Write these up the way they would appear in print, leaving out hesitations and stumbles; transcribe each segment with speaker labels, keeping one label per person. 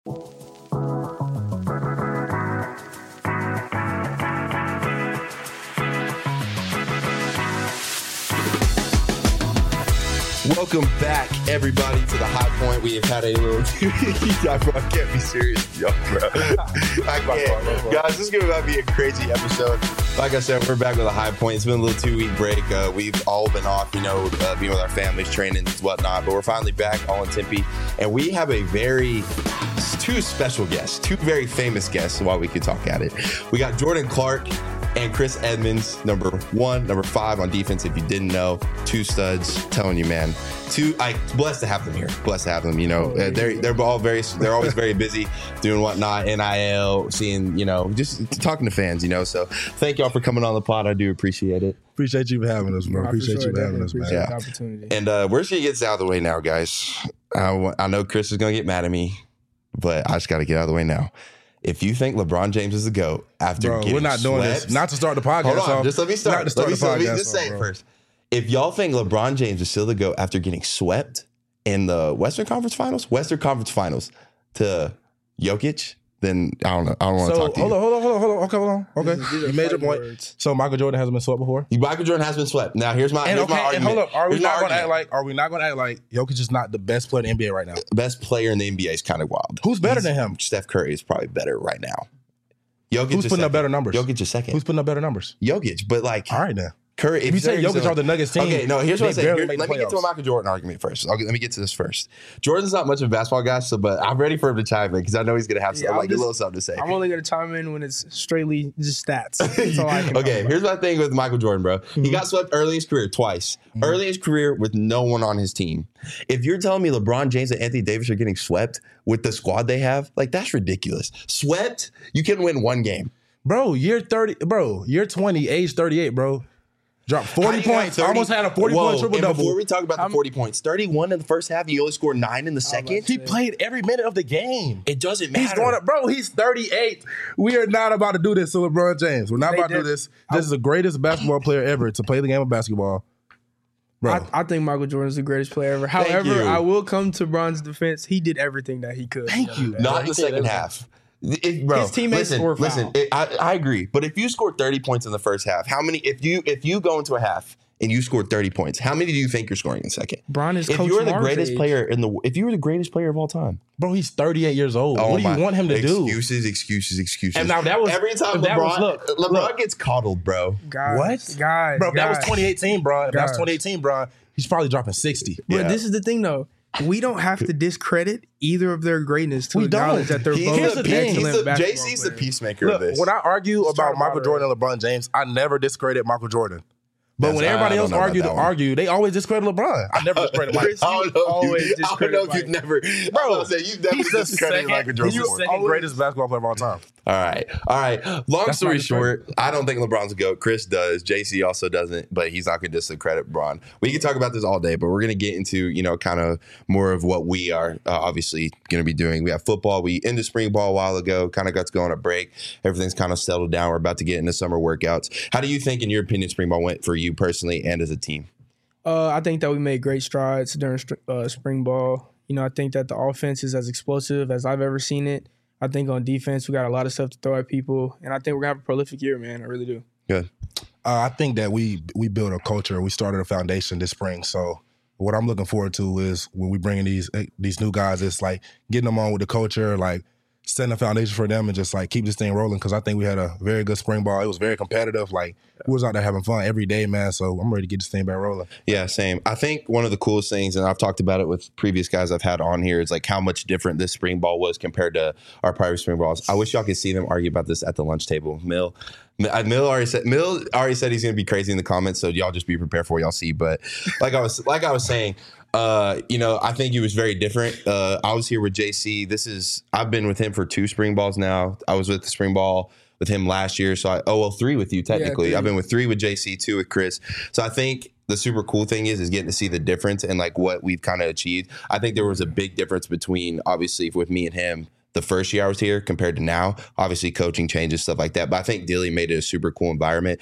Speaker 1: Welcome back, everybody, to the High Point. We have had a little... I can't be serious with y'all, bro. I can't. Guys, this is going to be a crazy episode. Like I said, we're back with a High Point. It's been a little 2-week break. We've all been off, being with our families, training and whatnot. But we're finally back, all in Tempe. And we have two special guests, two very famous guests while we could talk at it. We got Jordan Clark and Chris Edmonds, number 1, number 5 on defense. If you didn't know, 2 studs. Telling you, man. Blessed to have them here. Blessed to have them. They're always very busy doing whatnot, NIL, seeing, just talking to fans. So thank y'all for coming on the pod. I do appreciate it.
Speaker 2: Appreciate you for having us, bro. Appreciate you for having us, man.
Speaker 1: Yeah. The opportunity. And we're just gonna get this out of the way now, guys. I know Chris is gonna get mad at me, but I just got to get out of the way now. If you think LeBron James is the GOAT after getting
Speaker 2: we're not doing
Speaker 1: swept,
Speaker 2: this. Not to start the podcast.
Speaker 1: Hold on, just let me start. Let me just say
Speaker 2: it
Speaker 1: first. If y'all think LeBron James is still the GOAT after getting swept in the Western Conference Finals to Jokic, then I don't know. I don't want to talk to you.
Speaker 2: Hold on. Okay. You made your point. Words. So Michael Jordan hasn't been swept before?
Speaker 1: Michael Jordan has been swept. Now here's my argument.
Speaker 2: And hold up. Are we not going to act like Jokic is not the best player in the NBA right now?
Speaker 1: Best player in the NBA is kind of wild.
Speaker 2: Who's better than him?
Speaker 1: Steph Curry is probably better right now.
Speaker 2: Who's putting up better numbers?
Speaker 1: Jokic is second.
Speaker 2: Who's putting up better numbers?
Speaker 1: Jokic, but all
Speaker 2: right now.
Speaker 1: Curry.
Speaker 2: If you say Jokic are the Nuggets team,
Speaker 1: okay, no. Here's what I say. Let me get to a Michael Jordan argument first. Let me get to this first. Jordan's not much of a basketball guy, but I'm ready for him to chime in because I know he's gonna have a little something to say.
Speaker 3: I'm only gonna chime in when it's straightly just stats. That's all I can
Speaker 1: okay, here's my thing with Michael Jordan, bro. Mm-hmm. He got swept early in his career twice. Mm-hmm. Early in his career with no one on his team. If you're telling me LeBron James and Anthony Davis are getting swept with the squad they have, that's ridiculous. Swept? You can win one game.
Speaker 2: Bro, year 30, bro, year 20, age 38, bro. Dropped 40 points. Almost had a 40-point triple-double.
Speaker 1: Before we talk about the 40 points, 31 in the first half, you only scored 9 in the second.
Speaker 2: He played every minute of the game.
Speaker 1: It doesn't matter.
Speaker 2: He's going up, bro, he's 38. We are not about to do this to LeBron James. We're not about to do this. This is the greatest basketball player ever to play the game of basketball.
Speaker 3: Bro. I think Michael Jordan is the greatest player ever. However, I will come to Bron's defense. He did everything that he could.
Speaker 2: Thank you.
Speaker 1: Not in the second half.
Speaker 3: His teammates score foul.
Speaker 1: Listen, I agree. But if you scored 30 points in the first half, how many? If you go into a half and you scored 30 points, how many do you think you're scoring in second?
Speaker 3: Bron is
Speaker 1: if you were the greatest player if you were the greatest player of all time,
Speaker 2: bro, he's 38 years old. What do you want him to do?
Speaker 1: Excuses.
Speaker 2: And now that was
Speaker 1: every time LeBron gets coddled, bro.
Speaker 3: Guys,
Speaker 2: bro, that was 2018, bro. If that was 2018, bro, he's probably dropping 60.
Speaker 3: But this is the thing, though. We don't have to discredit either of their greatness to acknowledge that they're both excellent basketball players.
Speaker 1: JC's the peacemaker of this.
Speaker 2: When I argue about Michael Jordan and LeBron James, I never discredit Michael Jordan. But when everybody else argue, they always discredit LeBron. I never discredit Michael Jordan.
Speaker 1: I don't know if you've never, bro. You've never discredited Michael Jordan.
Speaker 2: He's the second greatest basketball player of all time.
Speaker 1: All right. Long story short, I don't think LeBron's a GOAT. Chris does. JC also doesn't, but he's not going to discredit LeBron. We can talk about this all day, but we're going to get into, kind of more of what we are obviously going to be doing. We have football. We ended spring ball a while ago, kind of got to go on a break. Everything's kind of settled down. We're about to get into summer workouts. How do you think, in your opinion, spring ball went for you personally and as a team?
Speaker 3: I think that we made great strides during spring ball. I think that the offense is as explosive as I've ever seen it. I think on defense, we got a lot of stuff to throw at people. And I think we're going to have a prolific year, man. I really do.
Speaker 1: Good.
Speaker 2: I think that we built a culture. We started a foundation this spring. So what I'm looking forward to is when we bring in these new guys, it's like getting them on with the culture, like setting a foundation for them and just keep this thing rolling, because I think we had a very good spring ball. It was very competitive. We was out there having fun every day, man. So I'm ready to get this thing back rolling.
Speaker 1: Yeah, same. I think one of the coolest things, and I've talked about it with previous guys I've had on here, is how much different this spring ball was compared to our prior spring balls. I wish y'all could see them argue about this at the lunch table. Mill already said he's going to be crazy in the comments, so y'all just be prepared for what y'all see. But like I was saying, I think he was very different. I was here with JC. I've been with him for 2 spring balls now. I was with the spring ball with him last year. So 3 with you technically. Yeah, I've been with 3 with JC, 2 with Chris. So I think the super cool thing is getting to see the difference and what we've kind of achieved. I think there was a big difference between, obviously, with me and him the first year I was here compared to now. Obviously, coaching changes, stuff like that. But I think Dilly made it a super cool environment.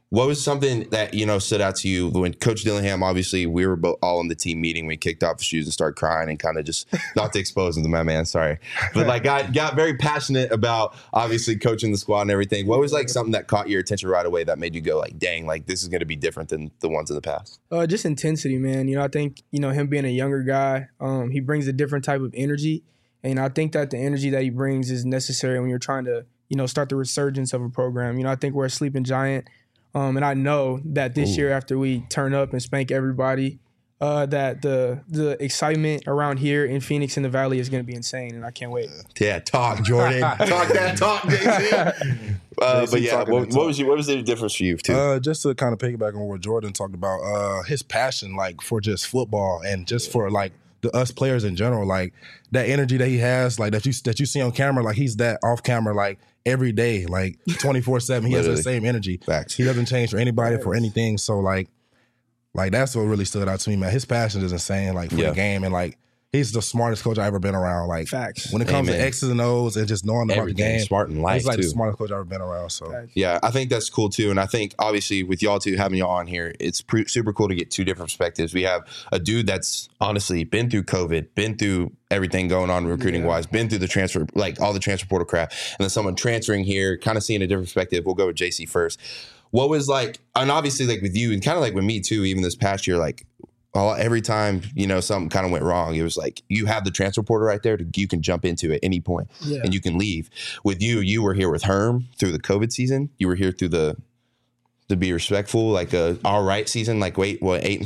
Speaker 1: What was something that, stood out to you when Coach Dillingham, obviously we were all in the team meeting when he kicked off his shoes and started crying and kind of just, not to expose him to my man, sorry. But like got very passionate about obviously coaching the squad and everything. What was like something that caught your attention right away that made you go like, dang, like this is going to be different than the ones in the past?
Speaker 3: Just intensity, man. I think, him being a younger guy, he brings a different type of energy. And I think that the energy that he brings is necessary when you're trying to, start the resurgence of a program. I think we're a sleeping giant. And I know that this year, after we turn up and spank everybody, that the excitement around here in Phoenix in the Valley is going to be insane, and I can't wait.
Speaker 1: Yeah, talk, Jordan. Talk that talk, JC. But yeah, what was the difference for you too?
Speaker 2: Just to kind of piggyback on what Jordan talked about, his passion, like for just football and just for like us players in general, like that energy that he has, like that you see on camera, like he's that off camera, like every day, like 24/7. He has the same energy.
Speaker 1: Facts.
Speaker 2: He doesn't change for anybody for anything. So like that's what really stood out to me, man. His passion is insane, like for the game, and like he's the smartest coach I've ever been around. Like
Speaker 3: facts.
Speaker 2: When it comes to X's and O's and just knowing about the game,
Speaker 1: smart in life.
Speaker 2: He's like
Speaker 1: too.
Speaker 2: the smartest coach I've ever been around. So
Speaker 3: Facts.
Speaker 1: Yeah, I think that's cool too. And I think obviously with y'all two having y'all on here, it's super cool to get two different perspectives. We have a dude that's honestly been through COVID, been through everything going on recruiting wise, been through the transfer, like all the transfer portal crap, and then someone transferring here, kind of seeing a different perspective. We'll go with JC first. What was like, and obviously like with you and kind of like with me too, even this past year, like every time, something kind of went wrong, it was like you have the transfer portal right there. You can jump into at any point and you can leave. With you were here with Herm through the COVID season. You were here through to be respectful, like a all right season, like 8-5,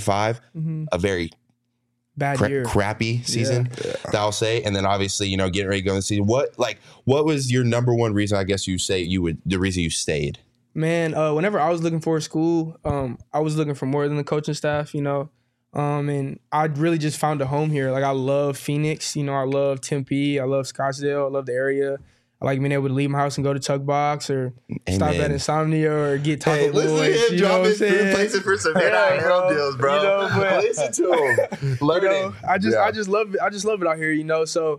Speaker 1: a very
Speaker 3: bad year,
Speaker 1: crappy season, that I'll say. And then obviously, getting ready to go in the season. What was your number one reason, I guess you say the reason you stayed?
Speaker 3: Man, whenever I was looking for a school, I was looking for more than the coaching staff, and I really just found a home here. Like I love Phoenix, I love Tempe, I love Scottsdale, I love the area. I like being able to leave my house and go to Tug Box or stop at Insomnia or get Taco Boys.
Speaker 1: Listen to him drop his places for some NIL deals, bro. Listen to him. Learning.
Speaker 3: I just love it. I just love it out here, So,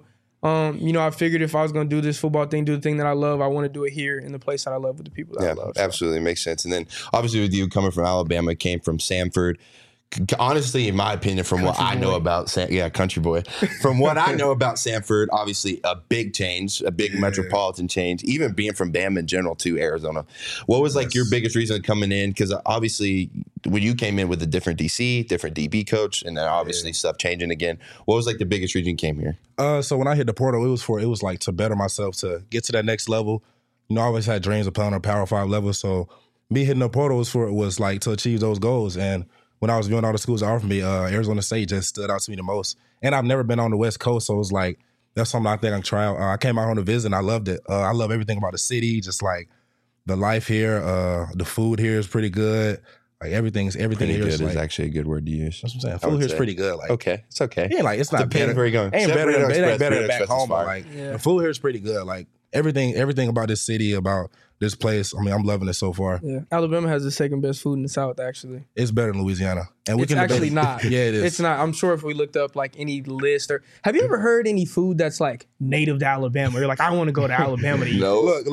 Speaker 3: I figured if I was going to do this football thing, do the thing that I love, I want to do it here in the place that I love with the people that I love. So.
Speaker 1: Absolutely. Makes sense. And then obviously with you coming from Alabama, came from Samford. Honestly, in my opinion, from what I know about country boy. From what I know about Samford, obviously a big change, a big metropolitan change. Even being from Bama in general to Arizona, what was like your biggest reason coming in? Because obviously, when you came in with a different DC, different DB coach, and then obviously stuff changing again. What was like the biggest reason you came here?
Speaker 2: So when I hit the portal, it was like to better myself, to get to that next level. I always had dreams of playing on a Power 5 level. So me hitting the portal was like to achieve those goals. And when I was viewing all the schools that offered me, Arizona State just stood out to me the most. And I've never been on the West Coast, so it was like, that's something I think I can try out. I came out on a visit, and I loved it. I love everything about the city, just like the life here. The food here is pretty good. Like everything here
Speaker 1: is like, actually a good word to use.
Speaker 2: That's what I'm saying. Food here is pretty good. Like,
Speaker 1: okay, it's okay.
Speaker 2: Yeah, like it's not better.
Speaker 1: Where you going?
Speaker 2: Ain't better than back home. But like the food here is pretty good. Like everything about this city, about this place. I'm loving it so far.
Speaker 3: Yeah, Alabama has the second best food in the South. Actually,
Speaker 2: it's better than Louisiana, and
Speaker 3: it's actually not.
Speaker 2: Yeah, it is.
Speaker 3: It's not. I'm sure if we looked up like any list, or have you ever heard any food that's like native to Alabama? You're like, I want to go to Alabama to eat.
Speaker 1: No,
Speaker 2: look.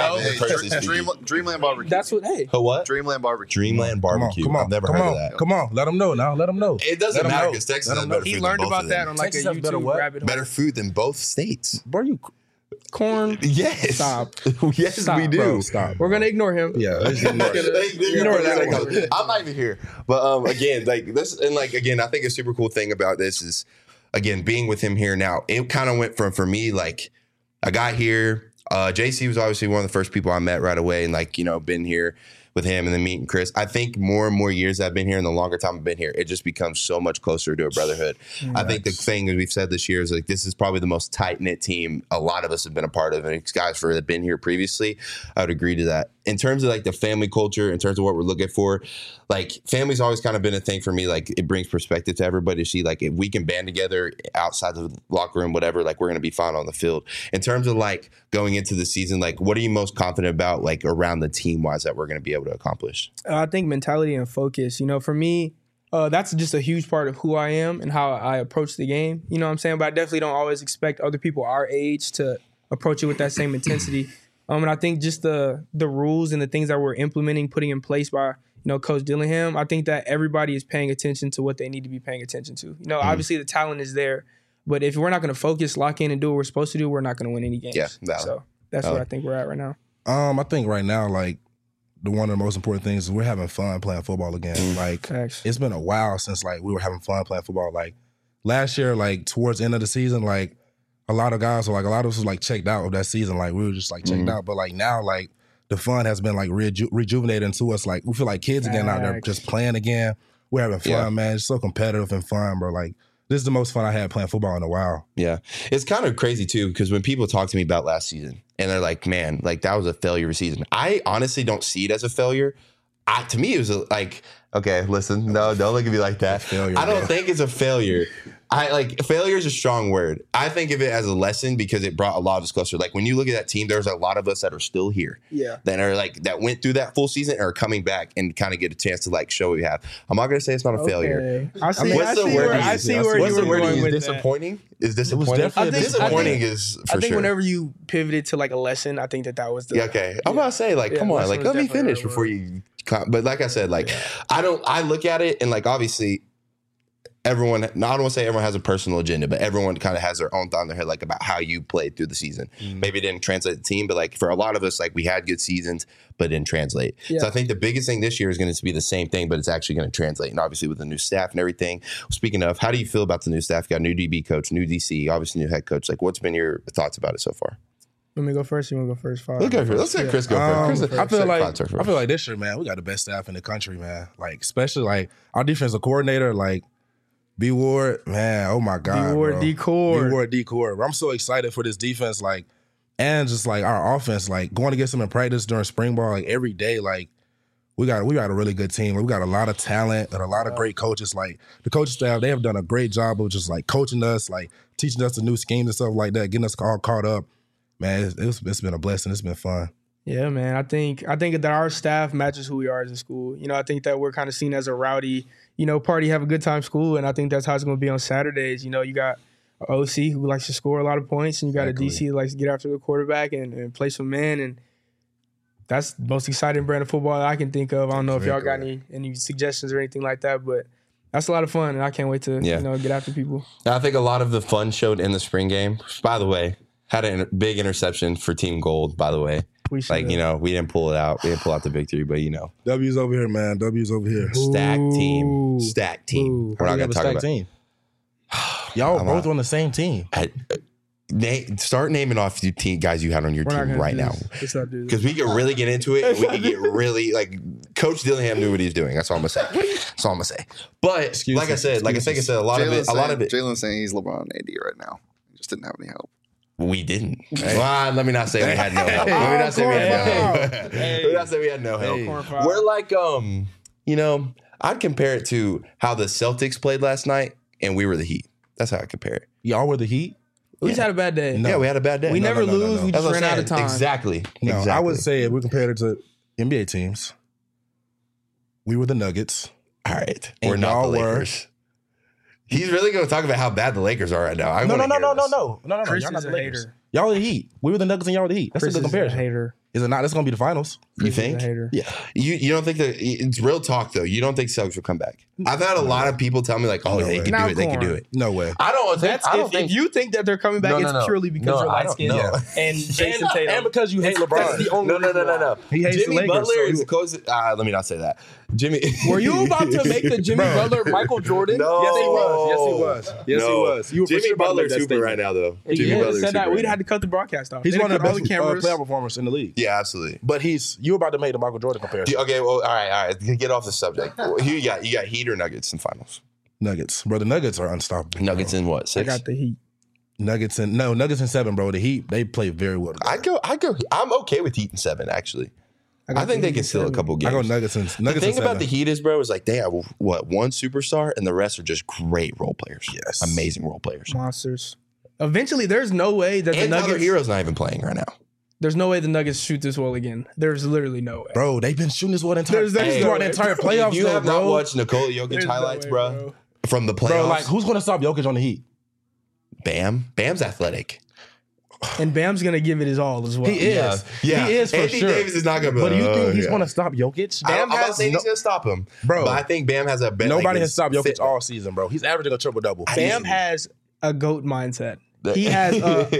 Speaker 4: Dreamland barbecue.
Speaker 3: That's what. Hey,
Speaker 1: what?
Speaker 4: Dreamland barbecue.
Speaker 1: Dreamland barbecue.
Speaker 2: Come on,
Speaker 1: I've never heard of that.
Speaker 2: Come on, let them know now. Let them know.
Speaker 1: It doesn't matter because Texas has better food.
Speaker 3: He learned
Speaker 1: than both
Speaker 3: about that on like
Speaker 2: Texas
Speaker 3: a
Speaker 2: has better
Speaker 3: YouTube
Speaker 2: what?
Speaker 3: rabbit hole.
Speaker 1: better food than both states.
Speaker 2: Bro, you
Speaker 3: Corn.
Speaker 1: Yes.
Speaker 3: Stop.
Speaker 1: Yes,
Speaker 3: Stop,
Speaker 1: we do.
Speaker 2: bro, stop.
Speaker 3: We're gonna ignore him.
Speaker 2: Yeah, let's ignore it.
Speaker 3: Ignore that one.
Speaker 1: I'm not even here. But again, like this, and like again, I think a super cool thing about this is again being with him here now. It kind of went from for me like I got here. JC was obviously one of the first people I met right away, and like been here with him, and then meeting Chris. I think more and more years I've been here, and the longer time I've been here, it just becomes so much closer to a brotherhood. I think the thing that we've said this year is like this is probably the most tight knit team a lot of us have been a part of, and guys that have been here previously, I would agree to that. In terms of like the family culture, in terms of what we're looking for, like family's always kind of been a thing for me. Like it brings perspective to everybody to see like if we can band together outside the locker room, whatever, like we're gonna be fine on the field. In terms of like going into the season, like what are you most confident about like around the team wise that we're gonna be able to accomplish?
Speaker 3: I think mentality and focus. For me, that's just a huge part of who I am and how I approach the game. You know what I'm saying? But I definitely don't always expect other people our age to approach it with that same intensity. And I think just the rules and the things that we're implementing, putting in place by Coach Dillingham, I think that everybody is paying attention to what they need to be paying attention to. Obviously the talent is there, but if we're not going to focus, lock in, and do what we're supposed to do, we're not going to win any games.
Speaker 1: Yeah, valid.
Speaker 3: So that's where I think we're at right now.
Speaker 2: I think right now, like, one of the most important things is we're having fun playing football again. Like, it's been a while since, like, we were having fun playing football. Like, last year, like, towards the end of the season, like, a lot of guys were, like, a lot of us was, like, checked out of that season. Like, we were just, like, checked out. But, like, now, like, the fun has been, like, rejuvenated to us. Like, we feel like kids again out there just playing again. We're having fun, man. It's so competitive and fun, bro. Like, this is the most fun I had playing football in a while.
Speaker 1: Yeah. It's kind of crazy, too, because when people talk to me about last season, and they're like, man, like, that was a failure season. I honestly don't see it as a failure. To me, it was like, okay, listen, no, don't look at me like that. I don't think it's a failure. Failure is a strong word. I think of it as a lesson because it brought a lot of us closer. Like, when you look at that team, there's a lot of us that are still here. Yeah. That went through that full season and are coming back and kind of get a chance to, like, show what we have. I'm not going to say it's not a failure.
Speaker 3: What's the word you use?
Speaker 1: Disappointing? Is disappointing?
Speaker 3: Disappointing
Speaker 1: is for sure.
Speaker 3: I think whenever you pivoted to, like, a lesson, I think that was the...
Speaker 1: Okay. I'm about to say, like, come on. Like, let me finish before you... But like I said, like, I look at it and, like, obviously... Everyone, I don't want to say everyone has a personal agenda, but everyone kind of has their own thought in their head, like, about how you played through the season. Maybe it didn't translate the team, but, like, for a lot of us, like, we had good seasons, but it didn't translate. Yeah. So I think the biggest thing this year is going to be the same thing, but it's actually going to translate. And obviously with the new staff and everything. Speaking of, how do you feel about the new staff? You got a new DB coach, new DC, obviously new head coach. Like, what's been your thoughts about it so far?
Speaker 3: Let me go first. You want to go first? Fine.
Speaker 1: Let's let Chris go first.
Speaker 2: I feel like this year, man, we got the best staff in the country, man. Like, especially, like, our defensive coordinator, like, B Ward, man, oh my God.
Speaker 3: B Ward
Speaker 2: D-Core. I'm so excited for this defense, like, and just like our offense, like, going against them in practice during spring ball, like, every day, like, we got a really good team. Like, we got a lot of talent and a lot of great coaches. Like, the coaching staff, they have done a great job of just, like, coaching us, like, teaching us the new schemes and stuff like that, getting us all caught up. Man, it's been a blessing. It's been fun.
Speaker 3: Yeah, man. I think that our staff matches who we are as a school. I think that we're kind of seen as a rowdy, party, have a good time school, and I think that's how it's going to be on Saturdays. You got an OC who likes to score a lot of points, and you got a DC who likes to get after the quarterback and play some man, and that's the most exciting brand of football that I can think of. I don't know if y'all got any suggestions or anything like that, but that's a lot of fun, and I can't wait to get after people.
Speaker 1: I think a lot of the fun showed in the spring game. By the way, had a big interception for Team Gold, by the way. We didn't pull it out. We didn't pull out the victory, but
Speaker 2: W's over here, man. W's over here.
Speaker 1: Stacked team. We're not going to talk about
Speaker 2: team. Y'all both on the same team.
Speaker 1: Start naming off the guys you had on your team right now. Because we can really get into it. And we can get really, like, Coach Dillingham knew what he was doing. That's all I'm going to say. But like I said, a lot of it.
Speaker 4: Jalen's saying he's LeBron and AD right now. He just didn't have any help.
Speaker 1: We didn't. Well, let me not say we had no help. Let me not say we had no help. We're like, I'd compare it to how the Celtics played last night, and we were the Heat. That's how I compare it.
Speaker 2: Y'all were the Heat?
Speaker 3: We just had a bad day.
Speaker 1: No. Yeah, we had a bad day.
Speaker 3: We never lose. We just ran out of time.
Speaker 1: Exactly.
Speaker 2: I would say if we compared it to NBA teams, we were the Nuggets.
Speaker 1: All right. We're not the Lakers. He's really going to talk about how bad the Lakers are right now. No.
Speaker 3: Chris
Speaker 2: y'all not
Speaker 3: is
Speaker 2: the
Speaker 3: a
Speaker 2: Lakers.
Speaker 3: hater.
Speaker 2: Y'all are the Heat. We were the Nuggets and y'all were the Heat. That's
Speaker 3: Chris
Speaker 2: a good comparison.
Speaker 3: Is a hater.
Speaker 2: Is it not? That's going to be the finals.
Speaker 1: You think?
Speaker 3: Yeah.
Speaker 1: You don't think that it's real talk though? You don't think Celtics will come back? I've had a lot of people tell me like, "Oh, they can do it. They can do it."
Speaker 2: No way.
Speaker 1: I don't think.
Speaker 3: If you think that they're coming back, it's purely because you're light skinned and Jason Tatum,
Speaker 2: and because you hate LeBron.
Speaker 3: That's the only
Speaker 1: no.
Speaker 2: He hates
Speaker 1: Jimmy
Speaker 2: the Lakers,
Speaker 1: Butler
Speaker 2: so
Speaker 1: is the closest. Let me not say that. Jimmy,
Speaker 3: were you about to make the Jimmy Butler Michael Jordan?
Speaker 1: No.
Speaker 2: Yes, he was. You were
Speaker 1: Jimmy Butler's super right now, though.
Speaker 3: Jimmy Butler's said that we'd had to cut the broadcast off.
Speaker 2: He's one of the best playoff performers in the league.
Speaker 1: Yeah, absolutely.
Speaker 2: But you were about to make the Michael Jordan comparison.
Speaker 1: Okay, well, all right. Get off the subject. Who you got? You got Heat or Nuggets in finals?
Speaker 2: Nuggets, bro. The Nuggets are unstoppable.
Speaker 1: Nuggets in what? 6?
Speaker 3: I got the Heat.
Speaker 2: Nuggets in 7, bro. The Heat, they play very well together.
Speaker 1: I go. I'm okay with Heat in 7, actually. I think they can steal a couple games.
Speaker 2: I go Nuggets in 7.
Speaker 1: The thing about the Heat is, bro, is like they have one superstar and the rest are just great role players.
Speaker 2: Yes,
Speaker 1: amazing role players,
Speaker 3: monsters. Eventually, there's no way that the Nuggets.
Speaker 1: Tyler Hero's not even playing right now.
Speaker 3: There's no way the Nuggets shoot this well again. There's literally no way.
Speaker 2: Bro, they've been shooting this well the entire playoffs.
Speaker 1: You have not watched Nikola Jokic highlights, bro, from the playoffs.
Speaker 2: Bro, like, who's going to stop Jokic on the Heat?
Speaker 1: Bam's athletic.
Speaker 3: And Bam's going to give it his all as well.
Speaker 2: He is.
Speaker 1: Yeah.
Speaker 2: He is for
Speaker 1: Anthony
Speaker 2: sure.
Speaker 1: Davis is not going to be
Speaker 2: But do you think he's
Speaker 1: yeah.
Speaker 2: going to stop Jokic?
Speaker 1: I'm not saying he's going to stop him.
Speaker 2: Bro.
Speaker 1: But I think Bam has a better...
Speaker 2: Nobody has stopped Jokic all season, bro. He's averaging a triple-double.
Speaker 3: Bam has a GOAT mindset. He has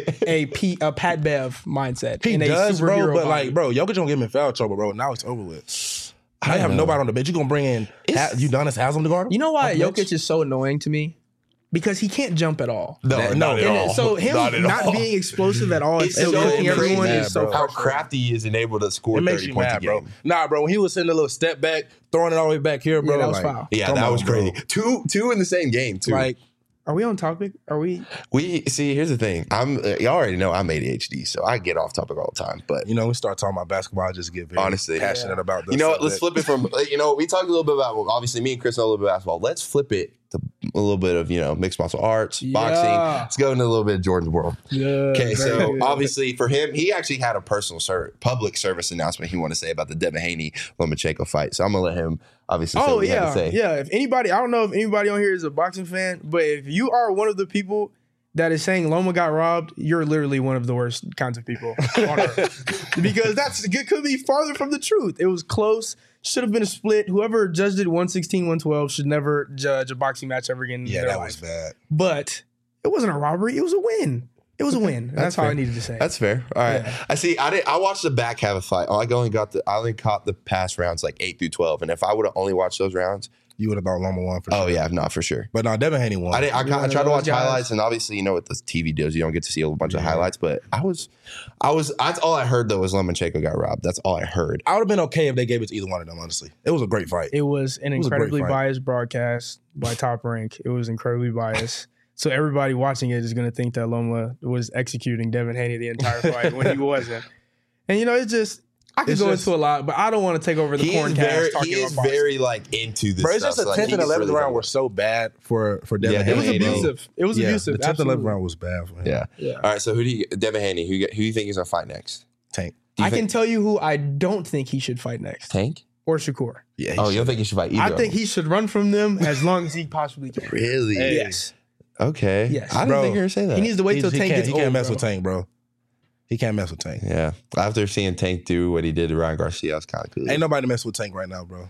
Speaker 3: a Pat Bev mindset.
Speaker 2: He
Speaker 3: and a
Speaker 2: does, bro.
Speaker 3: superhero
Speaker 2: But,
Speaker 3: body.
Speaker 2: like, bro, Jokic don't get him in foul trouble, bro. Now it's over with. I have nobody on the bench. You going to bring in Udonis Haslam to guard him?
Speaker 3: You know why
Speaker 2: Off the bench?
Speaker 3: Jokic is so annoying to me? Because he can't jump at all.
Speaker 1: No, not at all.
Speaker 3: So him not being explosive at all and
Speaker 1: It's
Speaker 3: still
Speaker 1: so
Speaker 3: cooking everyone
Speaker 1: crazy
Speaker 3: is so
Speaker 1: how crafty he is and able to score
Speaker 2: It makes
Speaker 1: 30
Speaker 2: you
Speaker 1: points
Speaker 2: mad,
Speaker 1: a
Speaker 2: bro.
Speaker 1: game.
Speaker 2: Nah, bro. When he was sitting a little step back, throwing it all the way back here, bro.
Speaker 3: that was
Speaker 2: like,
Speaker 3: foul.
Speaker 1: Yeah,
Speaker 2: come
Speaker 1: that
Speaker 2: on,
Speaker 1: was
Speaker 2: bro.
Speaker 1: crazy. Two in the same game, too.
Speaker 2: Like,
Speaker 3: Are we on topic? Are we?
Speaker 1: We see. Here's the thing. Y'all already know I'm ADHD, so I get off topic all the time. But
Speaker 2: you know, we start talking about basketball, I just get very
Speaker 1: Honestly,
Speaker 2: passionate about this.
Speaker 1: you know what? Let's
Speaker 2: subject.
Speaker 1: flip it from. You know, we talked a little bit about. Well, obviously, me and Chris know a little bit about basketball. Let's flip it to a little bit of mixed martial arts, boxing. Let's go into a little bit of Jordan's world.
Speaker 3: Yeah.
Speaker 1: Okay, so obviously for him, he actually had a personal public service announcement he wanted to say about the Devin Haney Lomachenko fight. So I'm gonna let him obviously say what he had to say.
Speaker 3: Yeah. If anybody, I don't know if anybody on here is a boxing fan, but if you are one of the people that is saying Loma got robbed, you're literally one of the worst kinds of people on earth. Because it could be farther from the truth. It was close. Should have been a split. Whoever judged it 116, 112 should never judge a boxing match ever again in
Speaker 2: Yeah,
Speaker 3: their
Speaker 2: that
Speaker 3: life.
Speaker 2: was bad.
Speaker 3: But it wasn't a robbery. It was a win. It was a win. That's all
Speaker 1: fair.
Speaker 3: I needed to say.
Speaker 1: That's fair. All right.
Speaker 3: Yeah.
Speaker 1: I see. I watched the back half of the fight. I only caught the past rounds like 8 through 12. And if I would have only watched those rounds,
Speaker 2: You would have thought Loma won for sure.
Speaker 1: oh yeah, no, for sure.
Speaker 2: But no, Devin Haney won.
Speaker 1: I
Speaker 3: You're one
Speaker 1: tried
Speaker 3: of
Speaker 1: to watch
Speaker 3: those guys.
Speaker 1: highlights, and obviously, you know what the TV does. You don't get to see a bunch of highlights. But I was. That's all I heard though was Lomachenko got robbed. That's all I heard.
Speaker 2: I would have been okay if they gave it to either one of them, honestly. It was a great fight.
Speaker 3: It was an
Speaker 2: was a great
Speaker 3: incredibly
Speaker 2: fight.
Speaker 3: biased broadcast by Top Rank. It was incredibly biased. So everybody watching it is going to think that Loma was executing Devin Haney the entire fight when he wasn't. And it's just I could go into a lot, but I don't want to take over the
Speaker 1: He is
Speaker 3: corncast talking
Speaker 1: very
Speaker 3: about boxing.
Speaker 1: like into this.
Speaker 2: Bro, it's
Speaker 1: stuff.
Speaker 2: just the 10th and 11th round were so bad for Devin
Speaker 1: Yeah,
Speaker 2: Haney.
Speaker 3: It was
Speaker 1: Haney.
Speaker 3: abusive. It was abusive.
Speaker 2: The 10th and 11th
Speaker 3: Absolutely.
Speaker 2: round was bad for him.
Speaker 1: Yeah.
Speaker 3: Yeah.
Speaker 1: All right. So Devin Haney? Who do you think he's gonna fight next?
Speaker 2: Tank.
Speaker 3: I can tell you who I don't think he should fight next.
Speaker 1: Tank.
Speaker 3: Or Shakur.
Speaker 2: Yeah.
Speaker 1: Oh, you don't think he should fight either?
Speaker 3: I think he should run from them as long as he possibly can.
Speaker 1: really.
Speaker 3: Yes.
Speaker 1: Okay.
Speaker 3: Yes.
Speaker 1: I didn't
Speaker 2: Bro,
Speaker 1: think you were saying that.
Speaker 3: He needs to wait till Tank gets
Speaker 2: He
Speaker 3: old,
Speaker 2: can't mess
Speaker 3: bro.
Speaker 2: with Tank, bro. He can't mess with Tank.
Speaker 1: Yeah. After seeing Tank do what he did to Ryan Garcia, I was kind of cool.
Speaker 2: Ain't nobody mess with Tank right now, bro.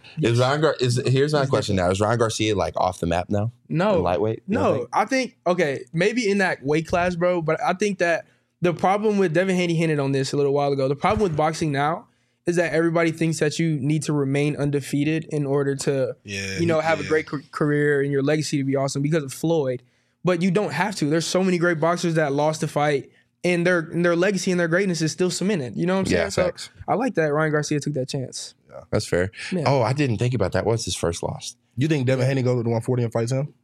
Speaker 1: Here's my question now. Is Ryan Garcia like off the map now?
Speaker 3: No.
Speaker 1: In lightweight? You don't
Speaker 3: No,
Speaker 1: think?
Speaker 3: I think, okay, maybe in that weight class, bro, but I think that the problem with Devin Haney hinted on this a little while ago. The problem with boxing now is that everybody thinks that you need to remain undefeated in order to, have a great career and your legacy to be awesome because of Floyd. But you don't have to. There's so many great boxers that lost the fight and their legacy and their greatness is still cemented. You know what I'm saying?
Speaker 1: Yeah, facts.
Speaker 3: So I like that Ryan Garcia took that chance.
Speaker 1: That's fair.
Speaker 3: Yeah.
Speaker 1: Oh, I didn't think about that. What's his first loss?
Speaker 2: You think Devin Haney goes to the 140 and fights him?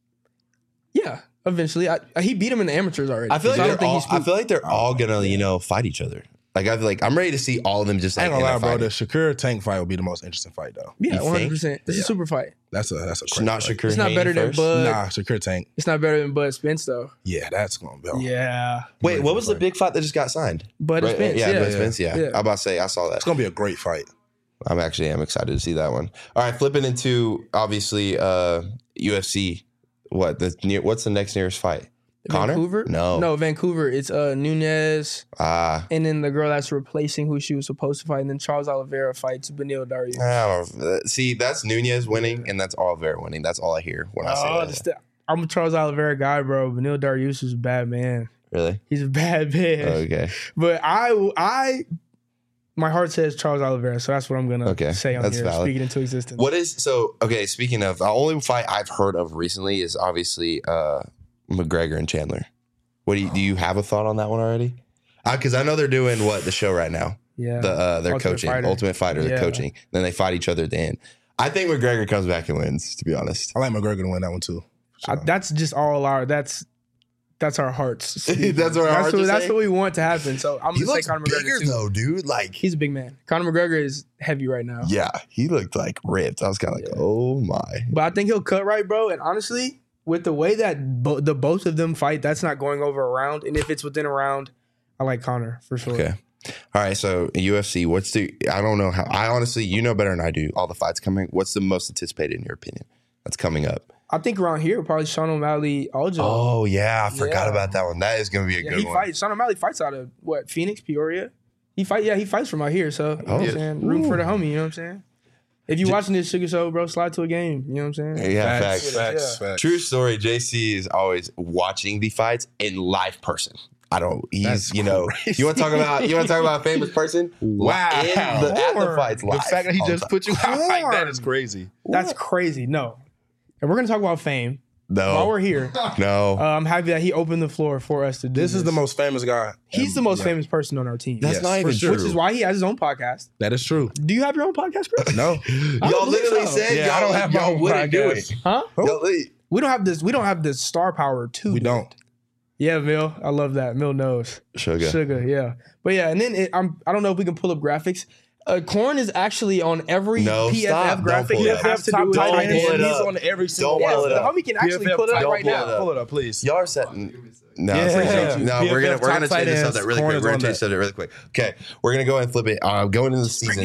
Speaker 3: Yeah, eventually. He beat him in the amateurs already.
Speaker 1: I feel like
Speaker 3: So
Speaker 1: they're
Speaker 3: don't think
Speaker 1: all.
Speaker 3: he's
Speaker 1: I feel like they're all gonna fight each other. Like I feel like I'm ready to see all of them just
Speaker 2: I
Speaker 1: like
Speaker 2: ain't gonna
Speaker 1: in
Speaker 2: lie,
Speaker 1: a
Speaker 2: bro. The
Speaker 1: fight.
Speaker 2: Shakur Tank fight will be the most interesting fight, though.
Speaker 3: Yeah,
Speaker 1: You think?
Speaker 3: 100%. It's a super fight.
Speaker 2: That's a crazy
Speaker 1: Not
Speaker 2: fight.
Speaker 1: Shakur.
Speaker 3: It's not
Speaker 1: Haney
Speaker 3: better than
Speaker 1: first?
Speaker 3: Bud.
Speaker 2: Nah, Shakur Tank.
Speaker 3: It's not better than Bud Spence, though.
Speaker 2: Yeah, that's gonna be.
Speaker 3: Yeah.
Speaker 1: Wait, what was the big fight that just got signed?
Speaker 3: Bud
Speaker 1: Right,
Speaker 3: Spence,
Speaker 1: yeah,
Speaker 3: yeah.
Speaker 1: Bud Spence. Yeah.
Speaker 3: Yeah.
Speaker 1: I'm about to say I saw that.
Speaker 2: It's gonna be a great fight.
Speaker 1: I'm excited to see that one. All right, flipping into obviously UFC. What's the next nearest fight? Connor?
Speaker 3: Vancouver?
Speaker 1: No.
Speaker 3: Vancouver. It's Nunez,
Speaker 1: Ah.
Speaker 3: and then the girl that's replacing who she was supposed to fight, and then Charles Oliveira fights Beneil Dariush.
Speaker 1: I don't know. See, that's Nunez winning, and that's Oliveira winning. That's all I hear when I say that.
Speaker 3: I'm a Charles Oliveira guy, bro. Beneil Dariush is a bad man.
Speaker 1: Really?
Speaker 3: He's a bad man.
Speaker 1: Okay.
Speaker 3: But my heart says Charles Oliveira, so that's what I'm gonna say on
Speaker 1: That's
Speaker 3: here,
Speaker 1: valid.
Speaker 3: speaking into existence.
Speaker 1: Speaking of, the only fight I've heard of recently is obviously McGregor and Chandler. Do you have a thought on that one already? Because I know they're doing the show right now.
Speaker 3: Yeah.
Speaker 1: Their
Speaker 3: Ultimate
Speaker 1: coaching,
Speaker 3: Fighter.
Speaker 1: Ultimate Fighter, they're
Speaker 3: Yeah.
Speaker 1: coaching. Then they fight each other at the end. I think McGregor comes back and wins, to be honest.
Speaker 2: I like McGregor to win that one too.
Speaker 3: That's just all that's our hearts.
Speaker 1: That's our hearts are
Speaker 3: That's
Speaker 1: saying?
Speaker 3: what we want to happen. So I'm
Speaker 1: He
Speaker 3: gonna say
Speaker 1: looks
Speaker 3: Conor
Speaker 1: bigger
Speaker 3: McGregor too.
Speaker 1: though, dude. Like,
Speaker 3: He's a big man. Conor McGregor is heavy right now.
Speaker 1: yeah, he looked like ripped. I was kind of like, oh my.
Speaker 3: But I think he'll cut right, bro. And honestly, with the way that both of them fight, that's not going over a round. And if it's within a round, I like Conor for sure.
Speaker 1: Okay. All right. So UFC, I don't know how. I honestly, you know better than I do. All the fights coming. What's the most anticipated in your opinion? That's coming up.
Speaker 3: I think around here, probably Sean O'Malley, Aljo.
Speaker 1: Oh, yeah. I forgot
Speaker 3: Yeah.
Speaker 1: about that one. That is going to be a
Speaker 3: Yeah,
Speaker 1: good
Speaker 3: he
Speaker 1: one.
Speaker 3: fights. Sean O'Malley fights out of what? Phoenix, Peoria. He fights from out here. So you know what I'm
Speaker 4: yeah.
Speaker 3: saying, room for the homie. You know what I'm saying. If you watching this Sugar Show, bro, slide to a game. You know what I'm saying.
Speaker 1: Yeah, facts.
Speaker 3: Yeah.
Speaker 1: True story. JC is always watching the fights in live person. He's,
Speaker 2: That's
Speaker 1: you know,
Speaker 2: crazy.
Speaker 1: you want to talk about a famous person?
Speaker 2: Wow.
Speaker 1: At the fights live.
Speaker 2: The fact that he
Speaker 1: all the
Speaker 2: just
Speaker 1: time.
Speaker 2: put you out like that is crazy.
Speaker 3: That's crazy. No, and we're gonna talk about fame
Speaker 1: No.
Speaker 3: while we're here.
Speaker 1: No.
Speaker 3: I'm happy that he opened the floor for us to do
Speaker 2: This is the most famous guy.
Speaker 3: He's the most famous person on our team.
Speaker 1: That's
Speaker 2: yes,
Speaker 1: not
Speaker 2: for
Speaker 1: even
Speaker 2: sure.
Speaker 1: true.
Speaker 3: Which is why he has his own podcast.
Speaker 2: That is true.
Speaker 3: Do you have your own podcast, Chris?
Speaker 2: No.
Speaker 1: Y'all literally said
Speaker 2: Yeah, I don't have my
Speaker 1: y'all
Speaker 2: own
Speaker 1: wouldn't do
Speaker 2: podcast.
Speaker 1: it.
Speaker 3: Huh?
Speaker 1: Y'all-
Speaker 3: We don't have this. We don't have the star power to.
Speaker 2: We
Speaker 3: do
Speaker 2: don't.
Speaker 3: it. Yeah, Mill. I love that. Mill knows. Sugar. Yeah. But yeah, and then I don't know if we can pull up graphics. Corn is actually on every
Speaker 1: No,
Speaker 3: PFF
Speaker 1: stop. Don't
Speaker 3: graphic
Speaker 1: pull it
Speaker 3: that
Speaker 1: up.
Speaker 3: has to do with
Speaker 1: Don't
Speaker 3: tight ends.
Speaker 1: pull it
Speaker 2: He's
Speaker 1: up.
Speaker 2: on every single
Speaker 1: Don't
Speaker 3: Yes,
Speaker 1: pull it
Speaker 3: the
Speaker 1: up.
Speaker 3: homie can actually
Speaker 2: PFF
Speaker 3: pull it up
Speaker 1: Don't
Speaker 3: right
Speaker 1: pull
Speaker 3: now.
Speaker 1: it up.
Speaker 2: Pull it up, please.
Speaker 1: Y'all are setting. No,
Speaker 2: Yeah.
Speaker 1: it's like, no, we're
Speaker 2: PFF
Speaker 1: gonna
Speaker 2: top
Speaker 1: change this
Speaker 2: tight
Speaker 1: subject really
Speaker 2: ends,
Speaker 1: quick. We're gonna
Speaker 2: corners on
Speaker 1: change the subject really quick. Okay, we're gonna go and flip it. Going into the season,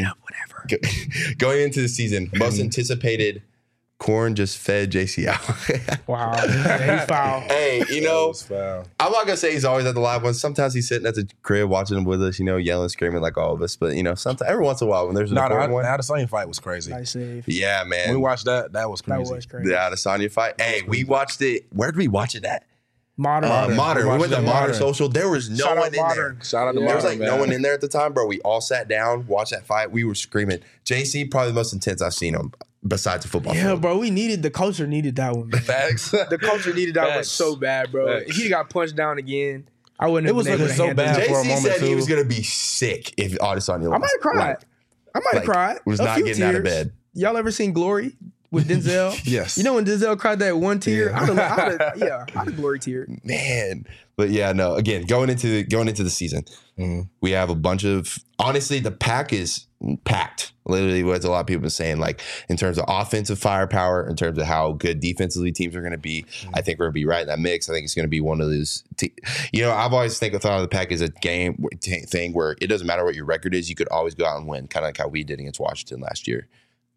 Speaker 1: going into the season, most anticipated. Corn just fed JC out.
Speaker 3: Wow. Yeah, he's foul.
Speaker 1: Hey, you know,
Speaker 2: was foul.
Speaker 1: I'm not gonna say he's always at the live ones. Sometimes he's sitting at the crib watching them with us, you know, yelling, screaming like all of us. But you know, sometimes every once in a while when there's an
Speaker 2: No,
Speaker 1: important one,
Speaker 2: the same fight was crazy.
Speaker 3: Nice save.
Speaker 1: yeah,
Speaker 2: When
Speaker 1: man.
Speaker 2: we watched that, that was
Speaker 3: That
Speaker 2: crazy.
Speaker 3: was crazy.
Speaker 1: The Adesanya fight. Hey, we watched it. Where did we watch it at?
Speaker 3: Modern.
Speaker 1: Modern. We
Speaker 2: watched
Speaker 1: went to
Speaker 2: it
Speaker 1: Modern
Speaker 2: Modern.
Speaker 1: Social. There was no
Speaker 3: Shout out
Speaker 1: one in
Speaker 3: Modern.
Speaker 1: there.
Speaker 2: Shout out to
Speaker 1: There was
Speaker 2: Martin,
Speaker 1: like no
Speaker 2: man.
Speaker 1: one in there at the time, bro. We all sat down, watched that fight. We were screaming. JC, probably the most intense I've seen him besides the football.
Speaker 3: Yeah,
Speaker 1: field.
Speaker 3: bro. The culture needed that one. Man.
Speaker 2: Facts.
Speaker 3: The culture needed that one
Speaker 2: Facts.
Speaker 3: so bad, bro.
Speaker 2: Facts.
Speaker 3: If he got punched down again, I wouldn't
Speaker 2: It
Speaker 3: have
Speaker 2: was
Speaker 3: been able
Speaker 2: looking
Speaker 3: to
Speaker 2: so
Speaker 3: handle
Speaker 2: bad
Speaker 3: it.
Speaker 2: for a
Speaker 1: JC
Speaker 2: moment,
Speaker 1: said he
Speaker 2: too.
Speaker 1: was gonna be sick if Adesanya lost.
Speaker 3: I might have cried.
Speaker 1: Like,
Speaker 3: I might have cried.
Speaker 1: was
Speaker 3: A
Speaker 1: not
Speaker 3: few
Speaker 1: getting out of
Speaker 3: tears.
Speaker 1: bed.
Speaker 3: Y'all ever seen Glory with Denzel?
Speaker 2: Yes.
Speaker 3: You know when Denzel cried that one tear?
Speaker 2: Yeah.
Speaker 3: I'd have Glory tear.
Speaker 1: Man, but yeah, no. Again, going into the season, we have a bunch of. Honestly, the pack is packed. Literally, what a lot of people are saying, like in terms of offensive firepower, in terms of how good defensively teams are going to be. I think we're going to be right in that mix. I think it's going to be one of those. You know, I've always thought of the pack as a game thing where it doesn't matter what your record is, you could always go out and win, kind of like how we did against Washington last year.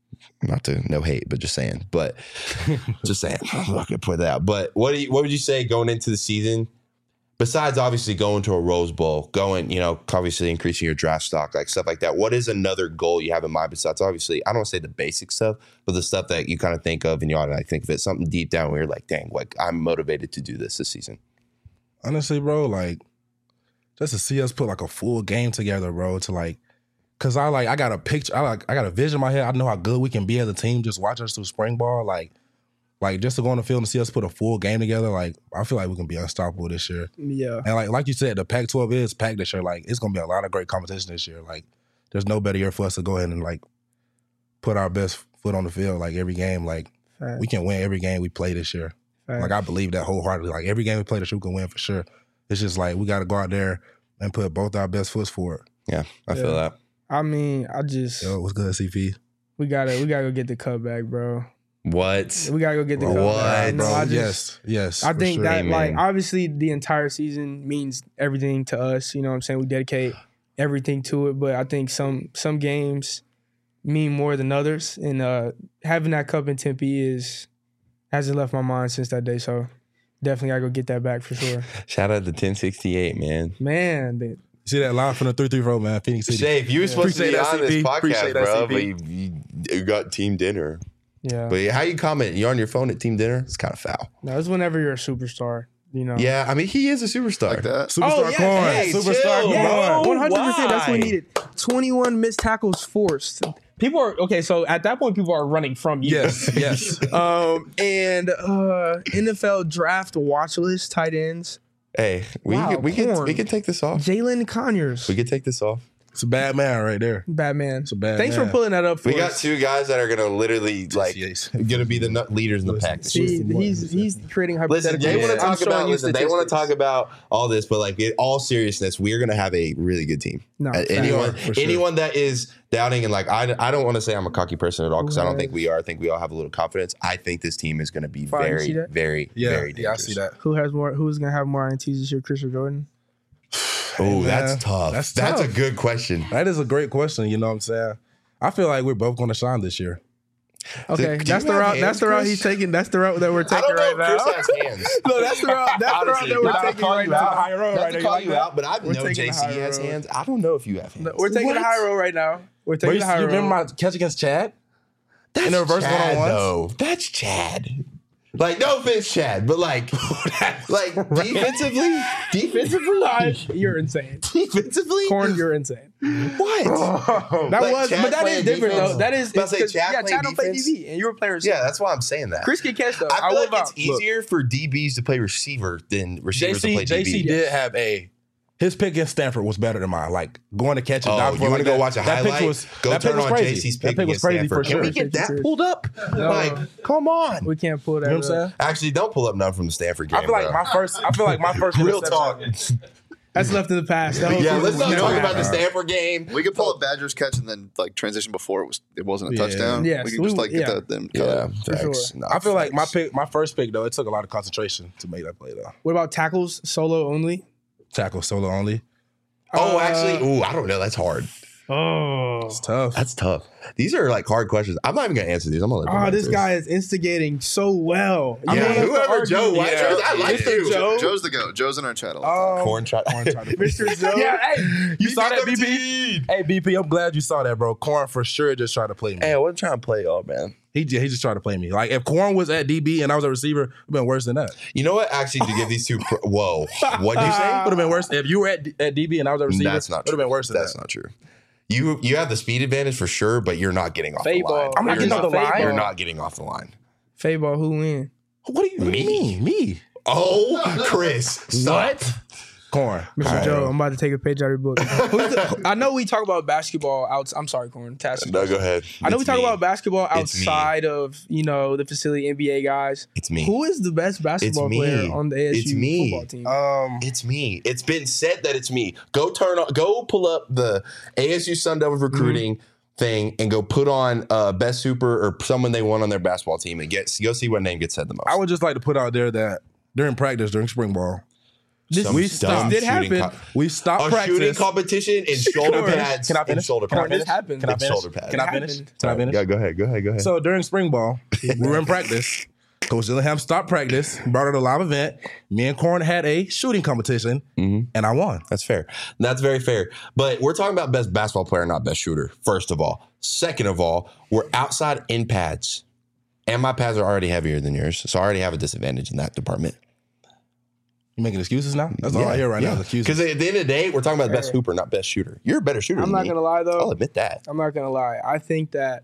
Speaker 1: Not to no hate, but just saying. But just saying, I'm not gonna put that out. But what would you say going into the season? Besides obviously going to a Rose Bowl, obviously increasing your draft stock, like stuff like that. What is another goal you have in mind besides obviously, I don't want to say the basic stuff, but the stuff that you kind of think of and you ought to think of it, something deep down where you're like, dang, like I'm motivated to do this season.
Speaker 2: Honestly, bro, like just to see us put like a full game together, bro, to like, cause I got a picture, I got a vision in my head. I know how good we can be as a team. Just watch us through spring ball, like just to go on the field and see us put a full game together. Like I feel like we can be unstoppable this year.
Speaker 3: Yeah.
Speaker 2: And like you said, the Pac-12 is packed this year. Like it's gonna be a lot of great competition this year. Like there's no better year for us to go ahead and like put our best foot on the field. Like every game, like we can win every game we play this year. Like I believe that wholeheartedly. Like every game we play this year, we can win for sure. It's just like we got to go out there and put both our best foots forward.
Speaker 1: Yeah, I feel that.
Speaker 3: I mean,
Speaker 2: Yo, what's good, CP?
Speaker 3: we gotta go get the cup back, bro.
Speaker 1: What?
Speaker 3: We gotta go get the cup
Speaker 1: What?
Speaker 3: back. No,
Speaker 2: Bro,
Speaker 3: I just,
Speaker 2: yes.
Speaker 3: I
Speaker 2: for
Speaker 3: think
Speaker 2: sure.
Speaker 3: that
Speaker 1: Amen.
Speaker 3: like obviously the entire season means everything to us. You know what I'm saying? We dedicate everything to it, but I think some games mean more than others. And having that cup in Tempe hasn't left my mind since that day. So definitely gotta go get that back for sure.
Speaker 1: Shout out to 1068, man.
Speaker 3: Man,
Speaker 2: See that line from the 3-3 man, Phoenix City.
Speaker 1: Shafe, you were supposed to
Speaker 2: Appreciate
Speaker 1: be
Speaker 2: that,
Speaker 1: on this
Speaker 2: CP.
Speaker 1: podcast,
Speaker 2: Appreciate that,
Speaker 1: bro,
Speaker 2: CP.
Speaker 1: but you got team dinner.
Speaker 3: yeah.
Speaker 1: But how you comment? You on your phone at team dinner? It's kind of foul.
Speaker 3: No, it's whenever you're a superstar. You know.
Speaker 1: Yeah, I mean, he is a superstar.
Speaker 4: Like that.
Speaker 2: Superstar
Speaker 3: yeah,
Speaker 2: Corn.
Speaker 1: hey,
Speaker 2: Superstar
Speaker 1: chill,
Speaker 3: Yeah,
Speaker 1: bro.
Speaker 3: 100%. That's what we
Speaker 1: Why?
Speaker 3: needed. 21 missed tackles forced. People are okay. So at that point, people are running from you.
Speaker 2: Yes, yes.
Speaker 3: And NFL draft watch list tight ends.
Speaker 1: Hey, we
Speaker 3: Wow, Corn.
Speaker 1: can take this off.
Speaker 3: Jalen Conyers.
Speaker 1: We can take this off.
Speaker 2: It's a bad man right there.
Speaker 3: Batman.
Speaker 2: It's a bad
Speaker 3: Thanks
Speaker 2: man.
Speaker 3: for pulling that up for
Speaker 1: We got
Speaker 3: us.
Speaker 1: two guys that are gonna literally like
Speaker 2: Yes.
Speaker 1: gonna be the leaders in the pack.
Speaker 3: See, he's creating
Speaker 1: Listen,
Speaker 3: hypotheticals.
Speaker 1: they want to
Speaker 3: I'm
Speaker 1: talk
Speaker 3: showing
Speaker 1: about.
Speaker 3: you
Speaker 1: Listen, they want to
Speaker 3: statistics.
Speaker 1: talk about all this, but like in all seriousness, we are gonna have a really good team.
Speaker 3: No,
Speaker 1: anyone,
Speaker 2: for sure.
Speaker 1: anyone that is doubting and like I don't want to say I'm a cocky person at all because I don't think we are. I think we all have a little confidence. I think this team is going to be
Speaker 3: Fine, you see
Speaker 1: very,
Speaker 3: that?
Speaker 1: very,
Speaker 2: Yeah,
Speaker 1: very
Speaker 2: yeah, I
Speaker 1: dangerous.
Speaker 2: see that.
Speaker 3: Who's gonna have more INTs this year? Chris or Jordan?
Speaker 1: Oh,
Speaker 2: Hey,
Speaker 1: that's
Speaker 2: man,
Speaker 1: tough.
Speaker 2: that's
Speaker 1: a
Speaker 2: tough.
Speaker 1: good question.
Speaker 2: That is a great question. You know what I'm saying? I feel like we're both going to shine this year.
Speaker 3: Okay,
Speaker 1: Do
Speaker 3: that's
Speaker 1: you
Speaker 3: the
Speaker 1: have
Speaker 3: route.
Speaker 1: hands,
Speaker 3: That's the route
Speaker 1: Chris?
Speaker 3: he's taking. That's the route that we're
Speaker 1: I
Speaker 3: taking
Speaker 1: don't know
Speaker 3: right
Speaker 1: if
Speaker 3: now.
Speaker 1: Chris has hands.
Speaker 3: No, that's the route. That's the route
Speaker 1: Honestly,
Speaker 3: that we're
Speaker 1: not to
Speaker 3: taking
Speaker 1: call
Speaker 3: right
Speaker 1: you out.
Speaker 3: now.
Speaker 2: High road
Speaker 1: Not
Speaker 2: right
Speaker 1: to
Speaker 2: now.
Speaker 1: call
Speaker 2: You
Speaker 1: you
Speaker 2: like
Speaker 1: out, but I
Speaker 3: We're
Speaker 1: know
Speaker 3: taking the
Speaker 1: JC
Speaker 3: high
Speaker 1: has
Speaker 3: road.
Speaker 1: hands. I don't know if you have hands.
Speaker 3: We're taking the
Speaker 2: What?
Speaker 3: high road right now. We're
Speaker 2: Bro,
Speaker 3: taking the high
Speaker 2: you
Speaker 3: road.
Speaker 2: remember my catch against Chad?
Speaker 1: That's
Speaker 2: In the reverse
Speaker 1: Chad,
Speaker 2: one-on-ones?
Speaker 1: though. That's Chad. Like, no offense, Chad, but like defensively,
Speaker 3: You're insane.
Speaker 1: defensively,
Speaker 3: Corn, you're insane.
Speaker 1: what?
Speaker 3: That
Speaker 1: Like
Speaker 3: was,
Speaker 1: Chad
Speaker 3: but that
Speaker 1: playing
Speaker 3: is different
Speaker 1: defense?
Speaker 3: though. That is,
Speaker 1: I was about to say,
Speaker 3: it's 'cause-
Speaker 1: Chad
Speaker 3: yeah,
Speaker 1: playing
Speaker 3: Chad don't play
Speaker 1: defense?
Speaker 3: DB, and you were playing receiver.
Speaker 1: Yeah, that's why I'm saying that.
Speaker 3: Chris can catch though.
Speaker 1: I feel
Speaker 3: will
Speaker 1: like
Speaker 3: vouch.
Speaker 1: it's easier for DBs to play receiver than receivers to play DB.
Speaker 2: JC did have his pick against Stanford was better than mine. Like going to catch it.
Speaker 1: Oh, you want to go watch a
Speaker 2: that pick
Speaker 1: highlight? Go
Speaker 2: that pick
Speaker 1: turn
Speaker 2: was
Speaker 1: on
Speaker 2: crazy.
Speaker 1: JC's
Speaker 2: That
Speaker 1: pick
Speaker 2: pick was
Speaker 1: against
Speaker 2: crazy for
Speaker 1: Stanford. Can
Speaker 2: sure.
Speaker 1: we get that
Speaker 3: Chris.
Speaker 1: pulled up?
Speaker 3: No.
Speaker 1: Like, come on.
Speaker 3: We can't pull that.
Speaker 2: You know what I'm
Speaker 3: up.
Speaker 2: saying?
Speaker 1: Actually, don't pull up none from the Stanford game.
Speaker 2: I feel like
Speaker 1: bro.
Speaker 2: my first
Speaker 1: real
Speaker 2: interception-
Speaker 1: talk.
Speaker 3: That's left in the past. That whole
Speaker 1: Yeah,
Speaker 3: season
Speaker 1: let's
Speaker 3: was
Speaker 1: not
Speaker 3: never
Speaker 1: talk about
Speaker 3: happening.
Speaker 1: the Stanford game.
Speaker 4: We could pull a Badgers catch and then like transition before it wasn't a
Speaker 2: Yeah.
Speaker 4: touchdown.
Speaker 3: Yes,
Speaker 4: we could just like
Speaker 3: yeah.
Speaker 4: get them cut.
Speaker 1: Yeah,
Speaker 3: For
Speaker 1: thanks.
Speaker 3: sure.
Speaker 1: No,
Speaker 2: I feel like
Speaker 1: thanks.
Speaker 2: my first pick though, it took a lot of concentration to make that play though.
Speaker 3: What about tackles solo only?
Speaker 2: Tackle solo only.
Speaker 1: Oh, actually, I don't know. That's hard.
Speaker 3: Oh,
Speaker 2: It's tough.
Speaker 1: That's tough. These are like hard questions. I'm not even gonna answer these. I'm gonna let them
Speaker 3: this
Speaker 1: answer
Speaker 3: guy is instigating so well.
Speaker 1: Yeah,
Speaker 3: You don't have to
Speaker 1: whoever
Speaker 3: argue.
Speaker 1: Joe White
Speaker 3: Yeah.
Speaker 1: is, I like
Speaker 3: Mr.
Speaker 1: you.
Speaker 3: Joe.
Speaker 4: Joe's the goat. Joe's in our chat all the time.
Speaker 1: Corn shot.
Speaker 3: Mr. Joe.
Speaker 2: Yeah, hey, you saw that, BP?
Speaker 1: 13.
Speaker 2: Hey, BP, I'm glad you saw that, bro. Corn for sure just tried to play me.
Speaker 1: Hey, I wasn't trying to play y'all, man.
Speaker 2: He just tried to play me. Like if Corn was at DB and I was a receiver, it'd been worse than that.
Speaker 1: You know what? Actually, to give these two, whoa, what'd you say?
Speaker 2: Would have been worse if you were at DB and I was a receiver.
Speaker 1: That's not
Speaker 2: Would
Speaker 1: true.
Speaker 2: have been worse than
Speaker 1: That's
Speaker 2: that.
Speaker 1: not true. You have the speed advantage for sure, but you're not getting off the
Speaker 3: Fade
Speaker 1: line.
Speaker 3: ball.
Speaker 2: I'm not
Speaker 3: You're
Speaker 2: getting off the line.
Speaker 1: You're not getting off the line.
Speaker 3: Fade ball, who win?
Speaker 2: What do you mean? Me?
Speaker 1: Oh, Chris.
Speaker 2: What? Corn.
Speaker 3: Mr. Joe, I'm about to take a page out of your book. I know we talk about basketball I'm sorry, Corn.
Speaker 1: No, go ahead.
Speaker 3: I know we
Speaker 1: It's
Speaker 3: talk
Speaker 1: me.
Speaker 3: about basketball
Speaker 1: It's me.
Speaker 3: outside of, the facility NBA guys.
Speaker 1: It's me.
Speaker 3: Who is the best basketball
Speaker 1: me.
Speaker 3: player on the ASU
Speaker 1: It's me.
Speaker 3: football team?
Speaker 1: It's me. It's been said that it's me. Go pull up the ASU Sun Devils recruiting thing and go put on best super or someone they want on their basketball team and go see what name gets said the most.
Speaker 2: I would just like to put out there that during practice, during spring ball,
Speaker 1: Some
Speaker 2: we
Speaker 1: dumb
Speaker 2: stopped.
Speaker 3: did
Speaker 1: shooting
Speaker 3: happen.
Speaker 2: We stopped
Speaker 1: a
Speaker 2: practice.
Speaker 1: shooting competition in shoulder
Speaker 3: Corn.
Speaker 1: pads.
Speaker 2: Can I
Speaker 1: In
Speaker 2: finish?
Speaker 1: shoulder
Speaker 2: Can I
Speaker 1: pads.
Speaker 3: This
Speaker 2: finish?
Speaker 3: happened.
Speaker 2: Can I
Speaker 1: It's
Speaker 2: finish?
Speaker 1: shoulder pads.
Speaker 2: Can I
Speaker 3: It
Speaker 2: finish?
Speaker 3: happened.
Speaker 2: Can I finish?
Speaker 1: Yeah, go ahead.
Speaker 2: So during spring ball, we were in practice. Coach Dillingham stopped practice, brought out a live event. Me and Corn had a shooting competition, and I won.
Speaker 1: That's fair. That's very fair. But we're talking about best basketball player, not best shooter, first of all. Second of all, we're outside in pads. And my pads are already heavier than yours. So I already have a disadvantage in that department.
Speaker 2: You making excuses now? That's all I hear right now. is excuses.
Speaker 1: Because at the end of the day, we're talking about best hooper, not best shooter. You're a better shooter
Speaker 3: I'm
Speaker 1: than
Speaker 3: not
Speaker 1: me.
Speaker 3: gonna lie though.
Speaker 1: I'll admit that.
Speaker 3: I'm not gonna lie. I think that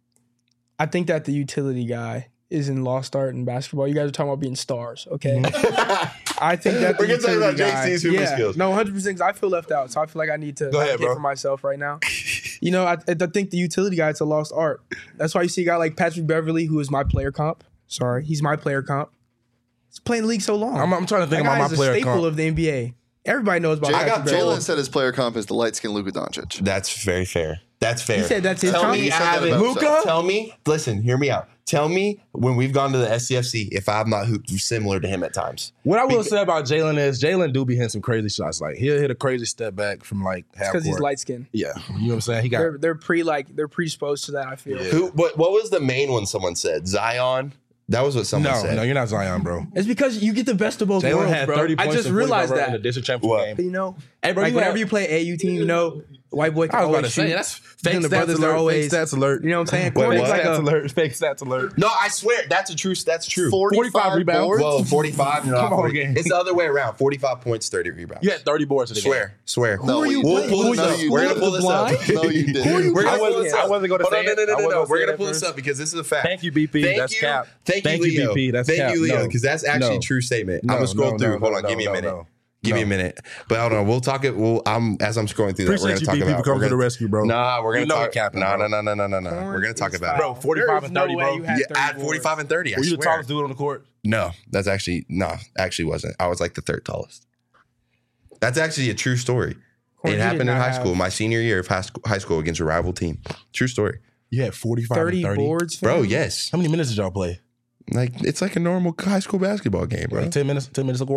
Speaker 3: the utility guy is in lost art in basketball. You guys are talking about being stars, okay? I think that the
Speaker 1: We're gonna talk about
Speaker 3: utility guy-
Speaker 1: JC's hooping skills.
Speaker 3: No, 100%. I feel left out, so I feel like I need to
Speaker 2: Go ahead,
Speaker 3: advocate
Speaker 2: bro.
Speaker 3: for myself right now. I think the utility guy is a lost art. That's why you see a guy like Patrick Beverly, who is my player comp. Sorry, he's my player comp. He's playing the league so long.
Speaker 2: I'm trying to think
Speaker 3: that guy
Speaker 2: about
Speaker 3: is
Speaker 2: my
Speaker 3: a
Speaker 2: player
Speaker 3: staple
Speaker 2: comp.
Speaker 3: of the NBA. Everybody knows about
Speaker 1: I got
Speaker 3: Patrick Beverly.
Speaker 4: Jalen said his player comp is the light skinned Luka Doncic.
Speaker 1: That's very fair. That's fair.
Speaker 3: He said that's his
Speaker 1: Tell
Speaker 3: comp?
Speaker 1: me
Speaker 3: He
Speaker 4: said
Speaker 1: I
Speaker 4: that
Speaker 1: haven't.
Speaker 4: about himself.
Speaker 1: Tell me. Listen, hear me out. Tell me when we've gone to the SCFC if I'm not hooped similar to him at times.
Speaker 2: What I will say about Jalen is Jalen do be hitting some crazy shots. Like he'll hit a crazy step back from like half
Speaker 3: because he's
Speaker 2: court.
Speaker 3: light skinned.
Speaker 2: Yeah, you know what I'm saying. He got
Speaker 3: They're predisposed to that. I feel.
Speaker 1: What was the main one someone said? Zion? That was what someone said.
Speaker 2: no, you're not Zion, bro.
Speaker 3: It's because you get the best of both
Speaker 2: Jalen
Speaker 3: worlds,
Speaker 2: had
Speaker 3: bro.
Speaker 2: 30
Speaker 3: I
Speaker 2: points.
Speaker 3: just
Speaker 2: and 45
Speaker 3: realized
Speaker 2: in
Speaker 3: that.
Speaker 2: the district championship
Speaker 1: What?
Speaker 2: game.
Speaker 3: Hey,
Speaker 2: bro,
Speaker 3: like
Speaker 2: you
Speaker 3: whenever
Speaker 2: had-
Speaker 3: you play AU team, white boy can
Speaker 2: I was about
Speaker 3: always
Speaker 2: to say
Speaker 3: shoot.
Speaker 2: that's fake
Speaker 3: the
Speaker 2: stats
Speaker 3: brothers
Speaker 2: alert.
Speaker 3: are always,
Speaker 2: fake stats alert.
Speaker 3: You know what I'm saying?
Speaker 1: Wait,
Speaker 3: Corn is
Speaker 1: what?
Speaker 3: like
Speaker 2: stats
Speaker 3: a,
Speaker 2: alert. Fake stats alert.
Speaker 1: No, I swear that's true. That's true.
Speaker 2: 45 rebounds.
Speaker 4: boards?
Speaker 1: Whoa, 45. No,
Speaker 2: Come on,
Speaker 1: 40.
Speaker 2: gang.
Speaker 1: It's the other way around. 45 points, 30 rebounds.
Speaker 2: You had 30 boards in the game.
Speaker 1: Swear.
Speaker 4: No,
Speaker 3: are you
Speaker 4: you
Speaker 1: We'll
Speaker 3: playing?
Speaker 1: pull this
Speaker 4: No,
Speaker 1: up.
Speaker 4: you
Speaker 1: We're
Speaker 4: didn't.
Speaker 1: gonna pull this up.
Speaker 3: Blind?
Speaker 4: No, you didn't.
Speaker 3: Who are you
Speaker 1: We're gonna
Speaker 3: playing?
Speaker 1: pull this up.
Speaker 2: I wasn't gonna
Speaker 1: Hold
Speaker 2: say
Speaker 1: on,
Speaker 2: it. I
Speaker 1: no.
Speaker 2: wasn't gonna
Speaker 1: We're
Speaker 2: say
Speaker 1: gonna
Speaker 2: it
Speaker 1: pull
Speaker 2: at
Speaker 1: this
Speaker 2: first.
Speaker 1: up because this is a fact.
Speaker 2: Thank you, BP.
Speaker 1: Thank
Speaker 2: That's
Speaker 1: you.
Speaker 2: cap.
Speaker 1: Thank
Speaker 2: Thank
Speaker 1: you,
Speaker 2: you,
Speaker 1: Leo.
Speaker 2: BP. That's
Speaker 1: Thank
Speaker 2: cap.
Speaker 1: you, Leo,
Speaker 2: No.
Speaker 1: because that's actually
Speaker 2: No.
Speaker 1: a true statement.
Speaker 2: No,
Speaker 1: I'm gonna scroll
Speaker 2: no,
Speaker 1: through.
Speaker 2: no,
Speaker 1: Hold on,
Speaker 2: no,
Speaker 1: give me a
Speaker 2: no,
Speaker 1: minute.
Speaker 2: no.
Speaker 1: Give me a minute. But hold on, we'll talk it. As I'm scrolling through that, we're
Speaker 2: Appreciate
Speaker 1: gonna
Speaker 2: you,
Speaker 1: talk
Speaker 2: BP,
Speaker 1: about.
Speaker 2: for coming to the rescue, bro.
Speaker 1: Nah, we're gonna
Speaker 2: You know
Speaker 1: talk.
Speaker 2: we're capping,
Speaker 1: No.
Speaker 2: bro.
Speaker 1: We're gonna talk about
Speaker 2: Bro,
Speaker 1: it.
Speaker 2: 45 and 30, bro.
Speaker 3: You had
Speaker 1: Yeah,
Speaker 3: 30
Speaker 1: I had
Speaker 3: boards.
Speaker 1: 45 and 30. I
Speaker 2: Were you the
Speaker 1: swear.
Speaker 2: tallest dude on the court?
Speaker 1: No, that's actually actually wasn't. I was like the third tallest. That's actually a true story.
Speaker 3: Corn,
Speaker 1: It
Speaker 3: you
Speaker 1: happened
Speaker 3: did
Speaker 1: in
Speaker 3: not
Speaker 1: high
Speaker 3: have
Speaker 1: school, my senior year of high school against a rival team. True story.
Speaker 2: You had 45
Speaker 3: 30
Speaker 2: and 30.
Speaker 3: boards,
Speaker 1: Bro,
Speaker 3: fam?
Speaker 1: yes.
Speaker 2: How many minutes did y'all play?
Speaker 1: Like it's like a normal high school basketball game, bro.
Speaker 2: Like 10 minutes a quarter?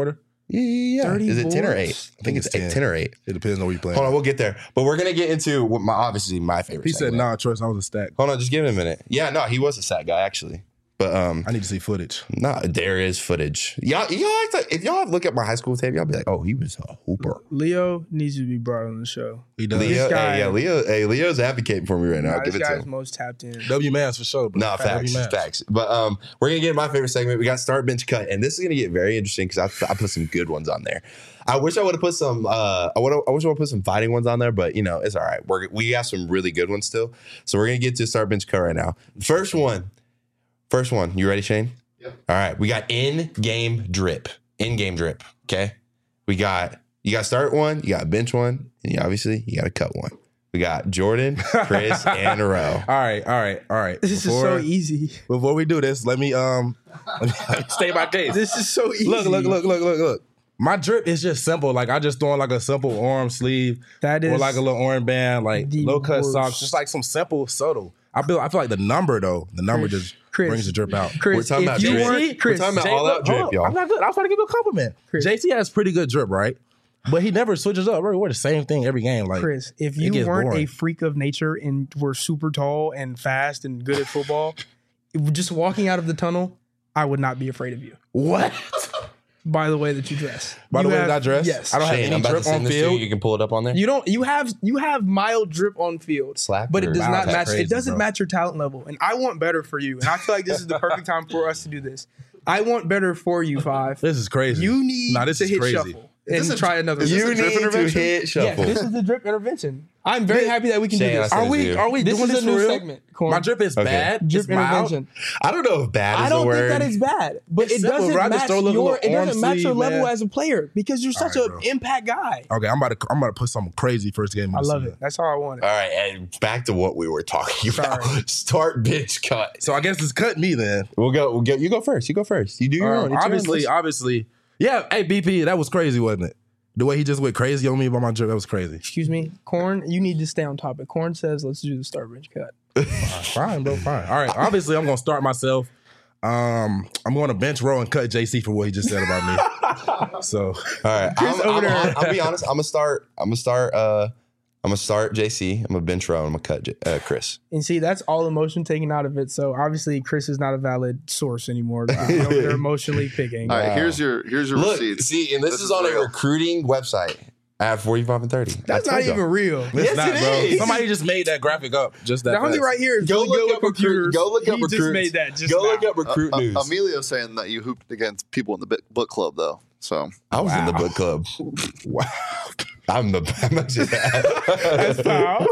Speaker 1: Yeah.
Speaker 3: 30
Speaker 1: Is it 10 or 8?
Speaker 3: boards?
Speaker 1: I think it's 10 or 8.
Speaker 2: It depends on where you playing.
Speaker 1: Hold on, we'll get there. But we're going to get into what obviously my favorite
Speaker 2: He said,
Speaker 1: segment.
Speaker 2: nah, Troy, I was a stack.
Speaker 1: Hold on, just give him a minute. Yeah, no, he was a sack guy, actually. But
Speaker 2: I need to see footage.
Speaker 1: there is footage. Y'all if y'all look at my high school tape, y'all be like, oh, he was a hooper.
Speaker 3: Leo needs to be brought on the show.
Speaker 2: He does.
Speaker 1: Leo,
Speaker 3: guy-
Speaker 1: Leo's advocating for me right now.
Speaker 3: Nah,
Speaker 1: I'll give
Speaker 3: this
Speaker 1: it to
Speaker 3: guy's
Speaker 1: him.
Speaker 3: most tapped in.
Speaker 2: W Mass for sure, bro.
Speaker 1: No, facts. But we're gonna get my favorite segment. We got start, bench, cut, and this is gonna get very interesting because I put some good ones on there. I wish I would have put some. I wish I would have put some fighting ones on there, but it's all right. We got some really good ones still. So we're gonna get to start, bench, cut right now. First one. You ready, Shane?
Speaker 4: Yep.
Speaker 1: All right. We got in-game drip. Okay. You got start one. You got bench one, and you got to cut one. We got Jordan, Chris, and Roe.
Speaker 2: All right.
Speaker 3: This is so easy.
Speaker 2: Before we do this, let me stay my case.
Speaker 3: This is so easy.
Speaker 2: Look. My drip is just simple. Like I just throwing like a simple arm sleeve
Speaker 3: That is
Speaker 2: or like a little orange band, like
Speaker 3: the
Speaker 2: low cut
Speaker 3: worst.
Speaker 2: socks, just like some simple, subtle. I feel like the number just
Speaker 3: Chris,
Speaker 2: brings the drip out.
Speaker 3: Chris,
Speaker 1: We're talking about
Speaker 3: if you
Speaker 1: drip.
Speaker 3: weren't Chris,
Speaker 1: We're talking about all out drip,
Speaker 2: Hold on.
Speaker 1: y'all.
Speaker 2: I'm not good. I was trying to give you a compliment.
Speaker 3: Chris.
Speaker 2: JC has pretty good drip, right? But he never switches up. We're the same thing every game. Like
Speaker 3: Chris, if
Speaker 2: it
Speaker 3: you
Speaker 2: gets
Speaker 3: weren't
Speaker 2: boring.
Speaker 3: a freak of nature and were super tall and fast and good at football, just walking out of the tunnel, I would not be afraid of you.
Speaker 2: What?
Speaker 3: By the way that you dress.
Speaker 2: By the
Speaker 3: You
Speaker 2: way
Speaker 3: have-
Speaker 2: that I dress?
Speaker 3: Yes.
Speaker 2: I don't have
Speaker 1: Shane,
Speaker 2: any
Speaker 1: I'm about to
Speaker 2: drip
Speaker 1: send
Speaker 2: on
Speaker 1: this to you.
Speaker 2: field.
Speaker 1: You can pull it up on there.
Speaker 3: You don't. You have mild drip on field,
Speaker 1: Slap
Speaker 3: but it
Speaker 1: or-
Speaker 3: does
Speaker 1: Wow,
Speaker 3: not
Speaker 1: that's
Speaker 3: match.
Speaker 2: crazy,
Speaker 3: It doesn't
Speaker 2: bro.
Speaker 3: match your talent level, and I want better for you. And I feel like this is the perfect time for us to do this. I want better for you, Five.
Speaker 2: This is crazy.
Speaker 3: You need
Speaker 2: this
Speaker 3: to
Speaker 2: is
Speaker 3: hit
Speaker 2: crazy.
Speaker 3: shuffle and try another.
Speaker 4: is this
Speaker 1: You
Speaker 4: a drip
Speaker 1: need to
Speaker 4: intervention?
Speaker 1: hit
Speaker 3: Yeah,
Speaker 1: shuffle.
Speaker 3: this is the drip intervention. I'm very happy that we can
Speaker 1: Shane,
Speaker 3: do this.
Speaker 1: I said
Speaker 2: Are we
Speaker 3: This
Speaker 2: doing
Speaker 3: is
Speaker 2: this
Speaker 3: a new
Speaker 2: for real?
Speaker 3: segment. Corn.
Speaker 2: My drip is
Speaker 1: Okay.
Speaker 2: bad.
Speaker 3: Drip
Speaker 2: It's mild.
Speaker 3: intervention.
Speaker 1: I don't know if bad is
Speaker 3: I don't
Speaker 1: the word.
Speaker 3: think that is bad, but
Speaker 2: It's
Speaker 3: it
Speaker 2: simple,
Speaker 3: doesn't
Speaker 2: bro. I just
Speaker 3: match
Speaker 2: throw a little
Speaker 3: your. It
Speaker 2: arm
Speaker 3: doesn't match your
Speaker 2: sleeve,
Speaker 3: level
Speaker 2: man.
Speaker 3: as a player because you're such
Speaker 2: right,
Speaker 3: an
Speaker 2: bro.
Speaker 3: impact guy.
Speaker 2: Okay, I'm about to put something crazy first game.
Speaker 3: I love it. That's all I wanted.
Speaker 1: All right, and back to what we were talking about.
Speaker 3: Sorry.
Speaker 1: Start, bench, cut.
Speaker 2: So I guess it's cut me then.
Speaker 1: We'll go. You go first. You do your own. It's your own list.
Speaker 2: Obviously. Yeah, hey BP, that was crazy, wasn't it? The way he just went crazy on me about my drip, that was crazy.
Speaker 3: Excuse me, Corn. You need to stay on topic. Corn says, "Let's do the start bench cut."
Speaker 2: Fine, bro, fine. All right, obviously I'm gonna start myself. I'm going to bench row and cut JC for what he just said about me. So
Speaker 1: All right, I'll be honest. I'm gonna start JC. I'm gonna bench row. I'm gonna cut Chris.
Speaker 3: And see, that's all emotion taken out of it. So obviously, Chris is not a valid source anymore. They're emotionally picking.
Speaker 4: All right, here's your
Speaker 1: Look,
Speaker 4: receipts.
Speaker 1: see, and this is on a
Speaker 4: real.
Speaker 1: recruiting website. I have 45 and 30.
Speaker 3: That's
Speaker 1: I
Speaker 3: not
Speaker 1: told
Speaker 3: even
Speaker 1: y'all.
Speaker 3: real.
Speaker 2: it's
Speaker 1: Yes,
Speaker 2: not,
Speaker 1: it
Speaker 2: bro.
Speaker 1: is.
Speaker 2: Somebody just made that graphic up. Just that.
Speaker 3: The homie
Speaker 2: fast.
Speaker 3: right here is
Speaker 1: Go
Speaker 3: really good
Speaker 1: look
Speaker 3: with
Speaker 1: up recruit.
Speaker 3: computers.
Speaker 1: Go look up
Speaker 3: He
Speaker 1: recruit.
Speaker 3: just made that. Just
Speaker 1: Go
Speaker 3: now.
Speaker 1: look up recruit news.
Speaker 4: Emilio's saying that you hooped against people in the book club, though. So
Speaker 1: I was in the book club.
Speaker 2: Wow.
Speaker 1: I'm actually
Speaker 3: That's foul.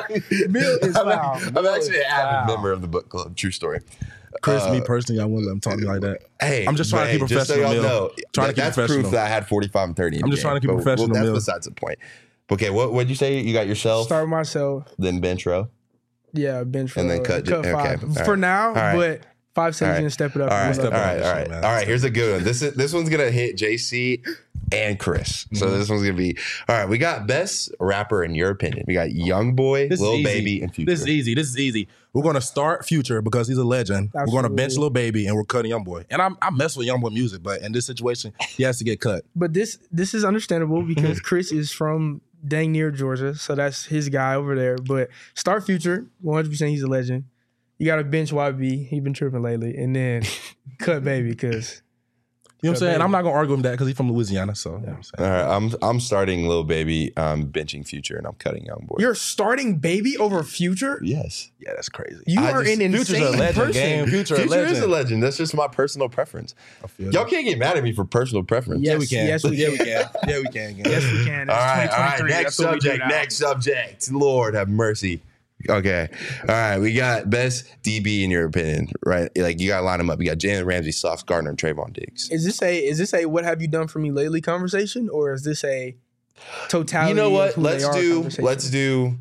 Speaker 3: Bill is foul.
Speaker 1: I'm actually an avid member of the book club. True story.
Speaker 2: Chris, me personally, I wouldn't let him talk to me like that.
Speaker 1: Hey,
Speaker 2: I'm just trying to keep
Speaker 1: just
Speaker 2: professional,
Speaker 1: So y'all
Speaker 2: Mil.
Speaker 1: know,
Speaker 2: Trying to keep
Speaker 1: that's
Speaker 2: professional.
Speaker 1: proof that I had 45 and 30. In
Speaker 2: I'm
Speaker 1: the
Speaker 2: just
Speaker 1: game.
Speaker 2: trying to keep
Speaker 1: But
Speaker 2: professional,
Speaker 1: That's
Speaker 2: Mil.
Speaker 1: besides the point. Okay, what'd you say? You got yourself,
Speaker 3: Start myself.
Speaker 1: then bench row.
Speaker 3: Yeah, bench
Speaker 1: And then
Speaker 3: row.
Speaker 1: cut- okay,
Speaker 3: five
Speaker 1: all right.
Speaker 3: for now.
Speaker 1: All right.
Speaker 3: But 5 seconds
Speaker 1: All right.
Speaker 3: gonna step it up.
Speaker 1: All right,
Speaker 3: We'll
Speaker 1: all
Speaker 3: let
Speaker 1: right,
Speaker 3: that-
Speaker 1: all right,
Speaker 2: man.
Speaker 1: all right. Here's a good one. This one's gonna hit JC and Chris. So this one's gonna be all right. We got best rapper in your opinion. We got Young Boy,
Speaker 2: This is
Speaker 1: Lil
Speaker 2: easy.
Speaker 1: Baby, and Future.
Speaker 2: This is easy. We're gonna start Future because he's a legend. We're gonna bench
Speaker 3: Absolutely.
Speaker 2: Lil Baby and we're cutting Young Boy. And I mess with Young Boy music, but in this situation, he has to get cut.
Speaker 3: But this is understandable because Chris is from dang near Georgia, so that's his guy over there. But start Future, 100%. He's a legend. You got to bench YB. He been tripping lately, and then cut Baby because
Speaker 2: You know what I'm saying?
Speaker 3: Baby.
Speaker 2: I'm not gonna argue with that because he's from Louisiana. So you know what I'm saying?
Speaker 1: All right, I'm starting Lil Baby, benching Future, and I'm cutting Young Boy.
Speaker 3: you're starting Baby over Future.
Speaker 1: Yes.
Speaker 2: Yeah, that's crazy.
Speaker 3: You
Speaker 1: I
Speaker 3: are
Speaker 1: just-
Speaker 3: an
Speaker 2: Future's
Speaker 3: insane
Speaker 2: a legend,
Speaker 3: person.
Speaker 2: gang. Future a
Speaker 1: Future
Speaker 2: legend.
Speaker 1: is a legend. That's just my personal preference.
Speaker 2: I feel
Speaker 1: Y'all
Speaker 2: that.
Speaker 1: can't get mad at me for personal preference.
Speaker 3: Yeah.
Speaker 2: Yeah, we can.
Speaker 3: Yes, we
Speaker 2: Yeah, we can. Yeah, we can. Gang.
Speaker 3: Yes, we can.
Speaker 1: All
Speaker 3: It's
Speaker 1: right.
Speaker 3: 2023.
Speaker 1: Next
Speaker 3: That's what we do
Speaker 1: subject.
Speaker 3: now.
Speaker 1: Next subject. Lord have mercy. Okay. All right. We got best DB in your opinion, right? Like you got to line them up. You got Jalen Ramsey, Sauce Gardner, and Trayvon Diggs.
Speaker 3: Is this a what have you done for me lately conversation, or is this a totality?
Speaker 1: You know
Speaker 3: of
Speaker 1: what?
Speaker 3: who they
Speaker 1: Let's
Speaker 3: are conversation?
Speaker 1: do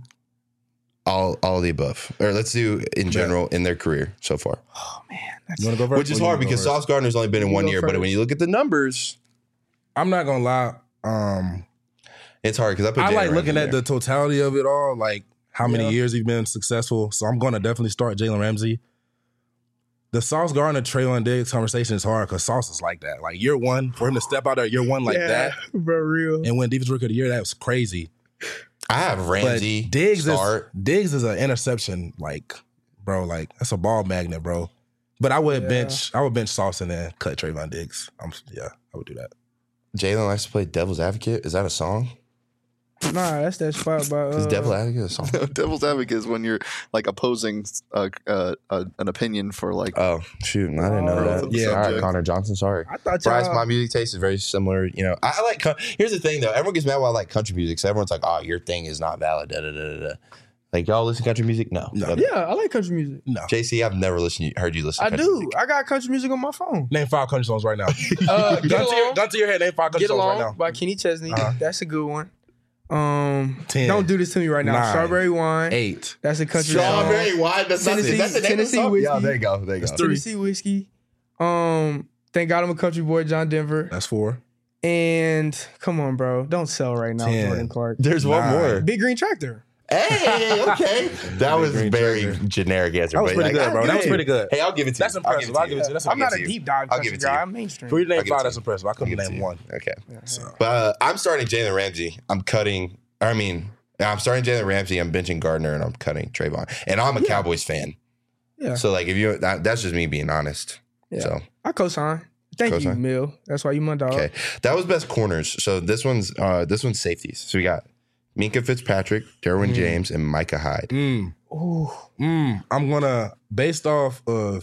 Speaker 1: all of the above, or let's do in general in their career so far.
Speaker 3: Oh man,
Speaker 2: You want to go first?
Speaker 1: Which is
Speaker 2: Or you
Speaker 1: hard
Speaker 2: wanna go
Speaker 1: because
Speaker 2: first?
Speaker 1: Sauce Gardner's only been in
Speaker 3: You
Speaker 1: 1
Speaker 3: go
Speaker 1: year, but
Speaker 3: first.
Speaker 1: when you look at the numbers,
Speaker 2: I'm not gonna lie.
Speaker 1: it's hard because I put.
Speaker 2: I
Speaker 1: Jalen
Speaker 2: like
Speaker 1: Ramsey
Speaker 2: looking at
Speaker 1: there.
Speaker 2: the totality of it all, like how many
Speaker 3: Yeah.
Speaker 2: years he's been successful. So I'm gonna definitely start Jalen Ramsey. the Sauce Gardner Traylon Diggs conversation is hard because Sauce is like that. Like year one, for him to step out there year one like that,
Speaker 3: bro, real.
Speaker 2: and win Defensive Rookie of the Year, that was crazy.
Speaker 1: I have Ramsey.
Speaker 2: But Diggs
Speaker 1: start.
Speaker 2: is an interception, like, bro, like that's a ball magnet, bro. But I would bench Sauce and then cut Trayvon Diggs. I would do that.
Speaker 1: Jalen likes to play devil's advocate. Is that a song?
Speaker 3: Nah, that's that spot by.
Speaker 1: Is devil's advocate a song?
Speaker 4: Devil's advocate is when you're like opposing an opinion for like.
Speaker 1: Oh shoot, I didn't know that.
Speaker 4: Yeah,
Speaker 1: all right, Connor Johnson. Sorry.
Speaker 3: I thought
Speaker 1: Bryce, my music taste is very similar. You know, I like. Here's the thing, though. Everyone gets mad when I like country music. So everyone's like, "Oh, your thing is not valid." Da, da, da, da, da. Like y'all listen to country music? No.
Speaker 3: Yeah, I like country music.
Speaker 2: No.
Speaker 1: JC, I've never heard you listen.
Speaker 3: I
Speaker 1: to country
Speaker 3: do.
Speaker 1: music.
Speaker 3: I got country music on my phone.
Speaker 2: Name 5 country songs right now.
Speaker 3: Gun
Speaker 2: to your head. Name 5 country
Speaker 3: Get
Speaker 2: songs
Speaker 3: Along
Speaker 2: right now.
Speaker 3: by Kenny Chesney. That's a good one.
Speaker 2: 10.
Speaker 3: Don't do this to me right now.
Speaker 2: 9,
Speaker 3: Strawberry Wine.
Speaker 2: 8.
Speaker 3: That's a country
Speaker 1: Strawberry
Speaker 3: song.
Speaker 1: wine. That's not. Is that the name of the
Speaker 3: Tennessee
Speaker 1: song?
Speaker 3: whiskey.
Speaker 1: Yeah, there you go. There you go.
Speaker 3: Tennessee Whiskey. Thank God I'm a country boy, John Denver.
Speaker 2: That's 4.
Speaker 3: And come on, bro. Don't sell right now,
Speaker 2: 10.
Speaker 3: Jordan Clark.
Speaker 1: There's one
Speaker 2: 9.
Speaker 1: more.
Speaker 3: Big Green Tractor.
Speaker 1: Hey, okay. That was
Speaker 2: Green
Speaker 1: very
Speaker 2: Tractor.
Speaker 1: generic answer.
Speaker 2: That was
Speaker 1: but
Speaker 2: pretty good, bro. That was pretty good.
Speaker 1: Hey, I'll give it to you.
Speaker 2: That's impressive. I'll give it to you. That's
Speaker 3: I'm not a
Speaker 1: you.
Speaker 3: deep dive
Speaker 1: I'll give
Speaker 3: country
Speaker 1: it to you.
Speaker 3: guy. I'm mainstream.
Speaker 2: For you to name
Speaker 1: I'll give it
Speaker 2: 5,
Speaker 1: to
Speaker 2: that's
Speaker 1: you.
Speaker 2: impressive. I couldn't
Speaker 1: I'll give it
Speaker 2: name
Speaker 1: to you.
Speaker 2: 1.
Speaker 1: Okay.
Speaker 2: So.
Speaker 1: But I'm starting Jalen Ramsey. I'm starting Jalen Ramsey. I'm benching Gardner, and I'm cutting Trayvon. And I'm a Cowboys fan.
Speaker 3: Yeah.
Speaker 1: So like, if that's just me being honest.
Speaker 3: Yeah.
Speaker 1: So
Speaker 3: I co-sign. Thank you,
Speaker 1: Co-sign.
Speaker 3: Mill. That's why you my dog.
Speaker 1: okay, that was best corners. So this one's safeties. So we got Minkah Fitzpatrick, Derwin James, and Micah Hyde.
Speaker 3: Ooh.
Speaker 2: I'm gonna based off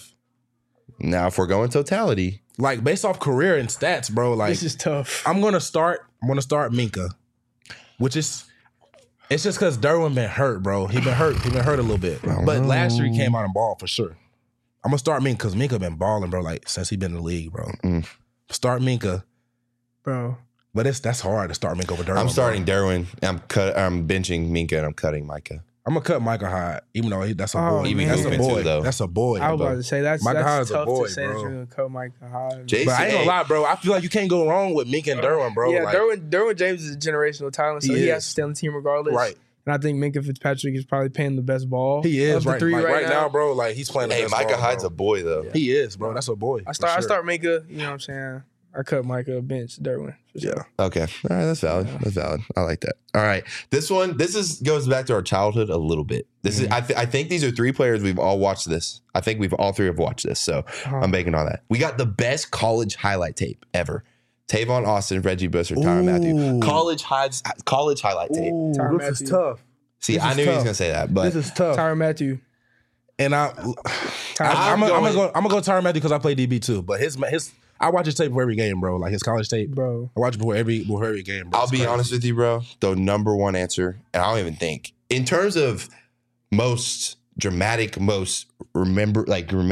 Speaker 1: Now, if we're going totality,
Speaker 2: based off career and stats, bro. Like
Speaker 3: This is tough.
Speaker 2: I'm gonna start Minkah, which is it's just because Derwin been hurt, bro. He been hurt a little bit. But last year he came out and balled for sure. I'm gonna start Minkah because Minkah been balling, bro. Like since he been in the league, bro. Start Minkah,
Speaker 3: Bro.
Speaker 2: but that's hard to start Minkah over Derwin.
Speaker 1: I'm starting
Speaker 2: bro.
Speaker 1: Derwin. I'm benching Minkah, and I'm cutting Micah.
Speaker 2: I'm gonna cut Micah Hyde, even though that's a
Speaker 3: Oh,
Speaker 2: boy.
Speaker 3: He be
Speaker 2: That's a
Speaker 1: moving
Speaker 2: boy.
Speaker 1: too, though.
Speaker 2: That's a boy.
Speaker 3: I was
Speaker 2: bro.
Speaker 3: about to say that's
Speaker 2: Micah Hyde's a
Speaker 3: tough
Speaker 2: boy,
Speaker 3: to say
Speaker 2: bro.
Speaker 3: that you're gonna cut Micah Hyde.
Speaker 1: Jason,
Speaker 2: But I ain't gonna lie, bro. I feel like you can't go wrong with Minkah and Derwin, bro.
Speaker 3: Yeah,
Speaker 2: Like,
Speaker 3: Derwin James is a generational talent, so
Speaker 2: He
Speaker 3: he
Speaker 2: is.
Speaker 3: has to stay on the team regardless.
Speaker 2: Right.
Speaker 3: And I think Minkah Fitzpatrick is probably paying the best ball.
Speaker 2: he is
Speaker 3: of the
Speaker 2: right,
Speaker 3: three
Speaker 2: like, right now,
Speaker 3: now.
Speaker 2: bro. Like he's playing. The
Speaker 1: Hey,
Speaker 2: best
Speaker 1: Micah
Speaker 2: ball,
Speaker 1: Hyde's
Speaker 2: bro.
Speaker 1: a boy though.
Speaker 2: He is, bro. That's a boy.
Speaker 3: I start Minkah. You know what I'm saying? I cut Micah, bench Derwin. For sure.
Speaker 2: Yeah.
Speaker 1: Okay. All right, that's valid. That's valid. I like that. All right. This goes back to our childhood a little bit. This is I think these are 3 players we've all watched this. I think we've all 3 have watched this. So I'm banking on that. We got the best college highlight tape ever. Tavon Austin, Reggie Bush, or Tyrann Mathieu. College highlight tape.
Speaker 2: Ooh,
Speaker 3: Tyrann
Speaker 2: this is
Speaker 3: Mathieu.
Speaker 2: tough.
Speaker 1: See,
Speaker 2: this
Speaker 1: I
Speaker 2: is
Speaker 1: knew he was
Speaker 2: tough.
Speaker 1: gonna say that, but
Speaker 2: This is tough.
Speaker 3: Tyrann Mathieu.
Speaker 2: And I'm gonna go Tyrann Mathieu because I play DB too. But his I watch his tape before every game, bro. Like his college tape,
Speaker 3: Bro.
Speaker 2: I watch it before every game, bro.
Speaker 1: I'll
Speaker 2: It's
Speaker 1: be
Speaker 2: crazy.
Speaker 1: honest with you, bro. The number one answer, and I don't even think in terms of most dramatic, most memorable.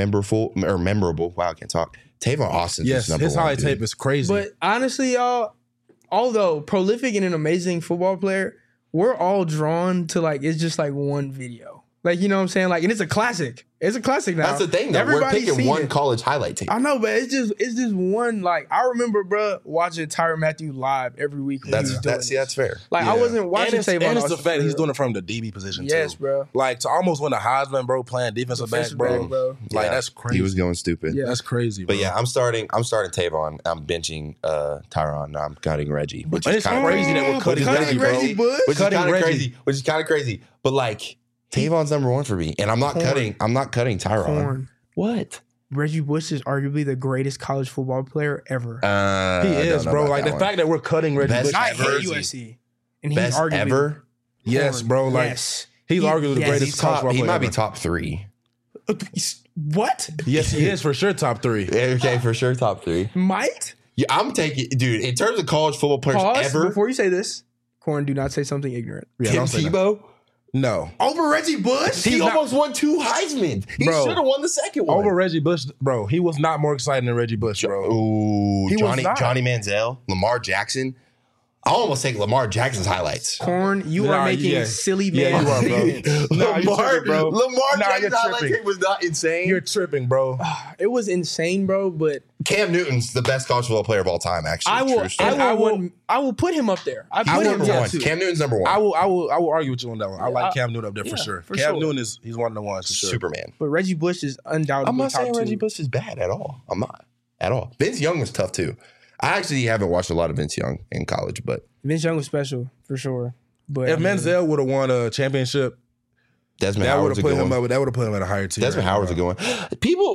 Speaker 1: Wow, I can't talk. Tavon Austin's
Speaker 2: Yes,
Speaker 1: number
Speaker 2: his
Speaker 1: one.
Speaker 2: highlight
Speaker 1: dude.
Speaker 2: tape is crazy.
Speaker 3: But honestly, y'all, although prolific and an amazing football player, we're all drawn to it's just one video. You know what I'm saying? And it's a classic. It's a classic now.
Speaker 1: That's the thing, though. We're
Speaker 3: Everybody's
Speaker 1: picking
Speaker 3: seen
Speaker 1: one
Speaker 3: it.
Speaker 1: college highlight tape.
Speaker 3: I know, but it's just one. I remember, bro, watching Tyrann Mathieu live every week. When he was doing
Speaker 1: That's fair.
Speaker 3: I
Speaker 2: Yeah.
Speaker 3: wasn't watching
Speaker 2: and
Speaker 3: Tavon
Speaker 2: it's the
Speaker 3: Austin
Speaker 2: fact
Speaker 3: for
Speaker 2: he's
Speaker 3: real.
Speaker 2: doing it from the DB position
Speaker 3: Yes,
Speaker 2: too.
Speaker 3: bro.
Speaker 2: To almost win a Heisman, bro, playing defensive back,
Speaker 3: Defensive
Speaker 2: bro.
Speaker 3: back, bro.
Speaker 1: Yeah.
Speaker 2: That's crazy.
Speaker 1: He was going stupid.
Speaker 3: Yeah.
Speaker 2: That's crazy, bro.
Speaker 1: But yeah, I'm starting Tavon. I'm benching Tyron. I'm cutting Reggie, which
Speaker 2: And
Speaker 1: is
Speaker 2: it's
Speaker 1: kind of
Speaker 2: crazy that we're cutting
Speaker 3: Reggie,
Speaker 2: Reggie, bro.
Speaker 3: Bush?
Speaker 1: Which is
Speaker 2: Cutting
Speaker 1: kind of
Speaker 2: Reggie.
Speaker 1: crazy. Which is kind of crazy. But Tavon's number one for me, and I'm not cutting Tyron.
Speaker 3: Corn.
Speaker 1: What?
Speaker 3: Reggie Bush is arguably the greatest college football player ever.
Speaker 2: He
Speaker 1: I
Speaker 2: is,
Speaker 1: don't know
Speaker 2: bro.
Speaker 1: about
Speaker 2: The
Speaker 1: that
Speaker 2: fact that we're cutting Reggie
Speaker 1: Best
Speaker 2: Bush.
Speaker 3: I
Speaker 1: ever.
Speaker 3: hate USC, and he's
Speaker 1: Best
Speaker 3: arguably
Speaker 1: ever.
Speaker 2: Yes, bro.
Speaker 3: yes.
Speaker 2: He's arguably the
Speaker 3: Yes,
Speaker 2: greatest
Speaker 3: he's
Speaker 2: college football
Speaker 1: He
Speaker 2: player
Speaker 1: might be
Speaker 2: ever.
Speaker 1: top 3.
Speaker 3: What?
Speaker 2: Yes, he is for sure top 3.
Speaker 1: Okay, for sure, top 3.
Speaker 3: Might?
Speaker 1: Yeah, I'm taking, dude. In terms of college football players
Speaker 3: Pause
Speaker 1: ever,
Speaker 3: before you say this. Corn, do not say something ignorant.
Speaker 2: Yeah,
Speaker 1: Tim
Speaker 2: don't say that.
Speaker 1: Tebow.
Speaker 2: No.
Speaker 3: Over Reggie Bush?
Speaker 1: He
Speaker 2: not-
Speaker 1: almost won 2 Heisman. He
Speaker 2: Bro.
Speaker 1: should have won the second one.
Speaker 2: Over Reggie Bush, bro. He was not more exciting than Reggie Bush, bro.
Speaker 1: Ooh,
Speaker 2: He was not.
Speaker 1: Johnny Manziel, Lamar Jackson. I almost take Lamar Jackson's highlights.
Speaker 3: Corn, you are making silly man.
Speaker 2: Yeah, you are, bro.
Speaker 1: Lamar
Speaker 2: Lamar
Speaker 1: Jackson's highlight tape was not insane.
Speaker 2: You're tripping, bro.
Speaker 3: It was insane, bro. But
Speaker 1: Cam Newton's the best college football player of all time. Actually,
Speaker 3: I will put him up there. I put him
Speaker 1: number one.
Speaker 3: too.
Speaker 1: Cam Newton's number one.
Speaker 2: I will argue with you on that one. I like Cam Newton up there for sure. Cam Newton he's one of the ones for sure.
Speaker 1: Superman.
Speaker 3: But Reggie Bush is undoubtedly
Speaker 1: I'm not
Speaker 3: top
Speaker 1: saying
Speaker 3: two.
Speaker 1: Reggie Bush is bad at all. I'm not at all. Vince Young was tough too. I actually haven't watched a lot of Vince Young in college, but
Speaker 3: Vince Young was special for sure. But
Speaker 2: if Manziel would have won a championship,
Speaker 1: Desmond
Speaker 2: that would
Speaker 1: Howard's
Speaker 2: have
Speaker 1: a
Speaker 2: put
Speaker 1: good
Speaker 2: him
Speaker 1: one.
Speaker 2: up. That would have put him at a higher tier.
Speaker 1: Desmond Howard's a good one. People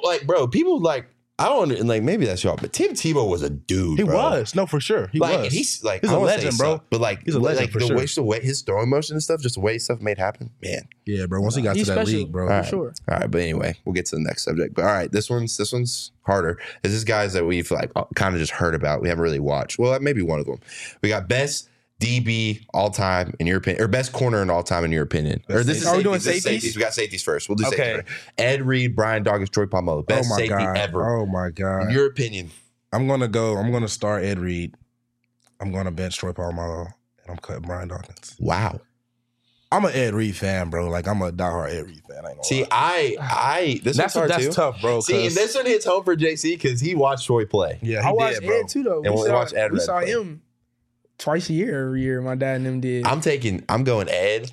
Speaker 1: I don't like. Maybe that's y'all, but Tim Tebow was a dude.
Speaker 2: He
Speaker 1: bro.
Speaker 2: was no for sure. He
Speaker 1: Like
Speaker 2: was.
Speaker 1: he's like
Speaker 2: He's
Speaker 1: I
Speaker 2: a
Speaker 1: won't say
Speaker 2: legend, bro.
Speaker 1: suck, but like
Speaker 2: He's a legend
Speaker 1: like
Speaker 2: for
Speaker 1: the
Speaker 2: sure.
Speaker 1: way his throwing motion and stuff, just the way stuff made happen, man.
Speaker 2: Yeah, bro. Once he got to
Speaker 3: he's
Speaker 2: that
Speaker 3: special,
Speaker 2: league, bro.
Speaker 3: for
Speaker 1: All right.
Speaker 3: sure.
Speaker 1: All right, but anyway, we'll get to the next subject. But all right, this one's harder. Is this guys that we've like kind of just heard about? We haven't really watched. Well, maybe one of them. We got best DB all time in your opinion, or best corner in all time in your opinion. Or this is
Speaker 3: Are we
Speaker 1: safeties.
Speaker 3: doing
Speaker 1: This is
Speaker 3: safeties?
Speaker 1: We got safeties first. We'll do
Speaker 2: Okay.
Speaker 1: safeties first. Ed Reed, Brian Dawkins, Troy Polamalu. Best
Speaker 2: Oh my
Speaker 1: safety
Speaker 2: god.
Speaker 1: ever.
Speaker 2: Oh my god.
Speaker 1: In your opinion.
Speaker 2: I'm gonna start Ed Reed. I'm gonna bench Troy Polamalu, and I'm cutting Brian Dawkins.
Speaker 1: Wow.
Speaker 2: I'm an Ed Reed fan, bro. Like I'm a diehard Ed Reed fan. I ain't gonna
Speaker 1: See,
Speaker 2: lie.
Speaker 1: this one's hard
Speaker 2: that's
Speaker 1: too.
Speaker 2: tough, bro.
Speaker 1: See, and this one hits home for JC because he watched Troy play.
Speaker 2: yeah,
Speaker 3: I
Speaker 2: he
Speaker 3: watched
Speaker 2: did, bro.
Speaker 3: Ed too, though.
Speaker 1: And we watched Ed
Speaker 3: we
Speaker 1: Red
Speaker 3: saw
Speaker 1: play.
Speaker 3: him twice a year, every year. My dad and them did.
Speaker 1: I'm going Ed.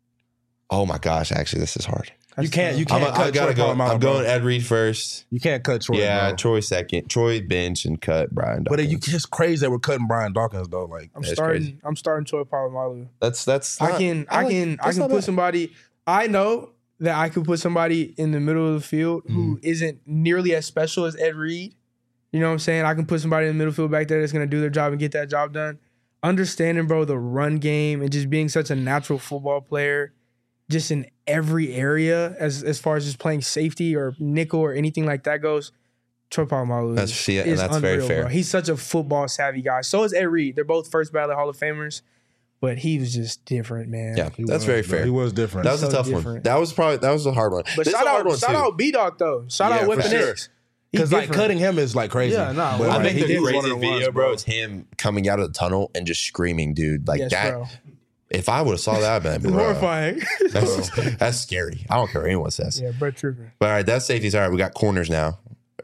Speaker 1: Oh my gosh, actually, this is hard.
Speaker 2: You can't
Speaker 1: I
Speaker 2: cut
Speaker 1: gotta
Speaker 2: Troy
Speaker 1: go.
Speaker 2: Polamalu,
Speaker 1: I'm
Speaker 2: bro.
Speaker 1: going Ed Reed first.
Speaker 2: You can't cut Troy.
Speaker 1: Yeah,
Speaker 2: bro.
Speaker 1: Troy second. Troy bench and cut Brian
Speaker 2: But
Speaker 1: Dawkins.
Speaker 2: it's crazy that we're cutting Brian Dawkins though. Like
Speaker 3: I'm
Speaker 1: That's
Speaker 3: starting.
Speaker 1: crazy.
Speaker 3: I'm starting Troy Polamalu.
Speaker 1: That's
Speaker 3: I
Speaker 1: not-
Speaker 3: can
Speaker 1: that's not
Speaker 3: put
Speaker 1: bad.
Speaker 3: somebody. I know that I could put somebody in the middle of the field who isn't nearly as special as Ed Reed. You know what I'm saying? I can put somebody in the middle field back there that's going to do their job and get that job done. Understanding, bro, the run game and just being such a natural football player, just in every area as far as just playing safety or nickel or anything like that goes. Troy Polamalu
Speaker 1: That's
Speaker 3: is
Speaker 1: very
Speaker 3: unreal,
Speaker 1: fair.
Speaker 3: bro. He's such a football savvy guy. So is Ed Reed. They're both first ballot Hall of Famers, but he was just different, man.
Speaker 1: Yeah,
Speaker 2: he
Speaker 1: that's
Speaker 2: was,
Speaker 1: very
Speaker 2: bro.
Speaker 1: fair.
Speaker 2: He was different.
Speaker 1: That was a
Speaker 3: so
Speaker 1: tough one.
Speaker 3: different.
Speaker 1: That was a hard one.
Speaker 3: But
Speaker 1: This is
Speaker 3: shout
Speaker 1: a hard one,
Speaker 3: out
Speaker 1: too.
Speaker 3: B-Dog though. Shout
Speaker 2: Yeah,
Speaker 3: out
Speaker 2: for
Speaker 3: Weapon
Speaker 2: sure.
Speaker 3: X.
Speaker 2: Because like
Speaker 3: different.
Speaker 2: cutting him is like crazy.
Speaker 3: Yeah, nah,
Speaker 2: But,
Speaker 3: I
Speaker 1: I
Speaker 2: like,
Speaker 1: think
Speaker 2: he
Speaker 1: the
Speaker 2: did one of
Speaker 1: craziest
Speaker 2: the ones,
Speaker 1: video, bro, is him coming out of the tunnel and just screaming, dude. Like
Speaker 3: Yes,
Speaker 1: that.
Speaker 3: bro.
Speaker 1: If I would have saw that, man,
Speaker 3: It's horrifying.
Speaker 1: that's scary. I don't care what anyone says.
Speaker 3: Yeah, Brett Trippin.
Speaker 1: But all right, that's safeties. All right, we got corners now.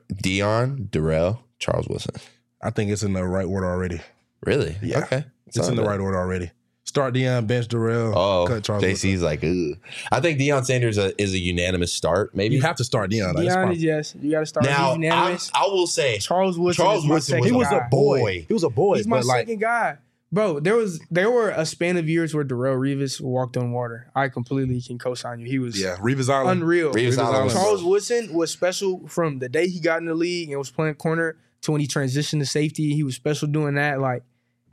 Speaker 1: Dion, Darrell, Charles Wilson.
Speaker 2: I think it's in the right order already.
Speaker 1: Really?
Speaker 2: Yeah.
Speaker 1: Okay.
Speaker 2: It's in the right order already. Start Deion, bench Darrell,
Speaker 1: Oh,
Speaker 2: cut Charles Wilson.
Speaker 1: JC's like, ugh. I think Deion Sanders is a unanimous start. Maybe
Speaker 2: You have to start Deion. Like, it's
Speaker 3: Deion
Speaker 2: fine.
Speaker 3: is yes. You got to start.
Speaker 1: now.
Speaker 3: He's unanimous.
Speaker 1: I will say
Speaker 3: Charles Woodson.
Speaker 1: Charles
Speaker 3: is my
Speaker 1: Woodson
Speaker 3: second
Speaker 1: was
Speaker 2: He was
Speaker 3: guy.
Speaker 2: a boy.
Speaker 1: boy.
Speaker 2: He was a boy.
Speaker 3: He's my
Speaker 2: but like,
Speaker 3: second guy. Bro, there were a span of years where Darrell Revis walked on water. I completely can co-sign you. He was
Speaker 2: yeah, Revis Island.
Speaker 3: unreal.
Speaker 1: Revis Island was-
Speaker 3: Charles Woodson was special from the day he got in the league and was playing corner to when he transitioned to safety. He was special doing that. Like,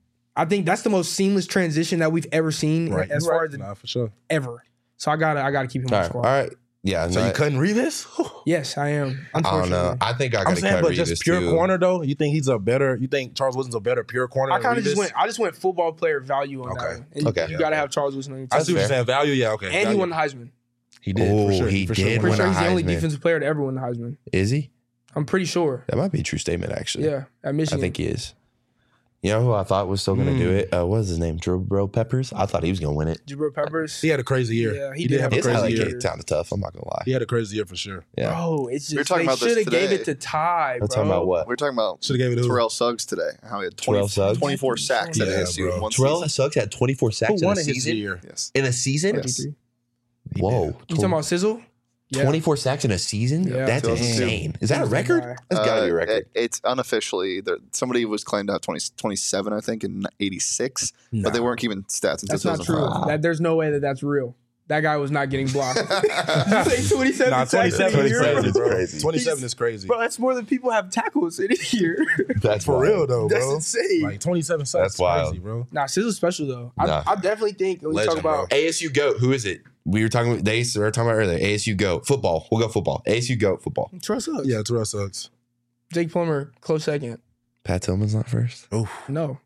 Speaker 3: I think that's the most seamless transition that we've ever seen
Speaker 2: Right.
Speaker 3: as
Speaker 2: You're
Speaker 3: far
Speaker 2: right.
Speaker 3: as
Speaker 2: Nah, for sure.
Speaker 3: ever. So I gotta keep him
Speaker 1: all
Speaker 3: on the
Speaker 1: right.
Speaker 3: squad.
Speaker 1: All right. Yeah.
Speaker 2: So
Speaker 1: no,
Speaker 2: you cutting Revis?
Speaker 3: Yes, I am.
Speaker 1: I don't
Speaker 3: Unfortunately,
Speaker 1: know. I think I
Speaker 2: I'm
Speaker 1: got to
Speaker 2: saying,
Speaker 1: cut
Speaker 2: but
Speaker 1: Revis
Speaker 2: just pure
Speaker 1: too.
Speaker 2: corner though. You think he's a better? You think Charles Wilson's a better pure corner?
Speaker 3: I
Speaker 2: than
Speaker 3: kind of
Speaker 2: Revis?
Speaker 3: just went football player value on that
Speaker 2: Okay.
Speaker 3: one. And
Speaker 1: Okay.
Speaker 3: you got to have Charles Wilson on your
Speaker 2: I
Speaker 3: team.
Speaker 2: see what you're
Speaker 1: fair.
Speaker 2: saying. Value, yeah, okay.
Speaker 3: And he
Speaker 2: Value.
Speaker 3: won the Heisman.
Speaker 2: He did.
Speaker 1: Oh,
Speaker 2: for sure.
Speaker 1: he
Speaker 2: for
Speaker 1: did
Speaker 2: Sure.
Speaker 3: I'm pretty
Speaker 1: win
Speaker 3: sure
Speaker 1: a
Speaker 3: he's the only
Speaker 1: Heisman.
Speaker 3: defensive player to ever win the Heisman.
Speaker 1: Is he?
Speaker 3: I'm pretty sure.
Speaker 1: That might be a true statement, actually.
Speaker 3: Yeah, at
Speaker 1: I
Speaker 3: Michigan.
Speaker 1: think he is. You know who I thought was still going to do it? What was his name? Jabril Peppers? I thought he was going to win it.
Speaker 3: Jabril Peppers.
Speaker 2: He had a crazy year.
Speaker 3: Yeah,
Speaker 2: he did have a
Speaker 1: His
Speaker 2: crazy
Speaker 1: highlight
Speaker 2: year.
Speaker 1: kick sounded tough. I'm not going to lie.
Speaker 2: He had a crazy year for sure.
Speaker 1: Yeah.
Speaker 3: Bro, it's
Speaker 4: We were
Speaker 3: just
Speaker 4: talking
Speaker 3: they
Speaker 4: about this
Speaker 3: should have gave
Speaker 4: today.
Speaker 3: it to Ty,
Speaker 1: We're
Speaker 3: bro.
Speaker 1: talking about what?
Speaker 4: We're talking about
Speaker 2: Should have gave it to
Speaker 4: Terrell Suggs today. How he had
Speaker 1: Terrell Suggs?
Speaker 4: 24 sacks at
Speaker 2: Yeah,
Speaker 4: ASU
Speaker 2: bro.
Speaker 4: in one
Speaker 1: Terrell
Speaker 4: season.
Speaker 1: Suggs had 24 sacks
Speaker 2: Who
Speaker 1: in
Speaker 2: won
Speaker 1: a
Speaker 2: it his
Speaker 1: season?
Speaker 2: year?
Speaker 4: Yes.
Speaker 1: In a season?
Speaker 4: Yes.
Speaker 1: Whoa.
Speaker 3: You talking about Sizzle? Yeah.
Speaker 1: 24 sacks in a season?
Speaker 3: Yeah.
Speaker 1: That's
Speaker 4: 2002.
Speaker 1: insane. Is that a
Speaker 3: He's the
Speaker 1: record?
Speaker 3: guy.
Speaker 1: That's got to be a record.
Speaker 4: It's unofficially. Somebody was claimed to have 27, I think, in 86, but they weren't keeping stats until
Speaker 3: That's not true.
Speaker 4: 2005.
Speaker 3: There's no way that's real. That guy was not getting blocked. You say 27
Speaker 2: Nah,
Speaker 3: sacks in a
Speaker 2: 27
Speaker 3: year?
Speaker 2: is crazy, bro.
Speaker 1: crazy.
Speaker 2: 27 is crazy.
Speaker 3: Bro, that's more than people have tackles in a year.
Speaker 1: That's
Speaker 2: For
Speaker 1: wild.
Speaker 2: real though,
Speaker 3: That's
Speaker 2: bro.
Speaker 3: insane.
Speaker 2: Like 27 sacks.
Speaker 1: That's
Speaker 2: is
Speaker 1: wild.
Speaker 2: crazy, bro.
Speaker 3: Nah, Sizzle's special though.
Speaker 1: Nah.
Speaker 3: I definitely think when we
Speaker 2: Legend,
Speaker 3: talk about
Speaker 1: ASU GOAT. Who is it? We were talking about we were talking about earlier. ASU GOAT. Football. We'll go football. ASU GOAT football.
Speaker 3: Terrell Suggs.
Speaker 2: Yeah, Terrell Suggs.
Speaker 3: Jake Plummer, close second.
Speaker 1: Pat Tillman's not first.
Speaker 3: No.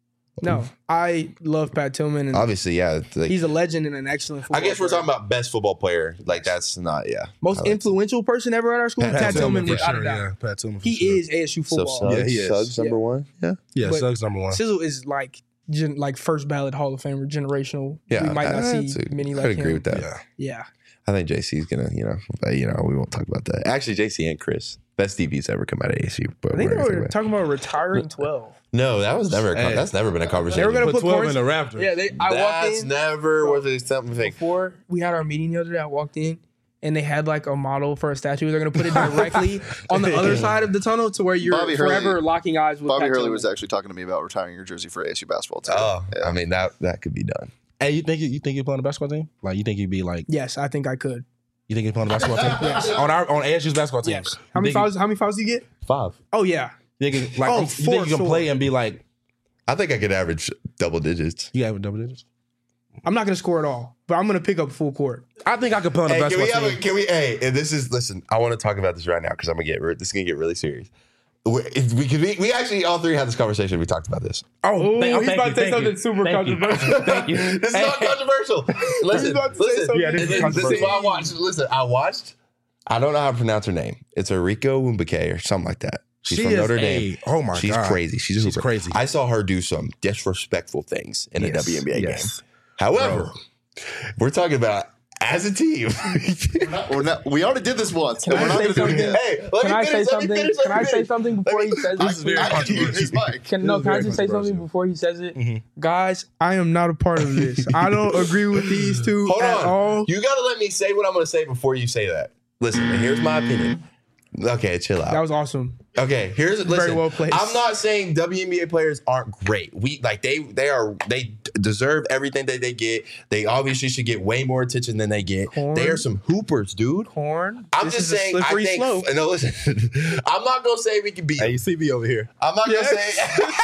Speaker 3: I love Pat Tillman and
Speaker 1: Obviously, yeah. Like,
Speaker 3: he's a legend and an excellent football
Speaker 1: I guess we're
Speaker 3: player.
Speaker 1: talking about best football player. Like that's not, yeah.
Speaker 3: Most
Speaker 1: I like
Speaker 3: influential person ever at our school. Pat Tillman,
Speaker 2: for
Speaker 3: without
Speaker 2: sure.
Speaker 3: a doubt.
Speaker 2: Yeah, Pat Tillman. For
Speaker 3: He
Speaker 2: sure.
Speaker 3: is ASU
Speaker 1: So
Speaker 3: football.
Speaker 1: Suggs,
Speaker 2: Yeah, he is.
Speaker 1: Suggs number one. Yeah.
Speaker 2: Yeah,
Speaker 3: but-
Speaker 2: Suggs number one.
Speaker 3: Sizzle is like like first ballot Hall of Famer, generational.
Speaker 5: Yeah,
Speaker 3: we might not see many like
Speaker 5: I'd agree
Speaker 3: him.
Speaker 5: with that.
Speaker 3: Yeah.
Speaker 5: I think JC's gonna, we won't talk about that. Actually, JC and Chris, best DBs ever come out of ASU. But
Speaker 3: I think they were talking about retiring 12.
Speaker 5: No, that was never. That's never been a conversation.
Speaker 3: They were gonna put
Speaker 2: 12 in the Raptors.
Speaker 3: Yeah, I walked
Speaker 5: That's
Speaker 3: in
Speaker 5: never was something.
Speaker 3: before we had our meeting the other day. I walked in and they had like a model for a statue. They're gonna put it directly on the other side of the tunnel to where you're
Speaker 4: Bobby
Speaker 3: forever
Speaker 4: Hurley-
Speaker 3: locking eyes with.
Speaker 4: Bobby
Speaker 3: Pat
Speaker 4: Hurley
Speaker 3: Tillman.
Speaker 4: was actually talking to me about retiring your jersey for ASU basketball too.
Speaker 5: Oh,
Speaker 4: Yeah.
Speaker 5: I mean that could be done.
Speaker 2: Hey, you think you play on the basketball team? Like, you think you'd be like?
Speaker 3: Yes, I think I could.
Speaker 2: You think you play on the basketball team?
Speaker 3: Yes.
Speaker 2: On ASU's basketball team.
Speaker 3: Yes. How many fouls do you get?
Speaker 5: 5.
Speaker 3: Oh yeah.
Speaker 2: You think, like,
Speaker 3: Oh,
Speaker 2: you think you can play and be like,
Speaker 5: I think I could average double digits.
Speaker 2: you have double digits?
Speaker 3: I'm not gonna score at all, but I'm gonna pick up full court.
Speaker 2: I think I could play on the basketball team.
Speaker 5: And this is, listen, I want to talk about this right now because this is gonna get really serious. We actually all three had this conversation. We talked about this.
Speaker 3: Oh,
Speaker 2: thank
Speaker 3: he's
Speaker 2: you,
Speaker 3: about to say
Speaker 2: thank
Speaker 3: something
Speaker 2: you.
Speaker 3: super
Speaker 2: Thank you.
Speaker 3: controversial.
Speaker 2: Thank you.
Speaker 5: This is not controversial. Listen,
Speaker 3: about to say
Speaker 5: listen.
Speaker 3: something.
Speaker 2: Yeah, this is
Speaker 5: This is
Speaker 2: controversial.
Speaker 5: what I watched. Listen, I watched. I don't know how to pronounce her name. It's Erika Wumbake or something like that. She's from
Speaker 2: is
Speaker 5: Notre Dame.
Speaker 2: Oh my
Speaker 5: She's
Speaker 2: God.
Speaker 5: crazy. She's
Speaker 2: crazy.
Speaker 5: I saw her do some disrespectful things in a WNBA
Speaker 2: Yes.
Speaker 5: game. However, we're talking about as a team.
Speaker 4: We already did this once.
Speaker 3: Can
Speaker 4: and we're
Speaker 3: I
Speaker 4: not
Speaker 3: say
Speaker 4: going to do it
Speaker 3: something?
Speaker 4: again.
Speaker 5: Hey, let
Speaker 3: Can
Speaker 5: me
Speaker 3: I
Speaker 5: finish.
Speaker 3: say
Speaker 5: Let me
Speaker 3: something?
Speaker 5: finish.
Speaker 3: Can I say something before he says
Speaker 4: I
Speaker 3: it?
Speaker 4: can use his mic.
Speaker 3: Can
Speaker 2: This is
Speaker 3: I
Speaker 2: very
Speaker 3: just say something
Speaker 2: controversial.
Speaker 3: before he says it? Guys, I am not a part of this. I don't agree with these two
Speaker 5: Hold
Speaker 3: at
Speaker 5: on.
Speaker 3: all.
Speaker 5: You got to let me say what I'm going to say before you say that. Listen, here's my opinion. Okay, chill out.
Speaker 3: That was awesome.
Speaker 5: Okay, listen.
Speaker 3: Very well placed.
Speaker 5: I'm not saying WNBA players aren't great. They deserve everything that they get. They obviously should get way more attention than they get.
Speaker 3: Corn.
Speaker 5: They are some hoopers, dude.
Speaker 3: Corn.
Speaker 5: I'm
Speaker 3: This
Speaker 5: just
Speaker 3: is a
Speaker 5: saying. I
Speaker 3: slippery
Speaker 5: think.
Speaker 3: slope.
Speaker 5: No, listen. I'm not gonna say we can beat.
Speaker 2: Hey, you see me over here.
Speaker 5: I'm not gonna say.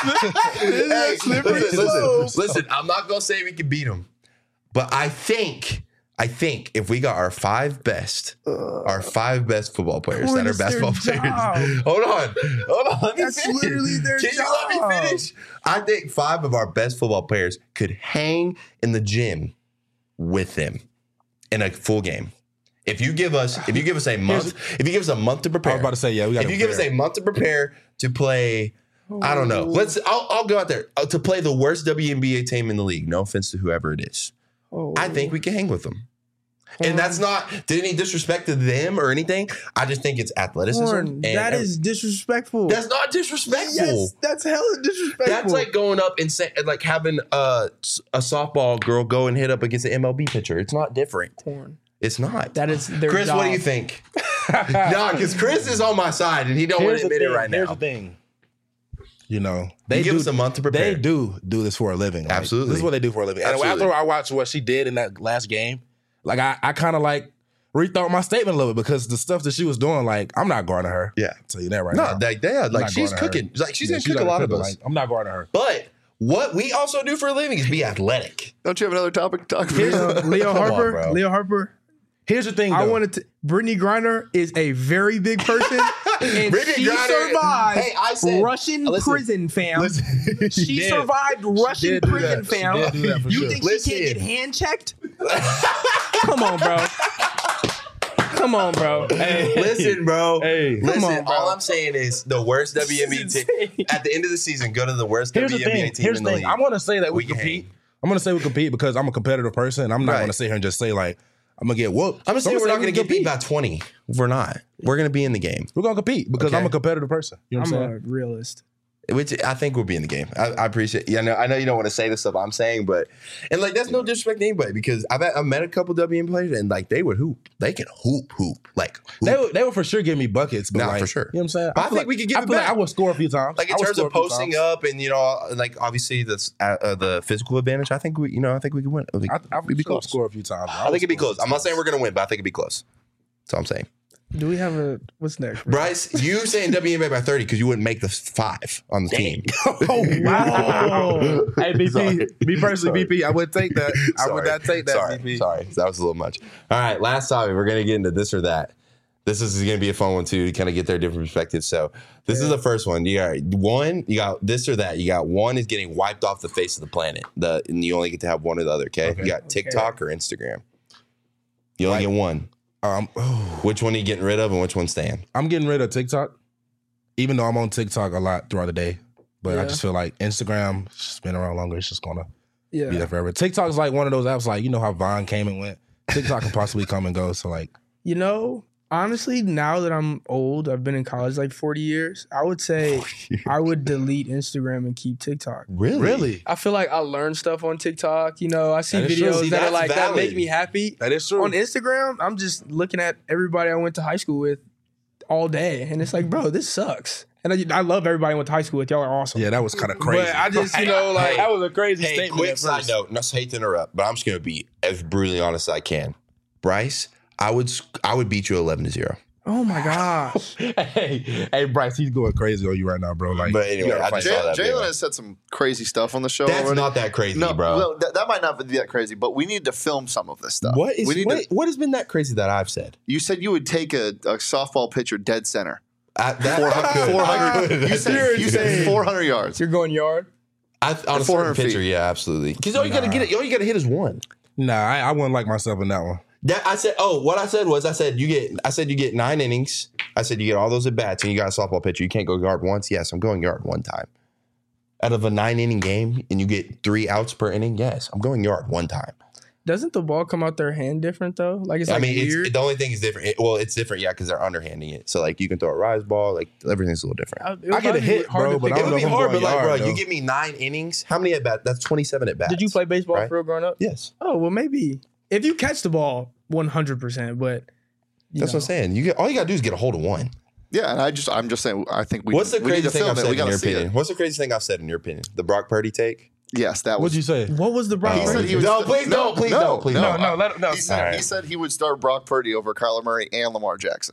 Speaker 5: Hey,
Speaker 3: slippery
Speaker 5: listen.
Speaker 3: slope.
Speaker 5: I'm not gonna say we can beat them, but I think if we got our five best football players that are
Speaker 3: It's their
Speaker 5: basketball
Speaker 3: job.
Speaker 5: players. Hold on. Let me
Speaker 3: That's
Speaker 5: finish.
Speaker 3: literally their
Speaker 5: Can
Speaker 3: job.
Speaker 5: you let me finish? I think 5 of our best football players could hang in the gym with them in a full game. If you give us a month, to prepare.
Speaker 2: I was about to say, yeah, we got
Speaker 5: If you give us a month to prepare to play, I don't know. I'll go out there to play the worst WNBA team in the league. No offense to whoever it is. I think we can hang with them. And that's not any disrespect to them or anything. I just think it's athleticism.
Speaker 3: Corn. That is disrespectful.
Speaker 5: That's not disrespectful.
Speaker 3: Yes, that's hella disrespectful.
Speaker 5: That's like going up and like having a softball girl go and hit up against an MLB pitcher. It's not different.
Speaker 3: Corn.
Speaker 5: It's not.
Speaker 3: That is their
Speaker 5: Chris,
Speaker 3: job.
Speaker 5: what do you think? No, because Chris is on my side and he don't want to admit it right
Speaker 2: Here's
Speaker 5: now.
Speaker 2: the thing. You know,
Speaker 5: They give us a month to prepare.
Speaker 2: They do this for a living. Like,
Speaker 5: Absolutely.
Speaker 2: This is what they do for a living. And
Speaker 5: Absolutely.
Speaker 2: after I watched what she did in that last game, like I kind of like rethought my statement a little bit because the stuff that she was doing, like, I'm not guarding her.
Speaker 5: Yeah.
Speaker 2: I'll tell you that right
Speaker 5: No,
Speaker 2: now.
Speaker 5: like
Speaker 2: I'm not
Speaker 5: she's
Speaker 2: guarding her.
Speaker 5: cooking. Like she's
Speaker 2: Yeah,
Speaker 5: gonna cook a lot of us.
Speaker 2: Like, I'm not guarding her.
Speaker 5: But what we also do for a living is be athletic.
Speaker 4: Don't you have another topic to talk about?
Speaker 3: Leo
Speaker 5: Come on,
Speaker 3: Harper.
Speaker 5: bro.
Speaker 3: Leo Harper.
Speaker 2: Here's the thing,
Speaker 3: I
Speaker 2: though.
Speaker 3: wanted to. Brittany Griner is a very big person, and
Speaker 5: Brittany
Speaker 3: she
Speaker 5: Griner-
Speaker 3: survived
Speaker 5: Hey, I said-
Speaker 3: Russian
Speaker 5: listen,
Speaker 3: prison, fam.
Speaker 2: She
Speaker 3: She
Speaker 2: did.
Speaker 3: survived Russian
Speaker 2: did do
Speaker 3: prison,
Speaker 2: that. She
Speaker 3: fam.
Speaker 2: did do that for
Speaker 3: You
Speaker 2: sure.
Speaker 3: think
Speaker 5: Listen.
Speaker 3: she can't get hand checked? Come on, bro. Come on, bro.
Speaker 2: Hey,
Speaker 5: Listen, bro.
Speaker 2: Hey.
Speaker 5: Listen,
Speaker 3: Come on, bro.
Speaker 5: all I'm saying is the worst WNBA team.
Speaker 3: insane.
Speaker 5: At the end of the season, go to the worst
Speaker 2: Here's the
Speaker 5: WNBA
Speaker 2: thing.
Speaker 5: team
Speaker 2: Here's
Speaker 5: in
Speaker 2: the
Speaker 5: the
Speaker 2: thing.
Speaker 5: league.
Speaker 2: I'm going to say that we
Speaker 5: We can
Speaker 2: compete.
Speaker 5: hang.
Speaker 2: I'm going to say we compete because I'm a competitive person. And I'm not
Speaker 5: Right.
Speaker 2: going to sit here and just say, like, I'm going to get whooped.
Speaker 5: I'm just saying
Speaker 2: So
Speaker 5: we're not
Speaker 2: gonna
Speaker 5: going to get beat by 20. We're not. We're going to be in the game,
Speaker 2: We're going to compete because
Speaker 5: Okay.
Speaker 2: I'm a competitive person. You know what I'm
Speaker 3: I'm
Speaker 2: saying?
Speaker 3: a realist.
Speaker 5: which I think we'll be in the game. I appreciate. Yeah, I know you don't want to say the stuff I'm saying, but and like that's no disrespect to anybody because I've met a couple WNBA players and like they would hoop. They can hoop like hoop.
Speaker 2: They would for sure give me buckets, but
Speaker 5: Nah,
Speaker 2: like,
Speaker 5: for sure.
Speaker 2: You know what I'm saying?
Speaker 5: But I
Speaker 2: feel
Speaker 5: think we could give
Speaker 2: I
Speaker 5: it
Speaker 2: feel like
Speaker 5: back.
Speaker 2: I would score a few times.
Speaker 5: Like in
Speaker 2: I would
Speaker 5: terms
Speaker 2: score
Speaker 5: of
Speaker 2: a few
Speaker 5: posting
Speaker 2: times.
Speaker 5: up and like obviously the physical advantage. I think we could win. Like,
Speaker 2: I
Speaker 5: we'd be
Speaker 2: sure
Speaker 5: close.
Speaker 2: score a few times.
Speaker 5: I think it'd be close. I'm not saying we're gonna win, but I think it'd be close. That's all I'm saying.
Speaker 3: Do we have a what's next?
Speaker 5: Bryce, you saying WNBA by 30 because you wouldn't make the 5 on the team.
Speaker 2: Oh wow! Hey BP,
Speaker 5: Sorry.
Speaker 2: me personally,
Speaker 5: Sorry.
Speaker 2: BP, I would take that. I would not take that.
Speaker 5: Sorry,
Speaker 2: BP.
Speaker 5: sorry. That was a little much. All right, last topic. We're gonna get into this or that. This is gonna be a fun one too to kind of get their different perspectives. So this is the first one. You got this or that. You got one is getting wiped off the face of the planet. And you only get to have one or the other. Okay. You got TikTok or Instagram. You only get one. Which one are you getting rid of and which one's staying?
Speaker 2: I'm getting rid of TikTok, even though I'm on TikTok a lot throughout the day. But I
Speaker 3: Yeah.
Speaker 2: just feel like Instagram, it's been around longer. It's just gonna be
Speaker 3: Yeah.
Speaker 2: there forever. TikTok is like one of those apps, like, you know how Vine came and went. TikTok can possibly come and go. So like,
Speaker 3: You know, honestly, now that I'm old, I've been in college like 40 years. I would say I would delete Instagram and keep TikTok.
Speaker 2: really,
Speaker 3: I feel like I learn stuff on TikTok. You know, I see
Speaker 2: That is true.
Speaker 3: videos
Speaker 5: See,
Speaker 3: that are
Speaker 5: that's
Speaker 3: like that make
Speaker 5: valid.
Speaker 3: me happy.
Speaker 2: that is true.
Speaker 3: On Instagram, I'm just looking at everybody I went to high school with all day, and it's like, bro, this sucks. And I love everybody I went to high school with. Y'all are awesome.
Speaker 2: Yeah, that was kind of crazy.
Speaker 3: But I just, you know, like
Speaker 5: Hey,
Speaker 3: that was a crazy
Speaker 5: Hey,
Speaker 3: statement.
Speaker 5: quick
Speaker 3: at
Speaker 5: side
Speaker 3: first.
Speaker 5: note. Not hate to interrupt, but I'm just gonna be as brutally honest as I can. Bryce, I would beat you 11-0.
Speaker 3: Oh my gosh.
Speaker 2: hey, Bryce, he's going crazy on you right now, bro. Like,
Speaker 5: But anyway,
Speaker 2: you gotta
Speaker 5: I
Speaker 2: fight
Speaker 5: just saw that video.
Speaker 4: Jalen has said some crazy stuff on the show
Speaker 5: That's
Speaker 4: already.
Speaker 5: not that crazy,
Speaker 4: no,
Speaker 5: bro.
Speaker 4: well, that might not be that crazy, but we need to film some of this stuff.
Speaker 5: What is
Speaker 4: we need to,
Speaker 5: what has been that crazy that I've said?
Speaker 4: You said you would take a softball pitcher dead center.
Speaker 5: That
Speaker 4: 400. You said 400 yards.
Speaker 3: You're going yard?
Speaker 5: on a
Speaker 4: 400
Speaker 5: certain
Speaker 4: feet.
Speaker 5: pitcher, yeah, absolutely. Because all you gotta hit is one.
Speaker 2: Nah, I wouldn't like myself in that one.
Speaker 5: That I said. Oh, what I said was, you get 9 innings. I said you get all those at bats, and you got a softball pitcher. You can't go yard once. Yes, I'm going yard one time. Out of a 9-inning game, and you get 3 outs per inning. Yes, I'm going yard one time.
Speaker 3: Doesn't the ball come out their hand different though? Like it's like weird.
Speaker 5: The only thing is different. It's different, yeah, because they're underhanding it. So like you can throw a rise ball. Like everything's a little different.
Speaker 3: It would
Speaker 2: I get a
Speaker 3: probably be
Speaker 2: hit,
Speaker 3: hard
Speaker 2: bro,
Speaker 3: to
Speaker 2: but
Speaker 3: pick
Speaker 2: I
Speaker 5: It
Speaker 2: don't
Speaker 5: would
Speaker 2: know
Speaker 5: be
Speaker 2: if I'm
Speaker 5: hard, but
Speaker 2: going
Speaker 5: like,
Speaker 2: yard,
Speaker 5: bro,
Speaker 2: though.
Speaker 5: you give me 9 innings. How many at bat? That's 27 at bats.
Speaker 3: Did you play baseball
Speaker 5: Right?
Speaker 3: for real growing up?
Speaker 5: Yes.
Speaker 3: Oh well, maybe if you catch the ball 100%, but
Speaker 5: That's what I'm saying. All you gotta do is get a hold of one.
Speaker 4: Yeah, and I'm just saying. I think
Speaker 5: What's the
Speaker 4: we need
Speaker 5: craziest
Speaker 4: to
Speaker 5: thing
Speaker 4: film
Speaker 5: I've
Speaker 4: it.
Speaker 5: said
Speaker 4: We
Speaker 5: in
Speaker 4: gotta
Speaker 5: your
Speaker 4: see
Speaker 5: opinion?
Speaker 4: it.
Speaker 5: What's the craziest thing I've said in your opinion? The Brock Purdy take?
Speaker 4: Yes, that was.
Speaker 2: What'd you say?
Speaker 3: What was the Brock?
Speaker 4: He said he would
Speaker 5: No, please don't, please don't, please don't.
Speaker 4: He said he would start Brock Purdy over Kyler Murray and Lamar Jackson.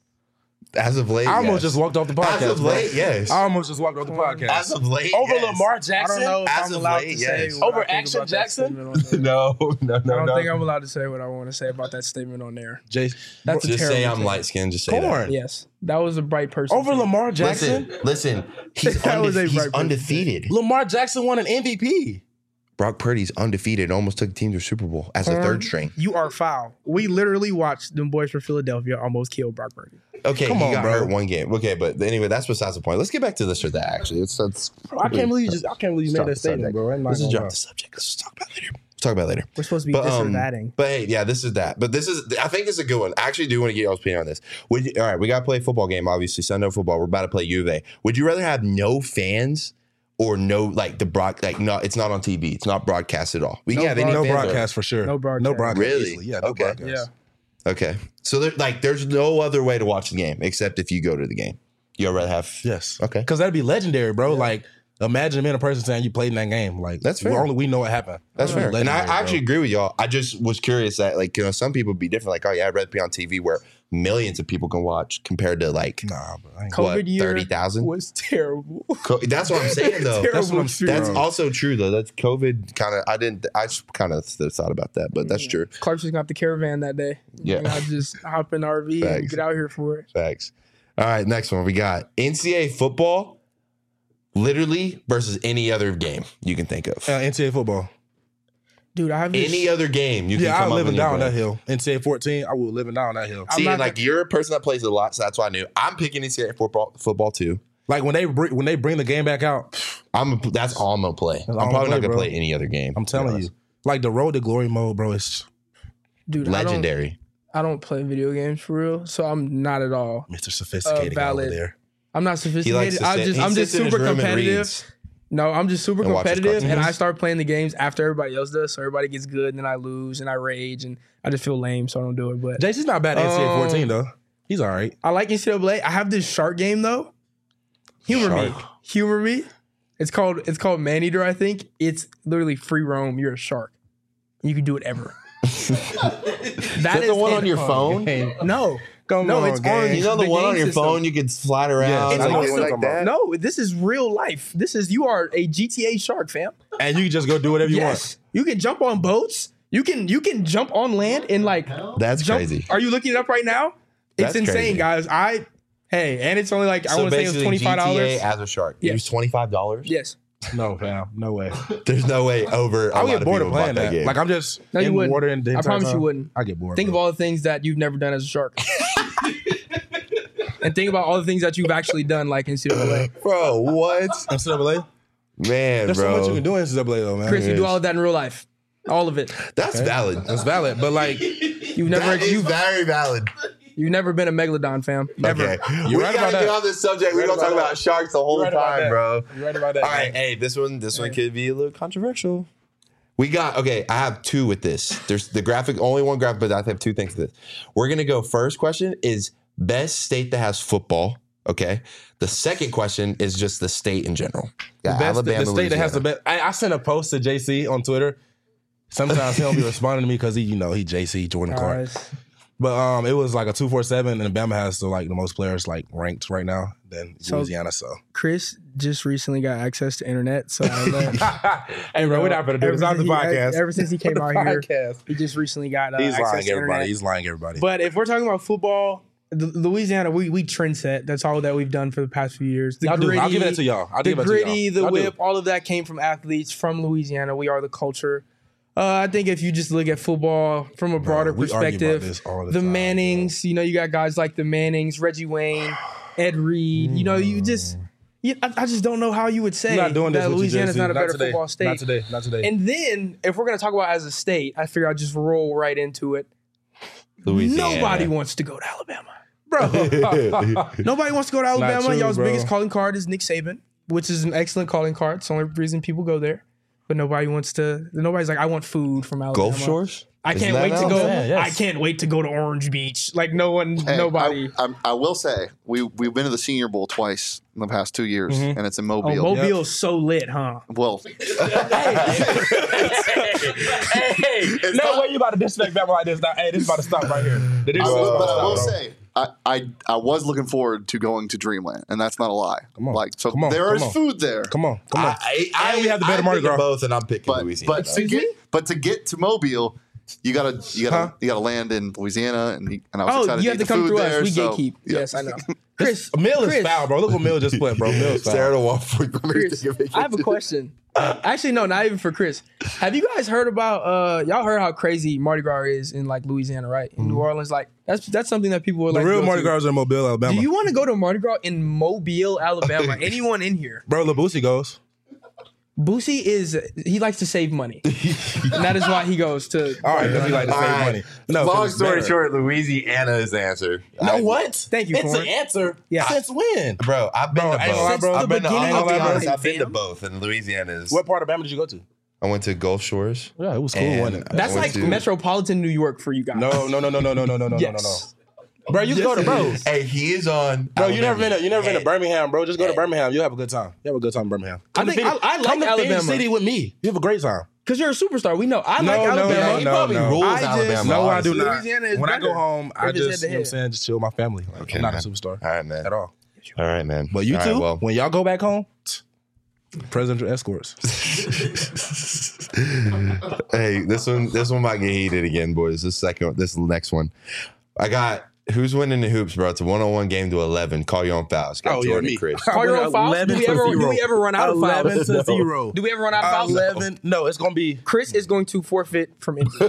Speaker 5: As of late,
Speaker 2: I almost
Speaker 5: yes.
Speaker 2: just walked off the podcast.
Speaker 5: As of
Speaker 2: bro.
Speaker 5: late, yes.
Speaker 2: I almost just walked off the podcast.
Speaker 5: As of late,
Speaker 2: Over
Speaker 5: yes.
Speaker 2: Lamar
Speaker 3: I
Speaker 2: Jackson?
Speaker 3: don't know if
Speaker 5: As
Speaker 3: I'm
Speaker 5: of
Speaker 3: allowed
Speaker 5: late,
Speaker 3: to say
Speaker 5: yes.
Speaker 3: what
Speaker 2: Over
Speaker 3: I think
Speaker 2: Action
Speaker 3: about that
Speaker 2: Jackson?
Speaker 3: statement on there.
Speaker 5: No.
Speaker 3: I don't think I'm allowed to say what I want to say about that statement on there.
Speaker 2: Jace,
Speaker 3: That's a
Speaker 5: Just say
Speaker 3: terrible
Speaker 5: I'm
Speaker 3: take.
Speaker 5: light skinned. Just say that.
Speaker 2: Corn.
Speaker 3: Yes, that was a bright person.
Speaker 2: Over
Speaker 3: take.
Speaker 2: Lamar Jackson?
Speaker 5: Listen. He's,
Speaker 3: That was a
Speaker 5: he's
Speaker 3: bright person.
Speaker 5: undefeated.
Speaker 2: Lamar Jackson won an MVP.
Speaker 5: Brock Purdy's undefeated. Almost took the team to a Super Bowl as a third string.
Speaker 3: You are foul. We literally watched them boys from Philadelphia almost kill Brock Purdy.
Speaker 5: Okay,
Speaker 2: Come
Speaker 5: he
Speaker 2: on,
Speaker 5: got
Speaker 2: bro.
Speaker 5: hurt one game. Okay, but anyway, that's besides the point. Let's get back to this or that. Actually, it's
Speaker 2: Bro, I can't believe you
Speaker 5: Stop
Speaker 2: made that
Speaker 5: the
Speaker 2: statement,
Speaker 5: subject.
Speaker 2: bro. I'm not
Speaker 5: Let's just
Speaker 2: gonna
Speaker 5: drop
Speaker 2: lie.
Speaker 5: the subject. Let's just talk about it later. Let's talk about it later.
Speaker 3: We're supposed to be
Speaker 5: But,
Speaker 3: this or thatting.
Speaker 5: But hey, yeah, this is that. But this is, I think it's a good one. I actually do want to get y'all's opinion on this. All right, we got to play a football game, obviously, Sunday football. We're about to play U of A. Would you rather have no fans or no, like, no, it's not on TV. It's not broadcast at all. We can have any
Speaker 2: No
Speaker 5: fans or-
Speaker 2: broadcast for sure.
Speaker 3: No broadcast.
Speaker 2: No broadcast.
Speaker 5: Really?
Speaker 2: Easily. Yeah, no
Speaker 5: Okay.
Speaker 2: broadcast.
Speaker 3: Yeah.
Speaker 5: Okay. So there's no other way to watch the game except if you go to the game. You'd rather have.
Speaker 2: Yes.
Speaker 5: Okay.
Speaker 2: Because that'd be legendary, bro. Like, imagine being a person saying you played in that game. Like,
Speaker 5: That's fair.
Speaker 2: Only we know what happened.
Speaker 5: That's fair. And I
Speaker 2: Legendary, bro.
Speaker 5: actually agree with y'all. I just was curious that, like, some people would be different. Like, oh, yeah, I'd rather be on TV where millions of people can watch compared to, like,
Speaker 2: Nah, bro. I ain't
Speaker 3: COVID
Speaker 5: what,
Speaker 3: year
Speaker 5: 30,000?
Speaker 3: was terrible.
Speaker 5: That's what I'm saying, though.
Speaker 2: That's what I'm saying.
Speaker 5: That's
Speaker 2: bro.
Speaker 5: also true, though. That's COVID kind of, I just kind of thought about that, but that's true.
Speaker 3: Clark's just got the caravan that day.
Speaker 5: Yeah.
Speaker 3: And I just hop in the RV and
Speaker 5: Facts.
Speaker 3: get out here for it.
Speaker 5: Facts. All right, next one. We got NCAA football, literally, versus any other game you can think of.
Speaker 2: NCAA football.
Speaker 3: Dude, I have this.
Speaker 5: Any other game you can
Speaker 2: Yeah,
Speaker 5: come
Speaker 2: I'm
Speaker 5: up
Speaker 2: living
Speaker 5: with your
Speaker 2: down that
Speaker 5: brain.
Speaker 2: hill. NCAA 14, I will living down that hill.
Speaker 3: I'm
Speaker 5: See,
Speaker 3: not
Speaker 5: and like you're a person that plays a lot, so that's why I knew. I'm picking NCAA football too.
Speaker 2: Like when they bring the game back out,
Speaker 5: That's all I'm gonna play. I'm
Speaker 2: all I'm
Speaker 5: probably
Speaker 2: gonna
Speaker 5: not gonna
Speaker 2: play,
Speaker 5: play any other game.
Speaker 2: I'm
Speaker 5: to be
Speaker 2: telling
Speaker 5: honest.
Speaker 2: you. Like the road to glory mode, bro, it's
Speaker 3: Dude,
Speaker 5: Legendary.
Speaker 3: I don't play video games for real, so I'm not at all.
Speaker 2: Mr. Sophisticated guy over
Speaker 3: valid.
Speaker 2: there.
Speaker 3: I'm not
Speaker 5: He likes
Speaker 3: sophisticated.
Speaker 5: to sit,
Speaker 3: I'm
Speaker 5: he
Speaker 3: just
Speaker 5: sits in his
Speaker 3: super
Speaker 5: room and
Speaker 3: competitive.
Speaker 5: reads.
Speaker 3: No, I'm just super
Speaker 5: And watches
Speaker 3: competitive, and
Speaker 5: cartoons.
Speaker 3: I start playing the games after everybody else does. So everybody gets good, and then I lose, and I rage, and I just feel lame, so I don't do it. But
Speaker 2: Jason's not bad at NCAA 14 though. He's all right.
Speaker 3: I like NCAA. I have this shark game though. Humor me. It's called Maneater. I think it's literally free roam. You're a shark. You can do whatever. That
Speaker 5: Is the one on your phone?
Speaker 3: No.
Speaker 2: Come
Speaker 3: No,
Speaker 2: on,
Speaker 3: it's
Speaker 2: gang.
Speaker 3: on
Speaker 5: You know the one
Speaker 3: game
Speaker 5: on your
Speaker 3: system.
Speaker 5: phone, you can slide around.
Speaker 2: Yes,
Speaker 3: I know
Speaker 5: like,
Speaker 3: what
Speaker 2: you're
Speaker 5: like
Speaker 2: talking
Speaker 5: that.
Speaker 3: No, this is real life. You are a GTA shark, fam.
Speaker 2: And you can just go do whatever you
Speaker 3: Yes. You can jump on boats. You can jump on land and like
Speaker 5: That's
Speaker 3: jump.
Speaker 5: crazy.
Speaker 3: Are you looking it up right now? It's
Speaker 5: That's
Speaker 3: insane,
Speaker 5: crazy.
Speaker 3: guys. And it's only like I
Speaker 5: So
Speaker 3: want to say it was
Speaker 5: basically,
Speaker 3: $25.
Speaker 5: GTA as a shark. It was
Speaker 3: Yes.
Speaker 5: $25.
Speaker 3: Yes.
Speaker 2: want. No, fam. No way.
Speaker 5: There's no way over.
Speaker 2: I
Speaker 5: a
Speaker 2: would
Speaker 5: lot
Speaker 2: get
Speaker 5: of
Speaker 2: bored of
Speaker 5: people bought
Speaker 2: playing that.
Speaker 5: game.
Speaker 2: Like I'm just
Speaker 3: No, you
Speaker 2: in
Speaker 3: wouldn't.
Speaker 2: water and the
Speaker 3: I
Speaker 2: entire
Speaker 3: promise you
Speaker 2: time.
Speaker 3: wouldn't.
Speaker 2: I get bored.
Speaker 3: Think of
Speaker 2: bro.
Speaker 3: all the things that you've never done as a shark. and think about all the things that you've actually done, like NCAA.
Speaker 5: Bro, what?
Speaker 2: NCAA?
Speaker 5: Man,
Speaker 2: There's
Speaker 5: bro.
Speaker 2: so much you can do in NCAA though, man.
Speaker 3: Chris, you do all of that in real life. All of it.
Speaker 5: That's valid.
Speaker 2: That's valid, but like,
Speaker 3: You've never
Speaker 5: That is very valid.
Speaker 3: you've never been a megalodon, fam. Never.
Speaker 5: Okay.
Speaker 2: You're
Speaker 5: We
Speaker 2: right
Speaker 5: gotta
Speaker 2: about
Speaker 5: get
Speaker 2: that.
Speaker 5: on this subject.
Speaker 2: You're
Speaker 5: We're
Speaker 2: right
Speaker 5: gonna talk
Speaker 2: about
Speaker 5: about
Speaker 2: that.
Speaker 5: sharks the whole
Speaker 2: You're right about
Speaker 5: time,
Speaker 2: that.
Speaker 5: bro.
Speaker 2: You're right about that.
Speaker 5: All right, hey, this one could be a little controversial. We got I have two with this. There's the graphic, only one graphic, but I have two things to this. We're gonna go. First question is best state that has football. Okay. The second question is just the state in general. Yeah,
Speaker 2: The state that has the best. I sent a post to JC on Twitter. Sometimes he don't be responding to me because he JC Jordan Clark.
Speaker 3: Guys.
Speaker 2: But it was like a 247, and Bama has the most players ranked right now than Louisiana. So
Speaker 3: Chris just recently got access to internet, so I let
Speaker 2: hey, bro, we're not gonna do this. It's the podcast.
Speaker 3: Ever since he came out here,
Speaker 2: Podcast.
Speaker 3: he just recently got
Speaker 2: He's
Speaker 3: access
Speaker 2: lying
Speaker 3: to
Speaker 2: everybody.
Speaker 3: internet.
Speaker 2: He's lying everybody.
Speaker 3: But if we're talking about football, Louisiana, we trend set. That's all that we've done for the past few years. The
Speaker 2: I'll
Speaker 3: gritty,
Speaker 2: give it to y'all.
Speaker 3: the gritty, the whip, all of that came from athletes from Louisiana. We are the culture. I think if you just look at football from a broader
Speaker 2: we argue about
Speaker 3: perspective,
Speaker 2: this all the
Speaker 3: the
Speaker 2: time,
Speaker 3: Mannings, you got guys like the Mannings, Reggie Wayne, Ed Reed. You just, I just don't know how you would say
Speaker 2: You're not doing this
Speaker 3: that
Speaker 2: with
Speaker 3: Louisiana is
Speaker 2: JC.
Speaker 3: not a better
Speaker 2: today.
Speaker 3: football state.
Speaker 2: Not today. Not today.
Speaker 3: And then if we're gonna talk about as a state, I figure I'll just roll right into it.
Speaker 5: Louisiana.
Speaker 3: Nobody wants to go to Alabama. Bro, nobody wants to go to Alabama.
Speaker 2: true,
Speaker 3: Y'all's
Speaker 2: bro.
Speaker 3: biggest calling card is Nick Saban, which is an excellent calling card. It's the only reason people go there. But nobody's like, I want food from Alabama.
Speaker 5: Gulf Shores?
Speaker 3: I
Speaker 5: Isn't
Speaker 3: can't
Speaker 5: that
Speaker 3: wait to go.
Speaker 5: Alabama?
Speaker 2: Yes.
Speaker 3: I can't wait to go to Orange Beach. Like
Speaker 4: Hey,
Speaker 3: nobody.
Speaker 4: I will say we've been to the Senior Bowl twice in the past 2 years, and it's in
Speaker 3: Oh,
Speaker 4: Mobile.
Speaker 3: Mobile's so lit, huh?
Speaker 4: Well,
Speaker 2: no way you about to disrespect Bama like this. Now, hey, this is about to stop right here.
Speaker 4: but I will say I was looking forward to going to Dreamland, and that's not a lie.
Speaker 2: Come on.
Speaker 4: Like, so
Speaker 2: Come on.
Speaker 4: there
Speaker 2: Come
Speaker 4: is
Speaker 2: on.
Speaker 4: food there.
Speaker 2: Come on. And we have the better
Speaker 5: I'm
Speaker 2: Mardi
Speaker 5: picking
Speaker 2: Gras.
Speaker 5: both, and I'm picking
Speaker 4: But
Speaker 5: Louisiana.
Speaker 4: to get to Mobile, you gotta land in Louisiana, and I was excited
Speaker 3: You
Speaker 4: to
Speaker 3: have
Speaker 4: eat
Speaker 3: to
Speaker 4: the
Speaker 3: come
Speaker 4: food
Speaker 3: through
Speaker 4: there.
Speaker 3: us. We
Speaker 4: so,
Speaker 3: gatekeep.
Speaker 4: yeah.
Speaker 3: Yes, I know. Chris,
Speaker 2: Mill is foul, bro. Look what Mill just put, bro. Mill's foul.
Speaker 5: Sarah to Waffle.
Speaker 3: Chris, I have a question. Actually, no, not even for Chris. Have you guys heard about y'all heard how crazy Mardi Gras is in Louisiana, right? In New Orleans, that's something that people would
Speaker 2: The
Speaker 3: like.
Speaker 2: real
Speaker 3: to go
Speaker 2: Mardi
Speaker 3: to.
Speaker 2: Gras is in Mobile, Alabama.
Speaker 3: Do you want to go to Mardi Gras in Mobile, Alabama? Anyone in here?
Speaker 2: Bro, Labusi goes.
Speaker 3: Boosie he likes to save money, and that is why he goes to.
Speaker 2: All right, because he like to
Speaker 5: All
Speaker 2: save
Speaker 5: right.
Speaker 2: money. No, 'cause
Speaker 5: Long
Speaker 2: it's
Speaker 5: story
Speaker 2: better.
Speaker 5: short, Louisiana is the answer.
Speaker 2: No, what?
Speaker 3: Thank you,
Speaker 2: It's
Speaker 3: Corn.
Speaker 2: an answer.
Speaker 3: Yeah.
Speaker 2: Since when?
Speaker 5: Bro, I've been to
Speaker 2: I ain't gonna lie,
Speaker 5: both.
Speaker 2: bro.
Speaker 5: I've been to,
Speaker 3: beginning
Speaker 5: I'll
Speaker 2: of
Speaker 5: be
Speaker 2: time,
Speaker 5: honest, I've been to
Speaker 3: fam.
Speaker 5: both, and Louisiana is.
Speaker 2: What part of Bama did you go to?
Speaker 5: I went to Gulf Shores.
Speaker 2: Yeah, it was cool,
Speaker 5: And
Speaker 2: wasn't it?
Speaker 3: That's
Speaker 5: I went
Speaker 3: like
Speaker 5: to-
Speaker 3: metropolitan New York for you guys.
Speaker 2: No.
Speaker 3: Yes.
Speaker 2: Bro, you go to bro.
Speaker 5: Hey, he is on.
Speaker 2: Bro, you never
Speaker 5: Alabama.
Speaker 2: been to Birmingham, bro. Just go to Birmingham. You'll have a good time. You have a good time in Birmingham.
Speaker 3: I like
Speaker 2: Come to Phoenix
Speaker 3: Alabama
Speaker 2: City with me. You have a great time.
Speaker 3: because you're a superstar. We know. I like
Speaker 2: No,
Speaker 3: Alabama.
Speaker 5: He probably rules
Speaker 3: I just-
Speaker 5: Alabama.
Speaker 2: No, I
Speaker 5: honestly.
Speaker 2: do not.
Speaker 3: Louisiana is
Speaker 2: When I
Speaker 3: better.
Speaker 2: go home, I
Speaker 3: If it's
Speaker 2: just,
Speaker 3: head to
Speaker 2: you know what I'm
Speaker 3: head.
Speaker 2: saying, just chill with my family. Like,
Speaker 5: Okay,
Speaker 2: I'm not
Speaker 5: man.
Speaker 2: a superstar
Speaker 5: All right, man.
Speaker 2: at all.
Speaker 5: All right, man.
Speaker 2: But you
Speaker 5: All
Speaker 2: two,
Speaker 5: right, well,
Speaker 2: when y'all go back home, presidential escorts.
Speaker 5: hey, this one might get heated again, boys. This next one. I got who's winning the hoops, bro. It's a 1-on-1 game to 11. Call your own fouls. Got Jordan and Chris.
Speaker 3: Call your own fouls? Do we ever run out of fouls?
Speaker 2: 11 to 0.
Speaker 3: Do we ever run out of fouls?
Speaker 2: 11. No, it's gonna be.
Speaker 3: Chris is going to forfeit from injury.